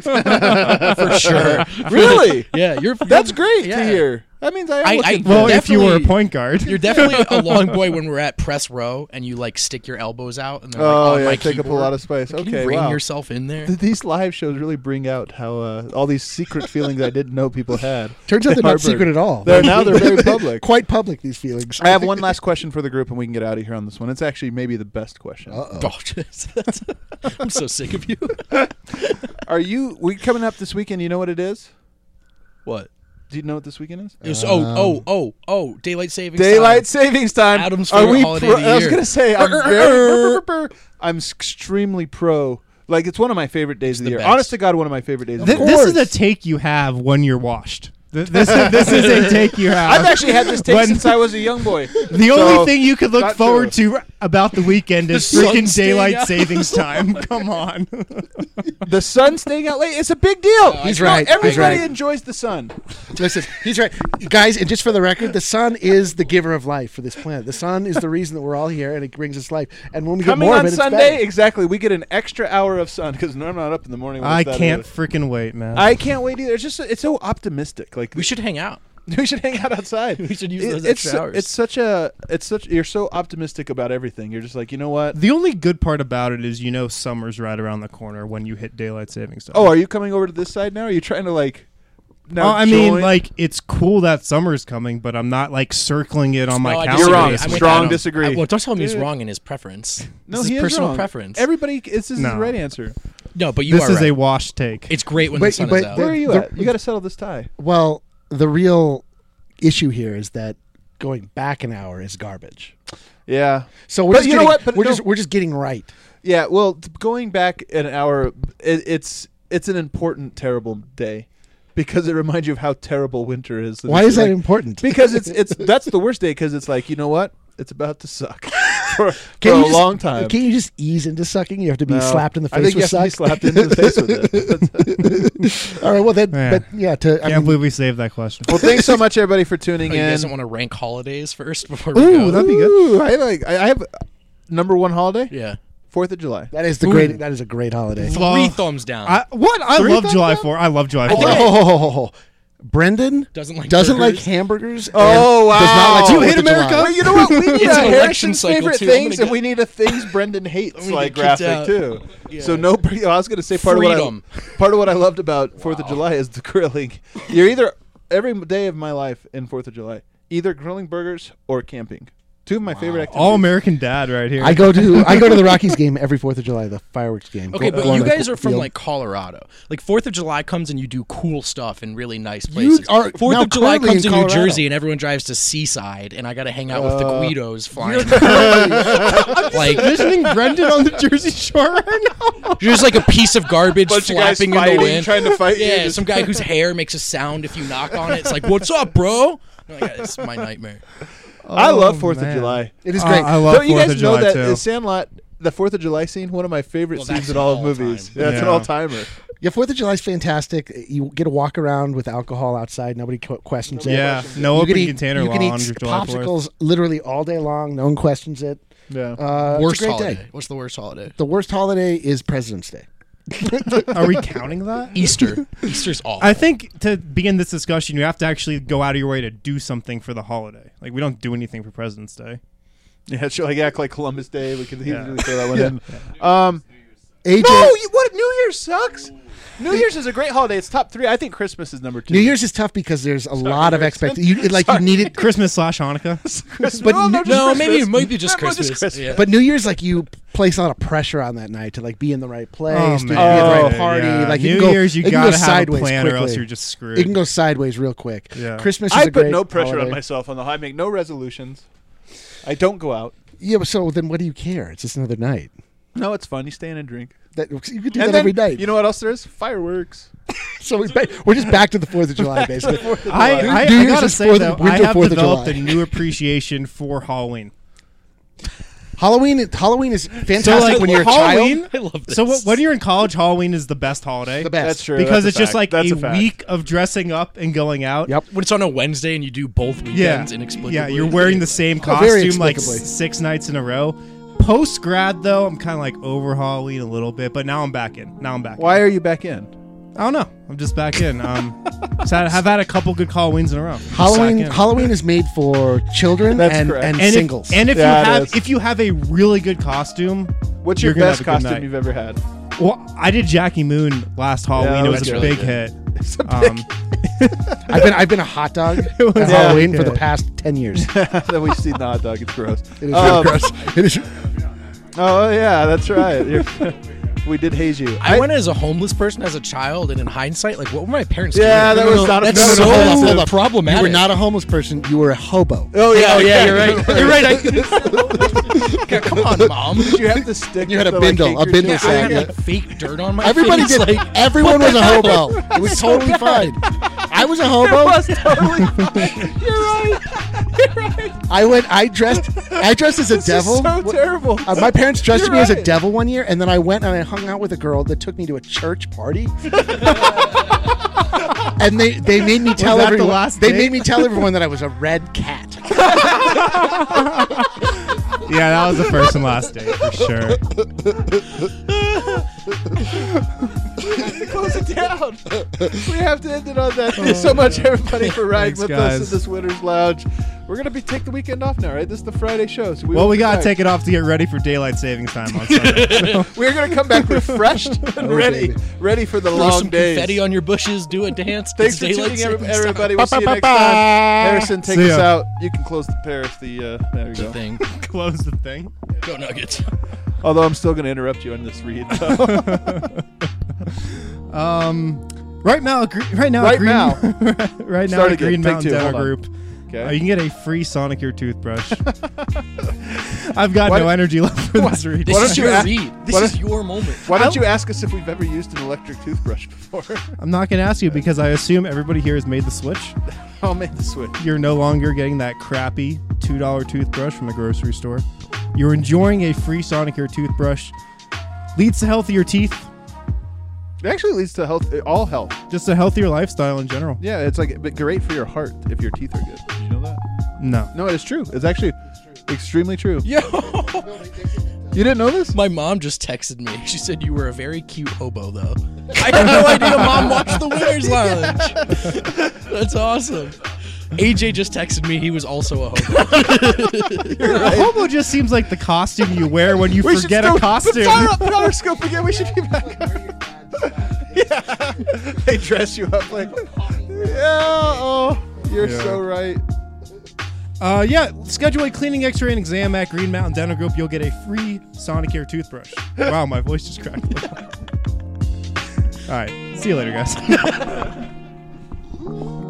Speaker 3: for sure.
Speaker 1: Really?
Speaker 3: Yeah, you're.
Speaker 1: That's great
Speaker 3: Yeah.
Speaker 1: to hear. That means I am
Speaker 3: I-
Speaker 1: looking
Speaker 3: I-
Speaker 1: for
Speaker 2: Well,
Speaker 1: it.
Speaker 2: if you were a
Speaker 3: Definitely-
Speaker 2: point guard,
Speaker 3: You're definitely a long boy when we're at press row and you like stick your elbows out and they're like
Speaker 1: Oh
Speaker 3: on
Speaker 1: yeah,
Speaker 3: my
Speaker 1: take up a
Speaker 3: keyboard.
Speaker 1: lot of space.
Speaker 3: Can
Speaker 1: Okay,
Speaker 3: you rein
Speaker 1: wow.
Speaker 3: yourself in there?
Speaker 1: Th- These live shows really bring out how uh, all these secret feelings I didn't know people had.
Speaker 4: Turns out they're not
Speaker 1: Harvard.
Speaker 4: secret at all.
Speaker 1: They're now they're very public.
Speaker 4: Quite public, these feelings.
Speaker 1: I have one last question for the group, and we can get out of here on this one. It's actually maybe the best question.
Speaker 4: Uh-oh.
Speaker 3: Oh, jeez. That's- I'm so sick of you.
Speaker 1: Are you? We coming up this weekend? You know what it is?
Speaker 3: What?
Speaker 1: Do you know what this weekend is?
Speaker 3: It was- oh, oh, oh, oh, daylight savings.
Speaker 1: Daylight
Speaker 3: time.
Speaker 1: savings time.
Speaker 3: Adam's
Speaker 1: Are
Speaker 3: favorite
Speaker 1: we
Speaker 3: holiday
Speaker 1: pro-
Speaker 3: of the
Speaker 1: I was
Speaker 3: year.
Speaker 1: gonna say I'm very. I'm extremely pro. Like it's one of my favorite days of the,
Speaker 3: the
Speaker 1: year.
Speaker 3: best.
Speaker 1: Honest to God, one of my favorite days. of
Speaker 2: Th-
Speaker 1: the
Speaker 2: this
Speaker 1: year.
Speaker 2: is a take you have when you're washed. Th- This is, this is a take you have.
Speaker 1: I've actually had this take
Speaker 2: When-
Speaker 1: since I was a young boy.
Speaker 2: The
Speaker 1: So,
Speaker 2: only thing you could look
Speaker 1: not
Speaker 2: forward to about the weekend is
Speaker 3: The sun
Speaker 2: freaking
Speaker 3: staying
Speaker 2: daylight
Speaker 3: out.
Speaker 2: savings time. Come on.
Speaker 1: The sun staying out late. It's a big deal.
Speaker 4: He's
Speaker 1: You know,
Speaker 4: right, he's
Speaker 1: Everybody
Speaker 4: right.
Speaker 1: enjoys the sun.
Speaker 4: Listen, he's right. Guys, and just for the record, the sun is the giver of life for this planet. The sun is the reason that we're all here, and it brings us life. And when we
Speaker 1: Coming
Speaker 4: get more
Speaker 1: on
Speaker 4: of it,
Speaker 1: Sunday,
Speaker 4: it's better.
Speaker 1: exactly. We get an extra hour of sun because I'm not up in the morning. when
Speaker 2: I
Speaker 1: it's that
Speaker 2: can't
Speaker 1: early.
Speaker 2: freaking wait, man.
Speaker 1: I can't wait either. It's just it's so optimistic. Like
Speaker 3: We should hang out.
Speaker 1: we should hang out outside.
Speaker 3: We should use
Speaker 1: It-
Speaker 3: those
Speaker 1: it's
Speaker 3: extra
Speaker 1: su-
Speaker 3: hours.
Speaker 1: It's such a it's such you're so optimistic about everything. You're just like, you know what?
Speaker 2: the only good part about it is you know summer's right around the corner when you hit daylight savings time.
Speaker 1: Oh, are you coming over to this side now? Are you trying to like? Now
Speaker 2: Oh, I mean,
Speaker 1: join?
Speaker 2: like it's cool that summer's coming, but I'm not like circling it on my
Speaker 3: No, I
Speaker 2: calendar.
Speaker 3: disagree.
Speaker 1: You're wrong.
Speaker 3: I'm with
Speaker 1: Strong
Speaker 3: Adam.
Speaker 1: disagree.
Speaker 3: I- well, don't tell him he's
Speaker 1: Dude.
Speaker 3: wrong in his preference.
Speaker 1: no,
Speaker 3: this
Speaker 1: he
Speaker 3: is
Speaker 1: is
Speaker 3: personal
Speaker 1: wrong.
Speaker 3: preference.
Speaker 1: Everybody, this is
Speaker 2: No.
Speaker 1: the right answer.
Speaker 3: no, but you
Speaker 2: This
Speaker 3: are
Speaker 2: is
Speaker 3: right.
Speaker 2: a wash take.
Speaker 3: It's great when
Speaker 4: But-
Speaker 3: the sun
Speaker 4: but
Speaker 3: is out.
Speaker 1: Where are you
Speaker 4: The-
Speaker 1: at? You got to settle this tie.
Speaker 4: Well, the real issue here is that going back an hour is garbage.
Speaker 1: Yeah,
Speaker 4: So we're
Speaker 1: But
Speaker 4: just
Speaker 1: you know
Speaker 4: getting,
Speaker 1: what? But
Speaker 4: we're
Speaker 1: no-
Speaker 4: just we're just getting right.
Speaker 1: yeah. Well, t- going back an hour, it, it's it's an important, terrible day. because it reminds you of how terrible winter is. And
Speaker 4: Why
Speaker 1: it's
Speaker 4: is that
Speaker 1: like-
Speaker 4: important?
Speaker 1: Because it's it's that's the worst day because it's like, you know what? It's about to suck for, for
Speaker 4: Can
Speaker 1: a
Speaker 4: you just-
Speaker 1: long time.
Speaker 4: Can't you just ease into sucking? You have to be
Speaker 1: No.
Speaker 4: slapped in the face
Speaker 1: I think
Speaker 4: with
Speaker 1: you have
Speaker 4: suck.
Speaker 1: to be slapped into the face with it.
Speaker 4: All right. Well, then,
Speaker 2: Yeah.
Speaker 4: but yeah. To I
Speaker 2: Can't
Speaker 4: mean,
Speaker 2: believe we saved that question.
Speaker 1: Well, thanks so much, everybody, for tuning
Speaker 3: Oh, you guys
Speaker 1: in.
Speaker 3: don't want to rank holidays first before we
Speaker 2: Ooh,
Speaker 3: go?
Speaker 2: that'd be good.
Speaker 1: Ooh, I like. I I have number one holiday.
Speaker 3: Yeah.
Speaker 1: Fourth of July.
Speaker 4: that is the
Speaker 2: Ooh.
Speaker 4: great. That is a great holiday.
Speaker 2: Well,
Speaker 3: Three thumbs down.
Speaker 2: I, what? I
Speaker 1: Three
Speaker 2: love
Speaker 1: thumbs
Speaker 2: July
Speaker 1: down?
Speaker 2: fourth. I love July
Speaker 3: I think
Speaker 2: fourth.
Speaker 3: I-
Speaker 4: Oh, ho, ho, ho, ho. Brendan
Speaker 3: Doesn't like
Speaker 4: doesn't like
Speaker 3: burgers.
Speaker 4: hamburgers. and
Speaker 1: Oh, wow.
Speaker 4: Does not like
Speaker 1: You
Speaker 4: Fourth
Speaker 1: hate
Speaker 4: of July.
Speaker 2: America?
Speaker 1: Well, you know what? We need
Speaker 3: It's
Speaker 1: a
Speaker 3: an election
Speaker 1: Harrison's
Speaker 3: cycle,
Speaker 1: favorite
Speaker 3: too. I'm
Speaker 1: things,
Speaker 3: gonna
Speaker 1: and we need a things Brendan hates
Speaker 3: I'm gonna
Speaker 1: like
Speaker 3: get kicked
Speaker 1: graphic
Speaker 3: out.
Speaker 1: too.
Speaker 3: Yeah.
Speaker 1: So no, pre- I was going to say part
Speaker 3: Freedom.
Speaker 1: of what I, part of what I loved about Fourth of July is the grilling. You're either every day of my life in Fourth of July, either grilling burgers or camping. Two of my favorite activities.
Speaker 2: All American dad right here.
Speaker 4: I go to I go to the Rockies game every Fourth of July, the fireworks game.
Speaker 3: Okay,
Speaker 4: Go-
Speaker 3: but
Speaker 4: go on
Speaker 3: you
Speaker 4: the
Speaker 3: guys are from
Speaker 4: field.
Speaker 3: like Colorado. Like Fourth of July comes and you do cool stuff in really nice
Speaker 4: You
Speaker 3: places.
Speaker 4: are
Speaker 3: Fourth
Speaker 4: now
Speaker 3: of July
Speaker 4: currently
Speaker 3: comes
Speaker 4: in
Speaker 3: to New
Speaker 4: Colorado.
Speaker 3: Jersey and everyone drives to Seaside, and I got to hang out with the
Speaker 1: Uh,
Speaker 3: Guidos flying.
Speaker 2: like
Speaker 3: like
Speaker 2: visiting Brendan on the Jersey Shore right now.
Speaker 3: you're just like a piece of garbage
Speaker 1: Bunch of guys
Speaker 3: flapping in
Speaker 1: fighting,
Speaker 3: the wind,
Speaker 1: trying to fight you,
Speaker 3: Yeah,
Speaker 1: just-
Speaker 3: some guy whose hair makes a sound if you knock on it. It's like, "What's up, bro?" I'm like, it's my nightmare.
Speaker 1: I love
Speaker 2: Oh,
Speaker 1: Fourth of
Speaker 2: man.
Speaker 1: July.
Speaker 4: It is
Speaker 2: Uh,
Speaker 4: great.
Speaker 2: I love
Speaker 1: Don't you
Speaker 2: Fourth
Speaker 1: guys
Speaker 2: of
Speaker 1: know
Speaker 2: July
Speaker 1: that
Speaker 2: too.
Speaker 1: the Sandlot, the Fourth of July scene, one of my favorite
Speaker 3: Well,
Speaker 1: scenes
Speaker 3: that's
Speaker 1: in all of
Speaker 3: all
Speaker 1: movies.
Speaker 3: time.
Speaker 1: Yeah, it's an
Speaker 2: Yeah.
Speaker 1: all timer.
Speaker 4: Yeah, Fourth of July is fantastic. You get to walk around with alcohol outside. Nobody co- questions it.
Speaker 2: Yeah, no
Speaker 4: you
Speaker 2: open
Speaker 4: can eat,
Speaker 2: container
Speaker 4: you
Speaker 2: law
Speaker 4: can eat
Speaker 2: on July fourth.
Speaker 4: popsicles literally all day long. No one questions it.
Speaker 1: Yeah.
Speaker 4: Uh,
Speaker 3: worst
Speaker 4: it's a great
Speaker 3: holiday.
Speaker 4: day.
Speaker 3: What's the worst holiday?
Speaker 4: The worst holiday is President's Day.
Speaker 2: Are we counting that?
Speaker 3: Easter. Easter's awful.
Speaker 2: I think to begin this discussion, you have to actually go out of your way to do something for the holiday. Like we don't do anything for President's Day.
Speaker 1: Yeah, sure. Like act like Columbus Day. We could
Speaker 2: Yeah.
Speaker 1: easily throw that one in. Um,
Speaker 4: A J,
Speaker 1: no, you, what? New Year's sucks. New Year's is a great holiday. It's top three. I think Christmas is number two.
Speaker 4: New Year's is tough because there's a lot of
Speaker 1: Harrison.
Speaker 4: expectations. You, like you needed,
Speaker 2: Christmas slash Hanukkah.
Speaker 1: Christmas.
Speaker 4: But
Speaker 1: no,
Speaker 4: New-
Speaker 1: just
Speaker 3: no,
Speaker 1: Christmas.
Speaker 3: maybe it might be just
Speaker 1: No,
Speaker 3: Christmas. Yeah.
Speaker 4: but New Year's like you place a lot of pressure on that night to like be in the right place,
Speaker 2: Oh,
Speaker 4: to
Speaker 2: man.
Speaker 4: be at the
Speaker 1: Oh,
Speaker 4: right party.
Speaker 2: Yeah.
Speaker 4: Like
Speaker 2: New
Speaker 4: you can go,
Speaker 2: Year's, you
Speaker 4: it can
Speaker 2: gotta
Speaker 4: go
Speaker 2: have
Speaker 4: sideways
Speaker 2: a plan,
Speaker 4: quickly.
Speaker 2: or else you're just screwed.
Speaker 4: It can go sideways real quick.
Speaker 2: Yeah.
Speaker 4: Christmas is
Speaker 1: I
Speaker 4: a
Speaker 1: put
Speaker 4: great
Speaker 1: no pressure
Speaker 4: holiday.
Speaker 1: on myself on the. I make no resolutions. I don't go out.
Speaker 4: Yeah, but so then what do you care? It's just another night.
Speaker 1: No, it's fun. You stay in and drink.
Speaker 4: That you could do
Speaker 1: and
Speaker 4: that
Speaker 1: then,
Speaker 4: every night.
Speaker 1: You know what else there is? Fireworks.
Speaker 4: so we ba- we're just back to the Fourth of July, basically.
Speaker 2: I,
Speaker 4: New-
Speaker 2: I,
Speaker 4: New
Speaker 2: I
Speaker 4: Year's
Speaker 2: gotta
Speaker 4: is
Speaker 2: say
Speaker 4: fourth-
Speaker 2: though, I
Speaker 4: winter
Speaker 2: have
Speaker 4: Fourth of
Speaker 2: developed a
Speaker 4: July.
Speaker 2: new appreciation for Halloween.
Speaker 4: Halloween, Halloween is fantastic
Speaker 2: So like
Speaker 4: when you're a
Speaker 2: Halloween,
Speaker 4: child.
Speaker 3: I love this.
Speaker 2: so wh- when you're in college, Halloween is the best holiday
Speaker 4: The best.
Speaker 1: That's true.
Speaker 2: because
Speaker 1: That's
Speaker 2: it's
Speaker 1: a
Speaker 2: just
Speaker 1: fact.
Speaker 2: like
Speaker 1: That's
Speaker 2: a,
Speaker 1: a fact.
Speaker 2: week of dressing up and going out.
Speaker 4: Yep.
Speaker 3: when it's on a Wednesday and you do both
Speaker 2: Yeah,
Speaker 3: weekends inexplicably.
Speaker 2: yeah, you're wearing the same
Speaker 4: Oh, very
Speaker 2: costume like
Speaker 4: explicably.
Speaker 2: s- six nights in a row. Post grad though, I'm kind of like over Halloween a little bit, but now I'm back in. Now I'm back.
Speaker 1: Why are you back in?
Speaker 2: In. I don't know. I'm just back in. Um, so I have had a couple good Halloweens in a row. Just
Speaker 4: Halloween,
Speaker 2: back in.
Speaker 4: Halloween is made for children
Speaker 1: That's
Speaker 4: and,
Speaker 1: correct.
Speaker 4: and,
Speaker 2: and
Speaker 4: singles.
Speaker 2: If, and if
Speaker 1: Yeah, it
Speaker 2: you have
Speaker 1: is.
Speaker 2: if you have a really good costume,
Speaker 1: What's
Speaker 2: You're
Speaker 1: your
Speaker 2: gonna
Speaker 1: best
Speaker 2: have a good
Speaker 1: costume
Speaker 2: night.
Speaker 1: you've ever had?
Speaker 2: well, I did Jackie Moon last Halloween.
Speaker 1: that
Speaker 2: it
Speaker 1: was
Speaker 2: was a
Speaker 3: good.
Speaker 2: big
Speaker 3: Really
Speaker 2: hit.
Speaker 1: It's a
Speaker 2: Um,
Speaker 4: I've been I've been a hot dog
Speaker 2: was
Speaker 4: at
Speaker 2: a
Speaker 4: Halloween
Speaker 2: big
Speaker 4: for the
Speaker 2: hit.
Speaker 4: past ten years.
Speaker 1: then we see the hot dog. It's gross.
Speaker 4: It is
Speaker 1: Um,
Speaker 4: really gross. It is.
Speaker 1: Oh yeah, that's right. You're, we did haze you.
Speaker 3: I, went as a homeless person as a child, and in hindsight, like, what were my parents
Speaker 1: Yeah,
Speaker 3: doing?
Speaker 1: that was not-
Speaker 3: That's
Speaker 1: no, no,
Speaker 3: so
Speaker 1: hold on,
Speaker 4: hold up.
Speaker 3: problematic.
Speaker 4: You were not a homeless person. You were a hobo.
Speaker 1: Oh yeah,
Speaker 3: Oh yeah, you're right.
Speaker 1: you're
Speaker 3: You're right. I, Yeah, come on, mom.
Speaker 1: Did you have to stick?
Speaker 4: You had a
Speaker 1: the, like,
Speaker 4: bindle, a
Speaker 1: handkerchief?
Speaker 4: bindle
Speaker 3: I
Speaker 4: sack.
Speaker 3: had
Speaker 4: Yeah.
Speaker 3: like fake dirt on my
Speaker 4: Everybody
Speaker 3: face.
Speaker 4: did.
Speaker 3: Like,
Speaker 4: Everyone was a hobo. It was totally fine. I was a hobo.
Speaker 1: It was totally fine. You're right. You're right.
Speaker 4: I went. I dressed. I dressed as a
Speaker 1: This
Speaker 4: devil.
Speaker 1: is so terrible.
Speaker 4: Uh, my parents dressed
Speaker 1: You're
Speaker 4: me as a
Speaker 1: right.
Speaker 4: devil one year, and then I went and I hung out with a girl that took me to a church party. And they, they made me tell
Speaker 2: that the
Speaker 4: everyone.
Speaker 2: last
Speaker 4: they
Speaker 2: date?
Speaker 4: made me tell everyone that I was a red cat.
Speaker 2: Yeah, that was the first and last date for sure.
Speaker 1: Close it down. We have to end it on that. Thanks so much, everybody, for riding
Speaker 2: Thanks,
Speaker 1: with
Speaker 2: guys.
Speaker 1: us in this winter's lounge. We're gonna be take the weekend off now, right? This is the Friday show. So we
Speaker 2: Well,
Speaker 1: won't
Speaker 2: we
Speaker 1: be
Speaker 2: gotta
Speaker 1: back.
Speaker 2: take it off to get ready for daylight savings time on Sunday.
Speaker 1: We're gonna come back refreshed and
Speaker 4: Oh,
Speaker 1: ready,
Speaker 4: baby.
Speaker 1: ready for the
Speaker 3: throw
Speaker 1: long
Speaker 3: some
Speaker 1: days.
Speaker 3: confetti on your bushes, do a dance.
Speaker 1: Thanks
Speaker 3: it's
Speaker 1: for
Speaker 3: daylight
Speaker 1: tuning in,
Speaker 3: savings time.
Speaker 1: everybody. We'll see you next time. Harrison, take
Speaker 2: See
Speaker 1: us
Speaker 2: ya.
Speaker 1: out. You can close the Paris. The uh, there you
Speaker 3: The
Speaker 1: go.
Speaker 3: thing.
Speaker 2: Close the thing.
Speaker 3: Go Nuggets.
Speaker 1: Although I'm still gonna interrupt you on this read.
Speaker 2: Um, right now, gre- right now,
Speaker 1: Right
Speaker 2: Green,
Speaker 1: now.
Speaker 2: right now,
Speaker 1: Start
Speaker 2: at
Speaker 1: again.
Speaker 2: Green
Speaker 1: Take
Speaker 2: Mountain
Speaker 1: two.
Speaker 2: Dental
Speaker 1: Hold on.
Speaker 2: Group.
Speaker 1: Okay.
Speaker 2: Uh, you can get a free Sonicare toothbrush. I've got
Speaker 1: Why-
Speaker 2: no energy left for this read.
Speaker 3: This
Speaker 1: Why
Speaker 3: is
Speaker 1: don't you
Speaker 3: your
Speaker 1: ask-
Speaker 3: read. This
Speaker 1: why
Speaker 3: is
Speaker 1: don't-
Speaker 3: your moment.
Speaker 1: Why don't you ask us if we've ever used an electric toothbrush before?
Speaker 2: I'm not going to ask you because I assume everybody here has made the switch.
Speaker 1: I'll make the switch.
Speaker 2: You're no longer getting that crappy two dollar toothbrush from the grocery store. You're enjoying a free Sonicare toothbrush. Leads to healthier teeth,
Speaker 1: It actually leads to health, all health.
Speaker 2: just a healthier lifestyle in general.
Speaker 1: Yeah, it's like but great for your heart if your teeth are good. Did you know that?
Speaker 2: No.
Speaker 1: No, it's true. It's actually extremely true.
Speaker 3: Yo,
Speaker 1: You didn't know this?
Speaker 3: my mom just texted me. She said you were a very cute hobo, though. I had no idea Mom watched the Winners Lounge. That's awesome. A J just texted me. He was also a hobo.
Speaker 2: A hobo just seems like the costume you wear when you
Speaker 1: We should
Speaker 2: forget
Speaker 1: still-
Speaker 2: a costume.
Speaker 1: Fire up Periscope again. We should be back. Yeah, they dress you up like. Yeah. Oh, you're
Speaker 2: Yeah.
Speaker 1: so right.
Speaker 2: Uh, yeah, schedule a cleaning, x-ray, and exam at Green Mountain Dental Group. You'll get a free Sonicare toothbrush. Wow, my voice just cracked. All right, see you later, guys.